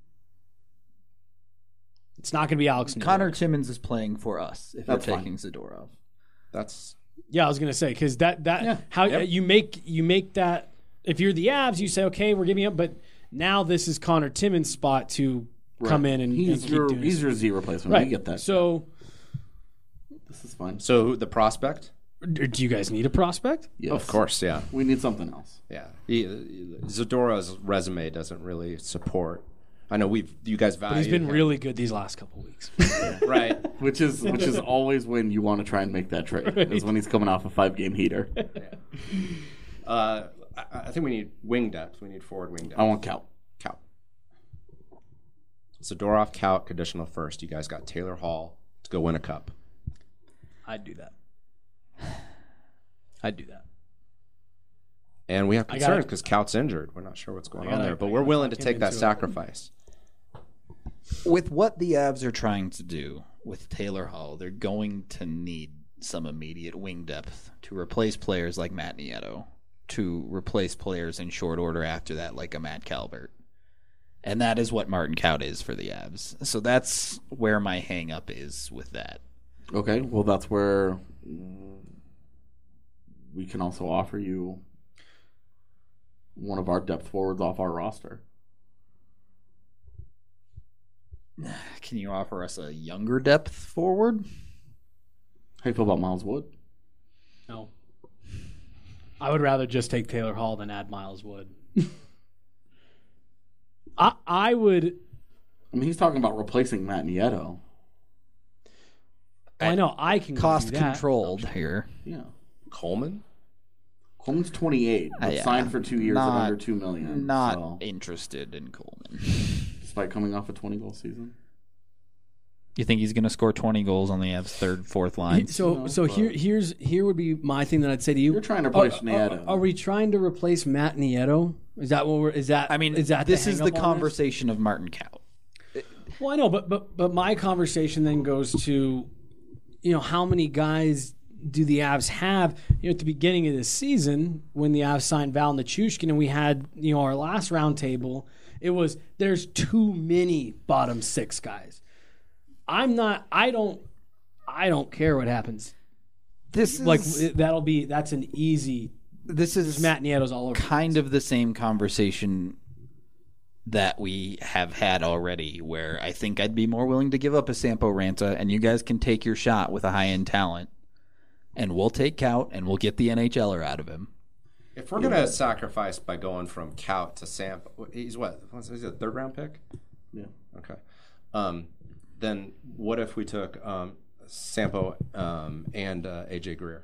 It's not going to be Alex Noah. Connor Timmins is playing for us if That's we're fine. taking Zadorov. That's Yeah, I was going to say because you make that if you're the Avs, you say okay, we're giving up, but now this is Connor Timmins' spot to come in and he's keep your doing he's his- your Z replacement. right. We get that. So, This is fine. so the prospect. do you guys need a prospect? Yes. Of course, yeah. We need something else. Yeah, Zadorov's resume doesn't really support. I know you guys value. But he's been him. really good these last couple weeks. right. Which is always when you want to try and make that trade. Is when he's coming off a 5-game heater. I think we need wing depth. We need forward wing depth. I want Kaut. Kaut. Zadorov, Kaut, conditional first. You guys got Taylor Hall to go win a cup. I'd do that. I'd do that. And we have I concerns gotta- because Kout's injured. We're not sure what's going on gotta- there, but I we're gotta willing to fucking take that into it. sacrifice. With what the Avs are trying to do with Taylor Hall, they're going to need some immediate wing depth to replace players like Matt Nieto, to replace players in short order after that like a Matt Calvert. And that is what Martin Kaut is for the Avs. So that's where my hang up is with that. Okay, well that's where we can also offer you one of our depth forwards off our roster. Can you offer us a younger depth forward? How do you feel about Miles Wood? No. I would rather just take Taylor Hall than add Miles Wood. I would. I mean, he's talking about replacing Matt Nieto. I know I can go Cost do that. controlled here. Yeah. Coleman? Coleman's 28, but Yeah. signed for 2 years at Not- under $2 million. Not so, interested in Coleman. despite coming off a 20-goal season. You think he's going to score 20 goals on the Avs' third, fourth line? So but- here would be my thing that I'd say to you. You're trying to replace Nieto. Are we trying to replace Matt Nieto? Is that what we're? Is that? I mean, is that this is the hang-up on this? conversation of Martin Kaut. Well, I know, but my conversation then goes to, how many guys do the Avs have? At the beginning of this season, when the Avs signed Val Nichushkin and we had our last round table, it was there's too many bottom six guys. I don't care what happens. This is That's an easy. this is Matt Nieto's all over. kind of the same conversation that we have had already, where I think I'd be more willing to give up a Sampo Ranta, and you guys can take your shot with a high-end talent, and we'll take Kaut, and we'll get the NHLer out of him. If we're going to sacrifice by going from Kaut to Sampo, he's what? Is he a third-round pick? Yeah. Okay. Then what if we took Sampo and AJ Greer?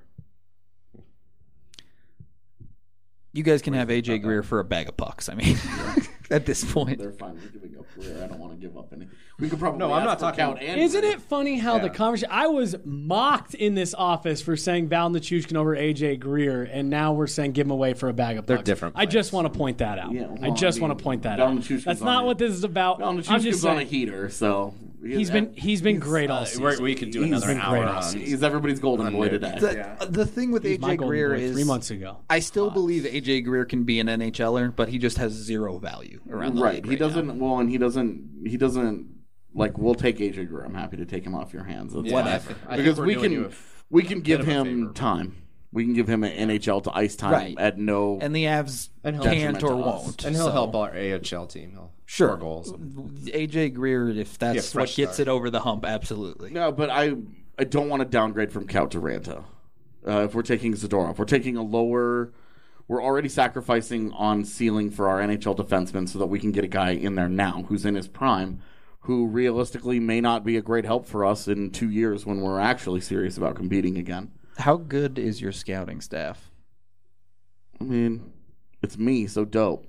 You guys can have AJ Greer for a bag of pucks. I mean, at this point. They're fine with giving up Greer. I don't want to give up any. We could probably No, I'm ask not for talking- Count and Isn't Greer. it funny how the conversation? I was mocked in this office for saying Val Nichushkin over AJ Greer, and now we're saying give him away for a bag of They're pucks. different I just players. want to point that out. Yeah, well, I just I mean, want to point that Val out. Nichushkin's That's on not it. what this is about. Well, I'm just Nichushkin's on a saying heater, so he's been great all season. We could do He's another been hour great all on. season. he's everybody's golden boy today. The thing with He's my AJ golden Greer boy is 3 months ago. I still believe AJ Greer can be an NHLer, but he just has zero value around the Right. league He right now. doesn't. Well, and he doesn't. Like, we'll take AJ Greer. I'm happy to take him off your hands. That's fine. I think Because we're we doing you can a we can give of a him favor. time. We can give him an NHL to ice time Right. at no. And the Avs And he'll can't or detriment to us. won't. And he'll so- help our AHL team. He'll Sure. score goals. AJ Greer, if that's what fresh gets start. it over the hump, absolutely. No, but I don't want to downgrade from Kaut to Ranta. If we're taking Zadorov, we're taking a lower. We're already sacrificing on ceiling for our NHL defensemen so that we can get a guy in there now who's in his prime, who realistically may not be a great help for us in 2 years when we're actually serious about competing again. How good is your scouting staff? I mean, it's me, so dope.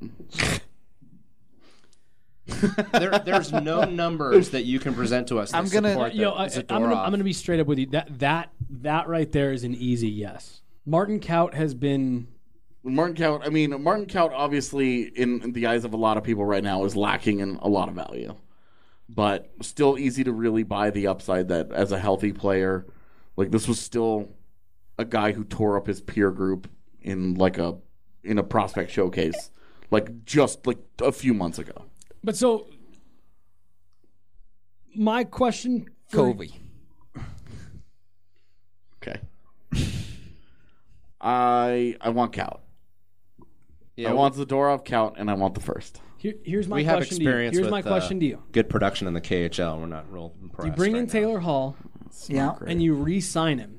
There's no numbers that you can present to us. That I'm gonna- support that I'm Zadorov- gonna be straight up with you. That right there is an easy yes. Martin Kaut has been. Martin Kaut obviously, in the eyes of a lot of people right now, is lacking in a lot of value. But still easy to really buy the upside that as a healthy player, like this was still a guy who tore up his peer group in a prospect showcase just like a few months ago. But so, my question for Covey. Okay. I want Count. Yeah, I want Zadorov, Count, and I want the first. here's my we have question to you. experience Here's with my question to you. good production in the KHL. We're not real impressed. You bring in right now. Taylor Hall Yeah. and you re-sign him.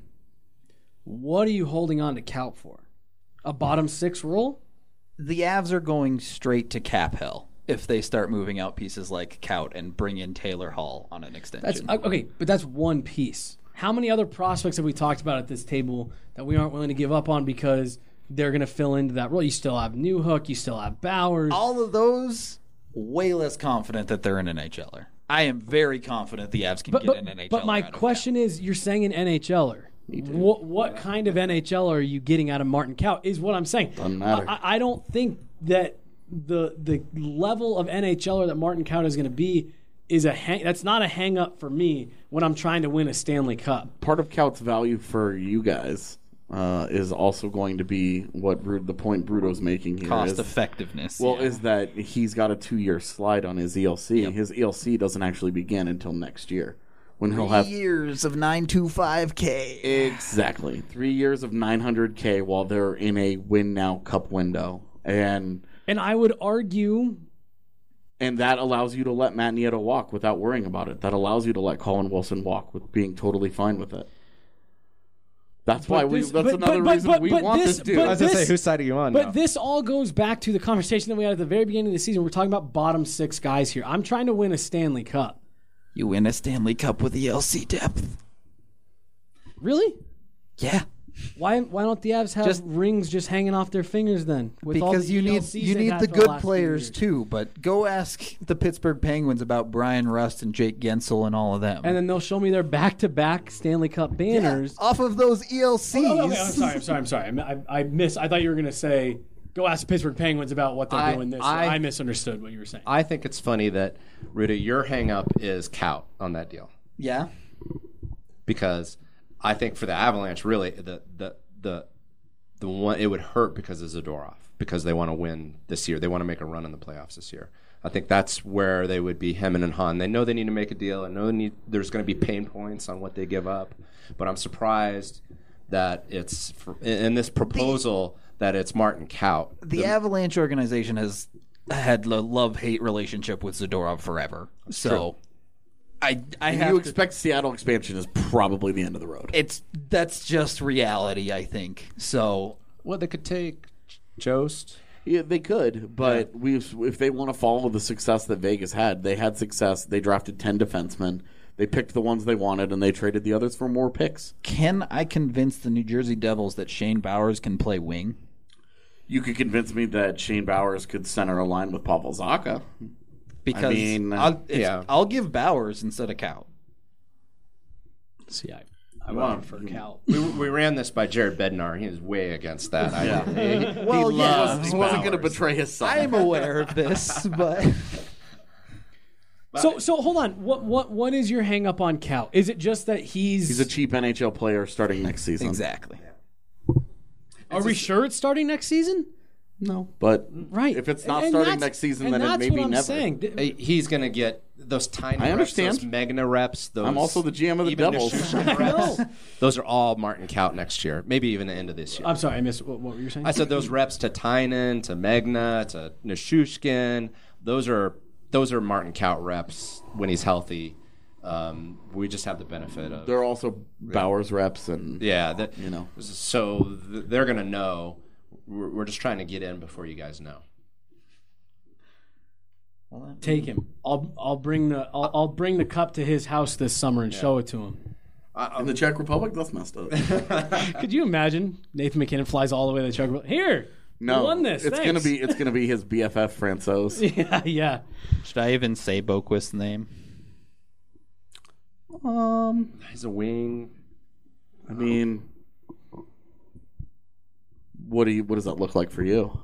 What are you holding on to Count for? A bottom 6 role? The Avs are going straight to cap hell if they start moving out pieces like Kaut and bring in Taylor Hall on an extension. That's okay, but that's one piece. How many other prospects have we talked about at this table that we aren't willing to give up on because they're going to fill into that role? You still have Newhook, you still have Bowers. All of those, way less confident that they're an NHLer. I am very confident the Avs can get an NHLer. But my out of question is, you're saying an NHLer. What kind of NHL are you getting out of Martin Kaut is what I'm saying. Doesn't matter. I don't think that the level of NHLer that Martin Kaut is going to be is that's not a hang up for me when I'm trying to win a Stanley Cup. Part of Count's value for you guys is also going to be the point Bruto's making here. cost is, effectiveness. Well, yeah. is that he's got a 2-year slide on his ELC. Yep. His ELC doesn't actually begin until next year, when he'll 3 have years of 925K. exactly 3 years of 900K while they're in a win now cup window, and I would argue that allows you to let Matt Nieto walk without worrying about it. That allows you to let Colin Wilson walk with being totally fine with it. That's why this- that's but- another but- reason but- we but want this- this dude. but I was going to this- say, whose side are you on But now? this all goes back to the conversation that we had at the very beginning of the season. We're talking about bottom 6 guys here. I'm trying to win a Stanley Cup. You win a Stanley Cup with ELC depth. Really? Yeah. Why don't the Avs have Just- rings just hanging off their fingers then? With all Because the you need ELCs you they've need had the for good last few players years. too. But go ask the Pittsburgh Penguins about Brian Rust and Jake Gensel and all of them. And then they'll show me their back-to-back Stanley Cup banners. off of those ELCs. Oh, okay, I'm sorry. I thought you were going to say, go ask the Pittsburgh Penguins about what they're doing this. I misunderstood what you were saying. I think it's funny that, Rudy, your hang up is Kaut on that deal. Yeah. Because I think for the Avalanche, really, the one it would hurt because of Zadorov, because they want to win this year. They want to make a run in the playoffs this year. I think that's where they would be hemming and hawing. They know they need to make a deal. I know there's going to be pain points on what they give up, but I'm surprised that it's in this proposal that it's Martin Kaut. The Avalanche organization has had a love-hate relationship with Zadorov forever. So I If have you to- expect Seattle expansion is probably the end of the road. that's just reality, I think. So Well, they could take Jost. Yeah, they could, but if they want to follow the success that Vegas had, they had success. They drafted 10 defensemen. They picked the ones they wanted, and they traded the others for more picks. can I convince the New Jersey Devils that Shane Bowers can play wing? You could convince me that Shane Bowers could center a line with Pavel Zacha. Because mean, I'll give Bowers instead of Cal. See, I want for Cal. We ran this by Jared Bednar. He was way against that. Well, yeah, He wasn't going to betray his son. I'm aware of this, but So hold on. What is your hang up on Cal? Is it just that He's a cheap NHL player starting next season. exactly. Are we sure it's starting next season? No, but Right. if it's not And starting that's- next season, and then it that's may what be I'm never. saying. He's going to get those tiny I understand. reps, those Magna reps. Those, I'm also the GM of the even Devils. Nichushkin I know. reps. Those are all Martin Kaut next year, maybe even the end of this year. I'm sorry, I missed what were you saying? I said those reps to Tynan, to Magna, to Nichushkin. Those are Martin Kaut reps when he's healthy. We just have the benefit of There are also Bowers reps and So they're going to know. We're just trying to get in before you guys know. Take him. I'll bring the cup to his house this summer and show it to him. in the Czech Republic. That's messed up. Could you imagine Nathan McKinnon flies all the way to the Czech Republic? Here, No, you won this. It's Thanks. gonna be his BFF Francois. yeah. Should I even say Boquist's name? He's a wing. I mean, what does that look like for you?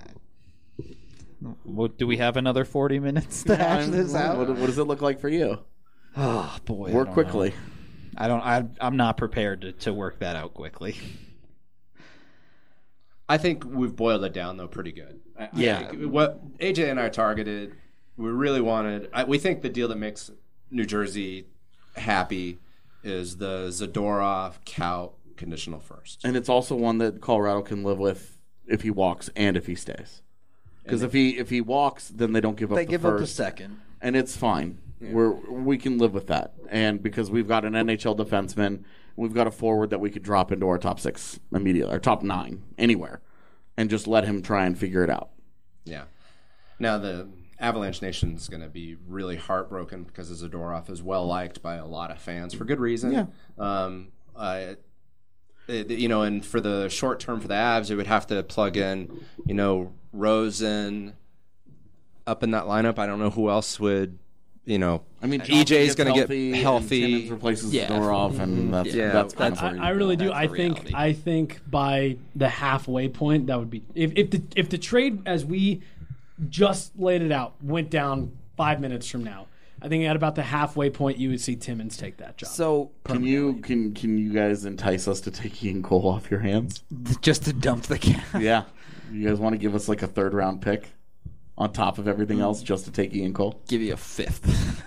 Do we have another 40 minutes to hash this out? What does it look like for you? Oh boy, Work quickly. I'm not prepared to work that out quickly. I think we've boiled it down though pretty good. Yeah. What AJ and I targeted, we really wanted. We think the deal that makes New Jersey happy is the Zadorov Kaut conditional first. And it's also one that Colorado can live with if he walks and if he stays. Because if he walks, then they don't give up. They the give first, up the second, and it's fine. Yeah. We can live with that, and because we've got an NHL defenseman, we've got a forward that we could drop into our top 6 immediately, our top 9 anywhere, and just let him try and figure it out. Yeah. Now the Avalanche Nation is going to be really heartbroken because Zadorov is well liked by a lot of fans for good reason. Yeah. And for the short term for the Avs, it would have to plug in, Rosen up in that lineup. I don't know who else would, I mean, EJ is going to get healthy. Timmins replaces Zadorov, and that's kind of where I really do. That's I think by the halfway point, that would be if the trade as we just laid it out went down 5 minutes from now. I think at about the halfway point, you would see Timmins take that job. So can you guys entice us to take Ian Cole off your hands? Just to dump the cap. Yeah, you guys want to give us like a 3rd round pick on top of everything else just to take Ian Cole? Give you a 5th.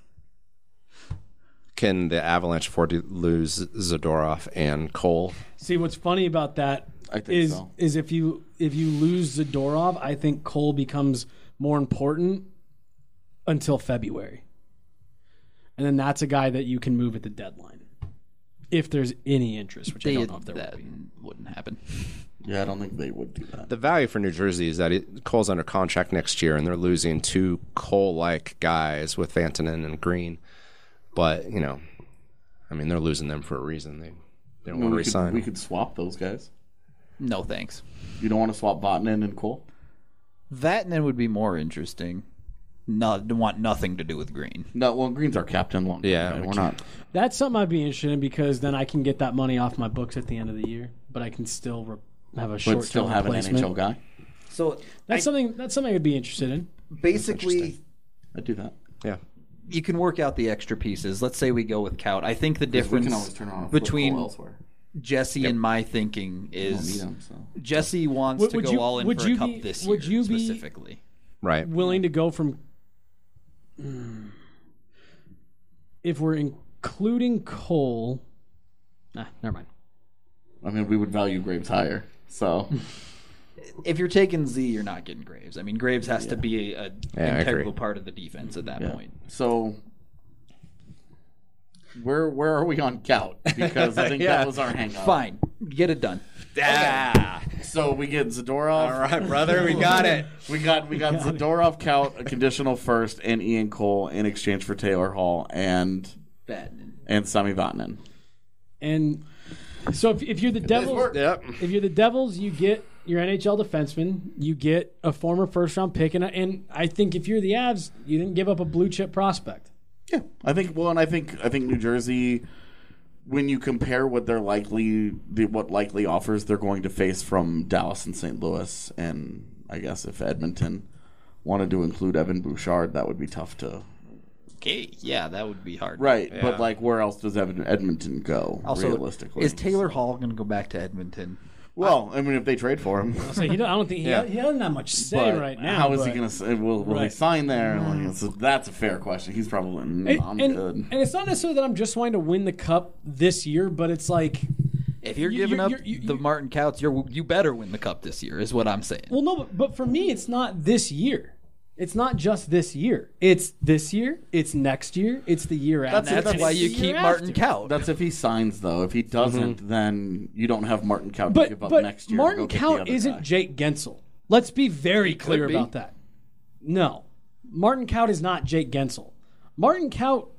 Can the Avalanche afford to lose Zadorov and Cole? See, what's funny about that is if you lose Zadorov, I think Cole becomes more important until February. And then that's a guy that you can move at the deadline. If there's any interest, which I don't know if there wouldn't happen. Yeah, I don't think they would do that. The value for New Jersey is that Cole's under contract next year, and they're losing 2 Cole-like guys with Vantanen and Green. But, they're losing them for a reason. They don't want to resign. We could swap those guys. No thanks. You don't want to swap Vatanen and Cole? Vatanen would be more interesting. Want nothing to do with Green. No, well, Green's our captain. We're not. That's something I'd be interested in because then I can get that money off my books at the end of the year, but I can still have a short-term But still have replacement. an NHL guy? So That's something I'd be interested in. Basically, I'd do that. Yeah. You can work out the extra pieces. Let's say we go with Kaut. I think the difference we can always turn on a between Cole elsewhere. Jesse and my thinking We don't is need him, so. Jesse wants to go all in for a cup this year would you be specifically. Right. willing to go from if we're including Cole never mind. I mean, we would value Graves higher, so. If you're taking Z, you're not getting Graves. I mean, Graves has to be an integral part of the defense at that point. So, where are we on Kaut? Because I think that was our hang-up. Fine. Get it done. Ah. So we get Zadorov. All right, brother, we got it. We got Zadorov, Kaut, a conditional first, and Ian Cole in exchange for Taylor Hall and Sami Vatanen. And so if you're the Devils, if you're the Devils, you get your NHL defenseman, you get a former first-round pick, and I think if you're the Avs, you didn't give up a blue-chip prospect. Yeah, I think New Jersey, when you compare what what likely offers they're going to face from Dallas and St. Louis, and I guess if Edmonton wanted to include Evan Bouchard, that would be tough to. Okay, yeah, that would be hard. Right, Yeah. but where else does Edmonton go? Also, realistically, is Taylor Hall going to go back to Edmonton? Well, I mean, if they trade for him, So I don't think he doesn't have much say but right now. how is but, he going to? Will he Right. sign there? Like, so that's a fair question. He's probably I'm good. And it's not necessarily that I'm just wanting to win the cup this year, but it's like If you're giving up the Martin Kauts, you better win the cup this year, is what I'm saying. well, no, but for me, it's not this year. It's not just this year. It's this year. It's next year. It's the year after. That's and why it's you the keep year Martin after. Kaut. That's if he signs, though. If he doesn't, then you don't have Martin Kaut to But give up but next year. Martin to go get the Kaut other isn't guy. Jake Gensel. Let's be very clear be. about that. No, Martin Kaut is not Jake Gensel. Martin Kaut,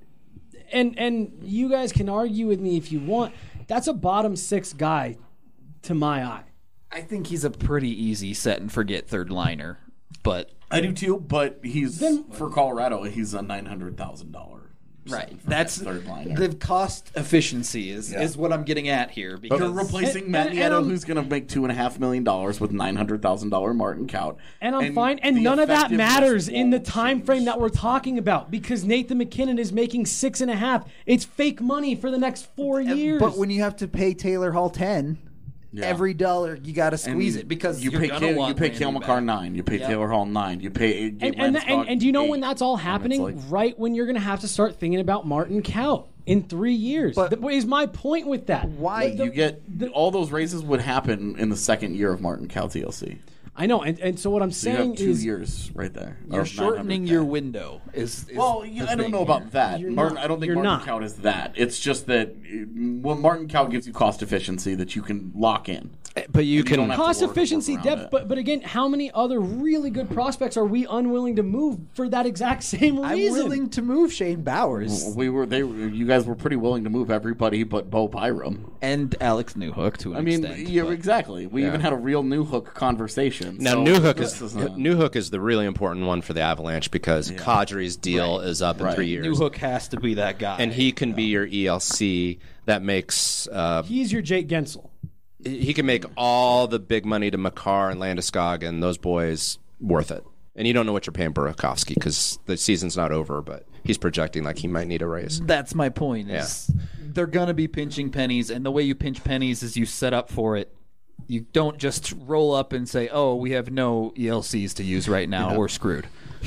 and you guys can argue with me if you want. That's a bottom 6 guy, to my eye. I think he's a pretty easy set and forget third liner, but I do too, but for Colorado, he's a $900,000. right. That's third liner. the cost efficiency is what I'm getting at here. Because You're replacing Matt Nieto, who's going to make $2.5 million with $900,000 Martin Kaut. And I'm fine. And the none of that effectiveness matters in the won't time frame change. that we're talking about because Nathan McKinnon is making 6.5. It's fake money for the next 4 years. But when you have to pay Taylor Hall 10, every dollar you got to squeeze it because you you're pay gonna want you pay Randy Cale back. McCarr 9, you pay Taylor Hall 9, you pay And do you know when that's all happening? like- Right when you're going to have to start thinking about Martin Kaut in 3 years. But- That is my point with that. Why? you get all those raises would happen in the second year of Martin Cout's ELC. I know, and so what I'm So you saying have 2 is years right there. You're of shortening 900K. your window. Is Well, the I don't thing know here. about that. You're Martin, not. I don't think You're Martin not. Kaut is that. It's just that when Martin Kaut gives you cost efficiency that you can lock in. But you don't can have to cost work efficiency, around depth, it. but again, how many other really good prospects are we unwilling to move for that exact same I'm reason? willing to move Shane Bowers You guys were pretty willing to move everybody but Bo Byram. and Alex Newhook to an I mean, extent. yeah, but- exactly. We even had a real Newhook conversation. Now, So Newhook this is isn't- Newhook is the really important one for the Avalanche because Kadri's deal is up in Right. 3 years, Newhook has to be that guy. and he can be your ELC. That makes He's your Jake Gensel. he can make all the big money to Makar and Landeskog and those boys worth it. And you don't know what you're paying Burakovsky because the season's not over, but he's projecting like he might need a raise. That's my point. Is they're gonna be pinching pennies, and the way you pinch pennies is you set up for it. You don't just roll up and say, "Oh, we have no ELCs to use right now. We're screwed."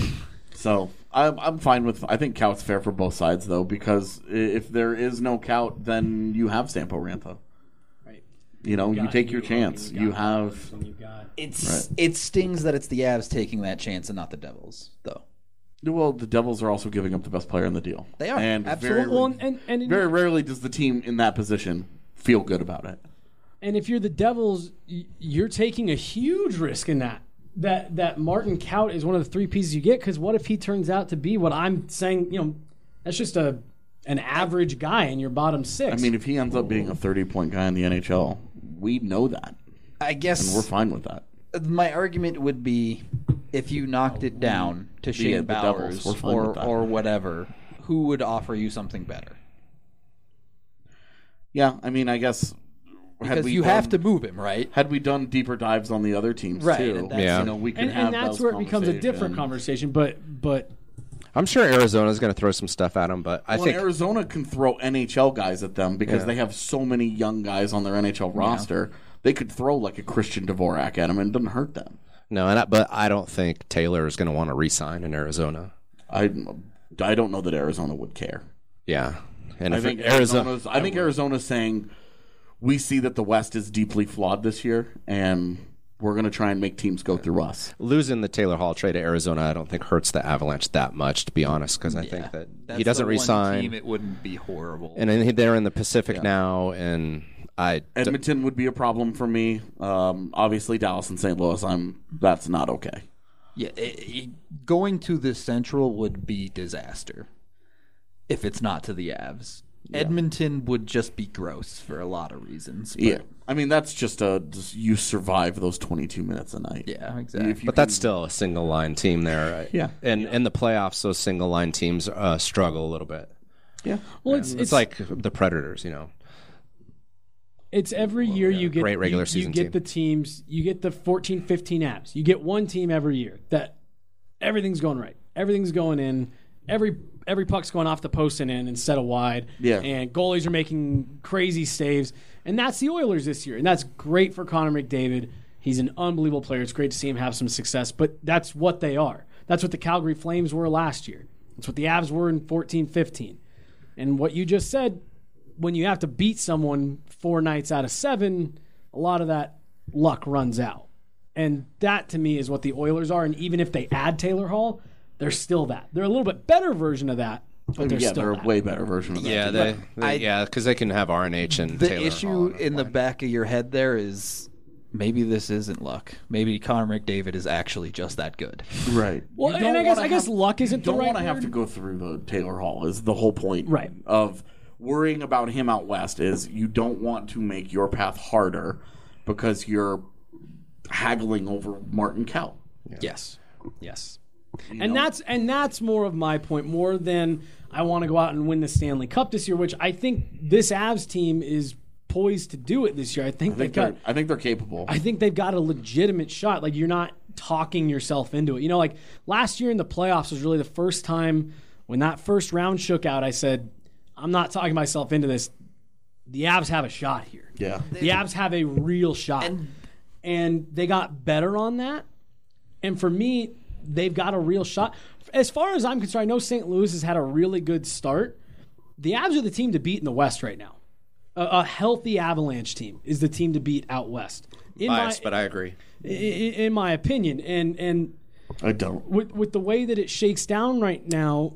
So I'm fine with. I think Cout's fair for both sides though, because if there is no Cout, then you have Sampo Ranta. Right. You know, you take your chance. You have. It stings that it's the Avs taking that chance and not the Devils, though. Well, the Devils are also giving up the best player in the deal. They are, and absolutely. Very, Well, and very rarely does the team in that position feel good about it. And if you're the Devils, you're taking a huge risk in that Martin Kaut is one of the 3 pieces you get. Because what if he turns out to be what I'm saying? You know, that's just an average guy in your bottom 6. I mean, if he ends up being a 30-point guy in the NHL, we know that, I and guess we're fine with that. my argument would be if you knocked it down to Shane the Devils, Bowers we're fine with that. or whatever, who would offer you something better? Yeah, I mean, I guess Because you have to move him, right? Had we done deeper dives on the other teams Right, too, and that's- Yeah. you know, we can have and that's those where it becomes a different conversations. conversation. But I'm sure Arizona's going to throw some stuff at him, but I Well, think Arizona can throw NHL guys at them because Yeah. they have so many young guys on their NHL roster. They could throw like a Christian Dvorak at them and it doesn't hurt them. no, but I don't think Taylor is going to want to re-sign in Arizona. I don't know that Arizona would care. Yeah, and I if think Arizona, Arizona's saying we see that the West is deeply flawed this year, and we're going to try and make teams go through us. losing the Taylor Hall trade to Arizona, I don't think hurts the Avalanche that much, to be honest, because I think that That's he doesn't the one re-sign, team, it wouldn't be horrible. and then they're in the Pacific now, and Edmonton would be a problem for me. Obviously, Dallas and St. Louis. That's not okay. Yeah, going to the Central would be disaster if it's not to the Avs. Edmonton would just be gross for a lot of reasons. But Yeah, I mean that's just you survive those 22 minutes a night. yeah, exactly. If you but that's still a single line team there. Right? Yeah. and in the playoffs, those single line teams struggle a little bit. yeah. well, It's like the Predators, you know. It's every year you get Great regular you season get team. the teams, you get the 14, 15 apps. You get one team every year that everything's going right. Everything's going in. Every puck's going off the post and in instead of wide. Yeah. And goalies are making crazy saves. And that's the Oilers this year. And that's great for Connor McDavid. He's an unbelievable player. It's great to see him have some success. But that's what they are. That's what the Calgary Flames were last year. That's what the Avs were in 14-15. And what you just said, when you have to beat someone 4 nights out of 7, a lot of that luck runs out. And that, to me, is what the Oilers are. And even if they add Taylor Hall, they're still that. They're a little bit better version of that, but they're still they're that. a way better version of that. Yeah, because they can have RNH and the Taylor issue Hall in the back of your head there is maybe this isn't luck. Maybe Connor McDavid is actually just that good. Right. Well, You and don't I guess wanna have- luck isn't the don't right want to have word. to go through the Taylor Hall is the whole point Right. of worrying about him out west is you don't want to make your path harder because you're haggling over Martin Kaut. Yes. And that's more of my point, more than I want to go out and win the Stanley Cup this year, which I think this Avs team is poised to do it this year. I think I think they're capable. I think they've got a legitimate shot. Like, you're not talking yourself into it. You know, like last year in the playoffs was really the first time when that first round shook out, I said, I'm not talking myself into this. the Avs have a shot here. Yeah. The Avs have a real shot. And they got better on that. And for me, they've got a real shot. As far as I'm concerned, I know St. Louis has had a really good start. The Avs are the team to beat in the West right now. A healthy Avalanche team is the team to beat out West. But I agree. In my opinion. And I don't. With the way that it shakes down right now,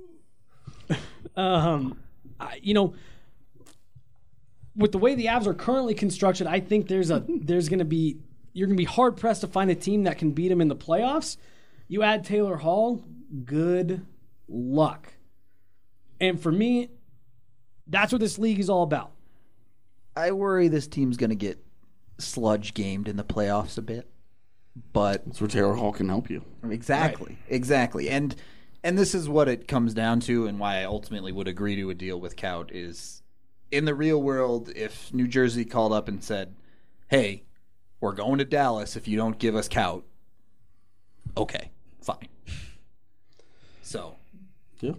with the way the Avs are currently constructed, I think you're going to be hard pressed to find a team that can beat them in the playoffs. You add Taylor Hall, good luck. And for me, that's what this league is all about. I worry this team's going to get sludge gamed in the playoffs a bit, but That's where Taylor Hall can help you. exactly. And this is what it comes down to, and why I ultimately would agree to a deal with Kaut is, in the real world, if New Jersey called up and said, "Hey, we're going to Dallas if you don't give us Kaut," okay, fine. So, Yeah.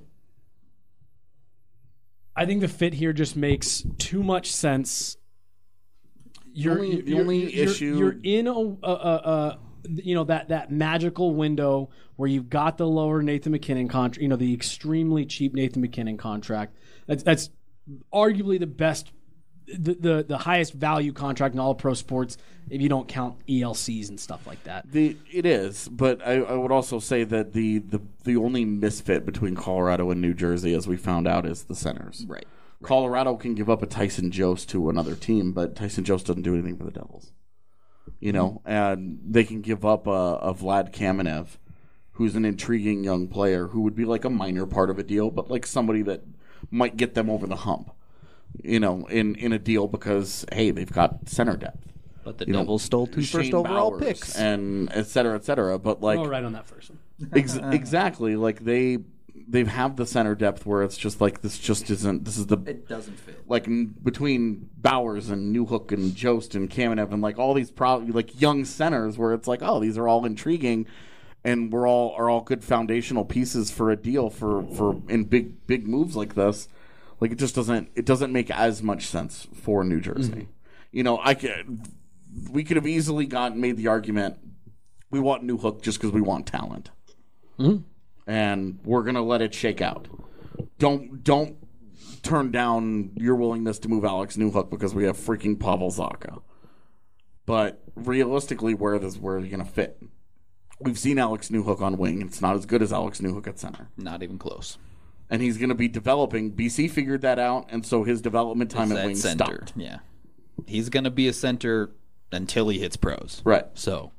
I think the fit here just makes too much sense. You're in that magical window where you've got the lower Nathan McKinnon contract, the extremely cheap Nathan McKinnon contract. That's arguably the best, the highest value contract in all of pro sports if you don't count ELCs and stuff like that. It is, but I would also say that the only misfit between Colorado and New Jersey, as we found out, is the centers. right. Colorado can give up a Tyson Jost to another team, but Tyson Jost doesn't do anything for the Devils. And they can give up a Vlad Kamenev, who's an intriguing young player who would be like a minor part of a deal, but like somebody that might get them over the hump, in a deal because, hey, they've got center depth. But the Devils stole 2 Shane first overall Bowers picks. and et cetera, but like Right on that first one. exactly, like they have the center depth where it's just like this just isn't. This is the It doesn't fit. like between Bowers and Newhook and Jost and Kamenev and like all these probably like young centers where it's like, oh, these are all intriguing and are all good foundational pieces for a deal for in big moves like this. Like it doesn't make as much sense for New Jersey. We could have easily made the argument we want Newhook just because we want talent. And we're gonna let it shake out. Don't turn down your willingness to move Alex Newhook because we have freaking Pavel Zacha. But realistically, where are you gonna fit? We've seen Alex Newhook on wing, and it's not as good as Alex Newhook at center. Not even close. And he's gonna be developing. BC figured that out, and so his development time at wing stopped. Yeah, he's gonna be a center until he hits pros. Right. So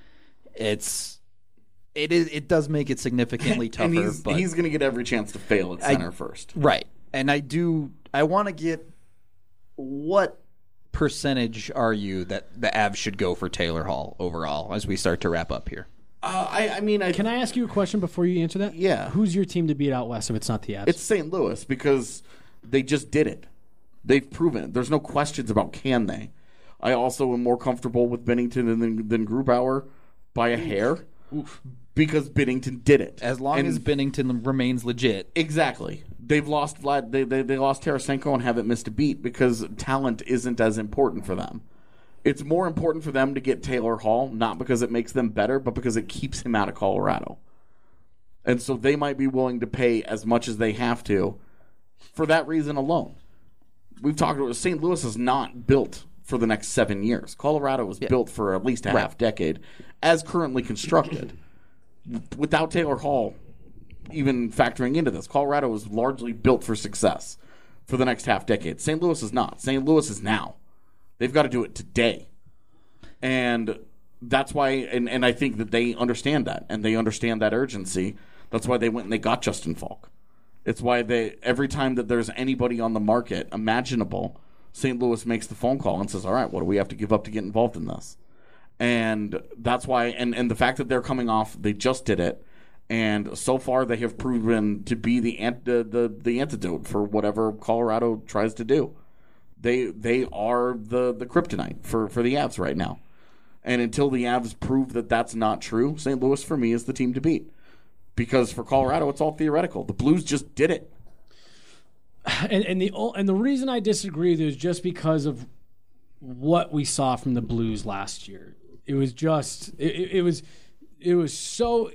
it does make it significantly tougher. And but he's going to get every chance to fail at center first. Right. And I want to get, what percentage are you that the Avs should go for Taylor Hall overall as we start to wrap up here? Can I ask you a question before you answer that? Yeah. Who's your team to beat out West if it's not the Avs? It's St. Louis because they just did it. They've proven it. There's no questions about can they. I also am more comfortable with Binnington than Grubauer by a hair. Because Binnington did it. As long as Binnington remains legit. Exactly. They've lost Vlad. They lost Tarasenko and haven't missed a beat because talent isn't as important for them. It's more important for them to get Taylor Hall, not because it makes them better, but because it keeps him out of Colorado. And so they might be willing to pay as much as they have to for that reason alone. We've talked about St. Louis is not built for the next 7 years. Colorado was built for at least a half decade as currently constructed. Without Taylor Hall even factoring into this, Colorado is largely built for success for the next half decade. St. Louis is not. St. Louis is now. They've got to do it today. And that's why, and I think that they understand that, and they understand that urgency. That's why they went and they got Justin Falk. It's why every time that there's anybody on the market imaginable, St. Louis makes the phone call and says, all right, what do we have to give up to get involved in this? And that's why, and the fact that they're coming off, they just did it, and so far they have proven to be the antidote for whatever Colorado tries to do. They are the kryptonite for the Avs right now. And until the Avs prove that that's not true, St. Louis for me is the team to beat. Because for Colorado, it's all theoretical. The Blues just did it. And the reason I disagree with you is just because of what we saw from the Blues last year. It was just it was so.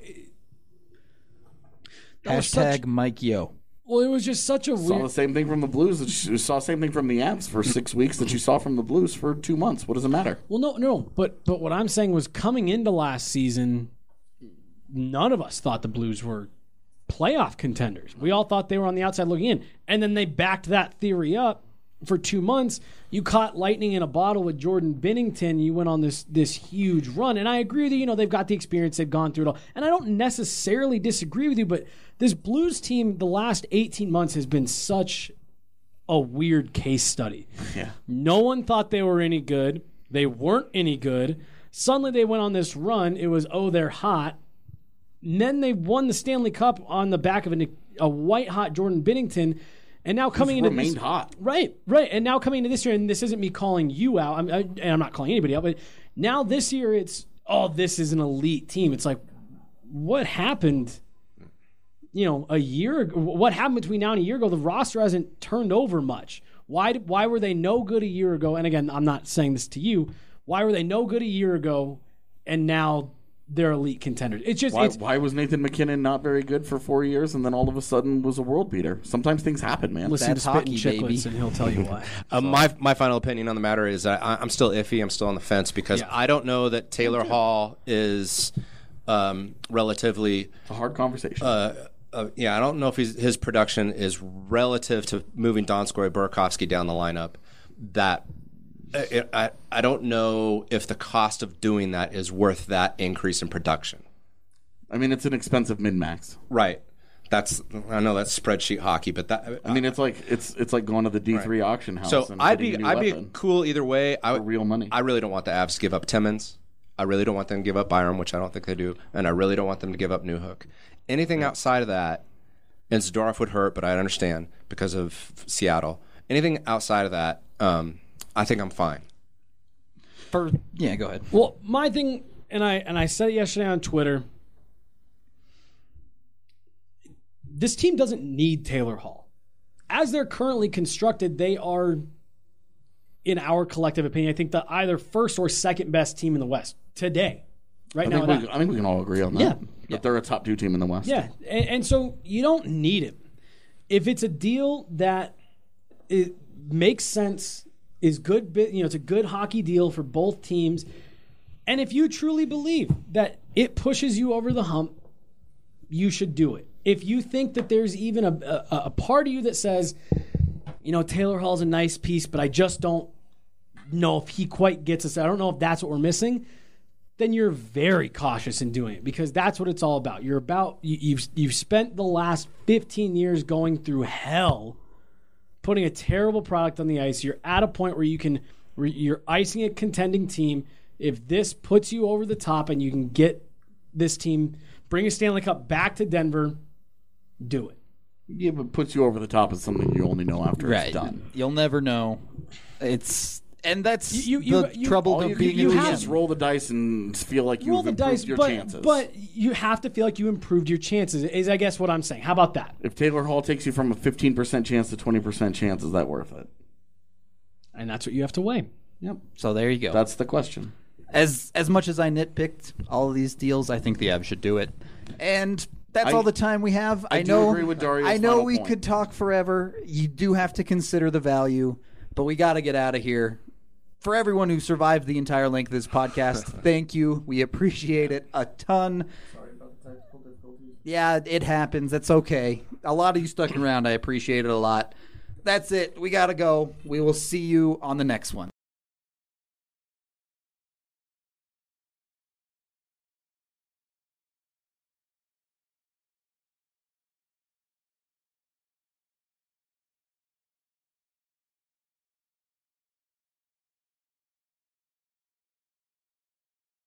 Hashtag Mike Yo. Well, it was just such a Saw weird. the same thing from the Blues. You saw the same thing from the Avs for 6 weeks that you saw from the Blues for 2 months. What does it matter? Well, no, but what I'm saying was coming into last season, none of us thought the Blues were playoff contenders. We all thought they were on the outside looking in, and then they backed that theory up for 2 months. You caught lightning in a bottle with Jordan Binnington. You went on this huge run, and I agree with you. They've got the experience. They've gone through it all, and I don't necessarily disagree with you. But this Blues team, the last 18 months has been such a weird case study. Yeah. No one thought they were any good. They weren't any good. Suddenly they went on this run. It was, they're hot. And then they won the Stanley Cup on the back of a white-hot Jordan Binnington. And now coming into remained hot. Right. And now coming into this year, and this isn't me calling you out, and I'm not calling anybody out, but now this year it's, this is an elite team. It's like, what happened, a year ago? What happened between now and a year ago? The roster hasn't turned over much. Why were they no good a year ago? And again, I'm not saying this to you. Why were they no good a year ago, and now they're elite contenders? It's just why was Nathan McKinnon not very good for 4 years and then all of a sudden was a world beater? Sometimes things happen, man. Listen That's to Spittin' hockey, baby. Chicklets, and he'll tell you why. My final opinion on the matter is I'm still iffy. I'm still on the fence because I don't know that Taylor Hall is relatively. It's a hard conversation. I don't know if his production is relative to moving Donskoy Burakovsky down the lineup. I don't know if the cost of doing that is worth that increase in production. I mean, it's an expensive min-max. Right. I know that's spreadsheet hockey, but that it's like going to the D3 auction house. So and I'd getting a new be weapon cool either way. for real money. I really don't want the Avs to give up Timmins. I really don't want them to give up Byram, which I don't think they do, and I really don't want them to give up Newhook. Anything outside of that, and Zadorov would hurt, but I understand because of Seattle. Anything outside of that, I think I'm fine. Go ahead. Well, my thing, and I said it yesterday on Twitter, this team doesn't need Taylor Hall. As they're currently constructed, they are, in our collective opinion, I think the either first or second best team in the West today. I think we can all agree on that. Yeah. But they're a top 2 team in the West. Yeah, and so you don't need him. If it's a deal that it makes sense, is good, it's a good hockey deal for both teams, and if you truly believe that it pushes you over the hump, you should do it. If you think that there's even a part of you that says, Taylor Hall's a nice piece, but I just don't know if he quite gets us. I don't know if that's what we're missing. Then you're very cautious in doing it because that's what it's all about. You've spent the last 15 years going through hell, putting a terrible product on the ice. You're at a point where you're icing a contending team. If this puts you over the top and you can get this team, bring a Stanley Cup back to Denver, do it. Yeah, but puts you over the top is something you only know after it's done. You'll never know. That's the trouble of being you a have GM. just roll the dice and feel like Roll you've the improved dice, your but, chances. but you have to feel like you improved your chances, is I guess what I'm saying. How about that? If Taylor Hall takes you from a 15% chance to 20% chance, is that worth it? And that's what you have to weigh. Yep. So there you go. That's the question. As much as I nitpicked all of these deals, I think the Avs should do it. And that's I- all the time we have. I do agree with Dario's I know final we point. could talk forever. You do have to consider the value, but we got to get out of here. For everyone who survived the entire length of this podcast, thank you. We appreciate it a ton. Sorry about the technical difficulties. Yeah, it happens. That's okay. A lot of you stuck around. I appreciate it a lot. That's it. We got to go. We will see you on the next one.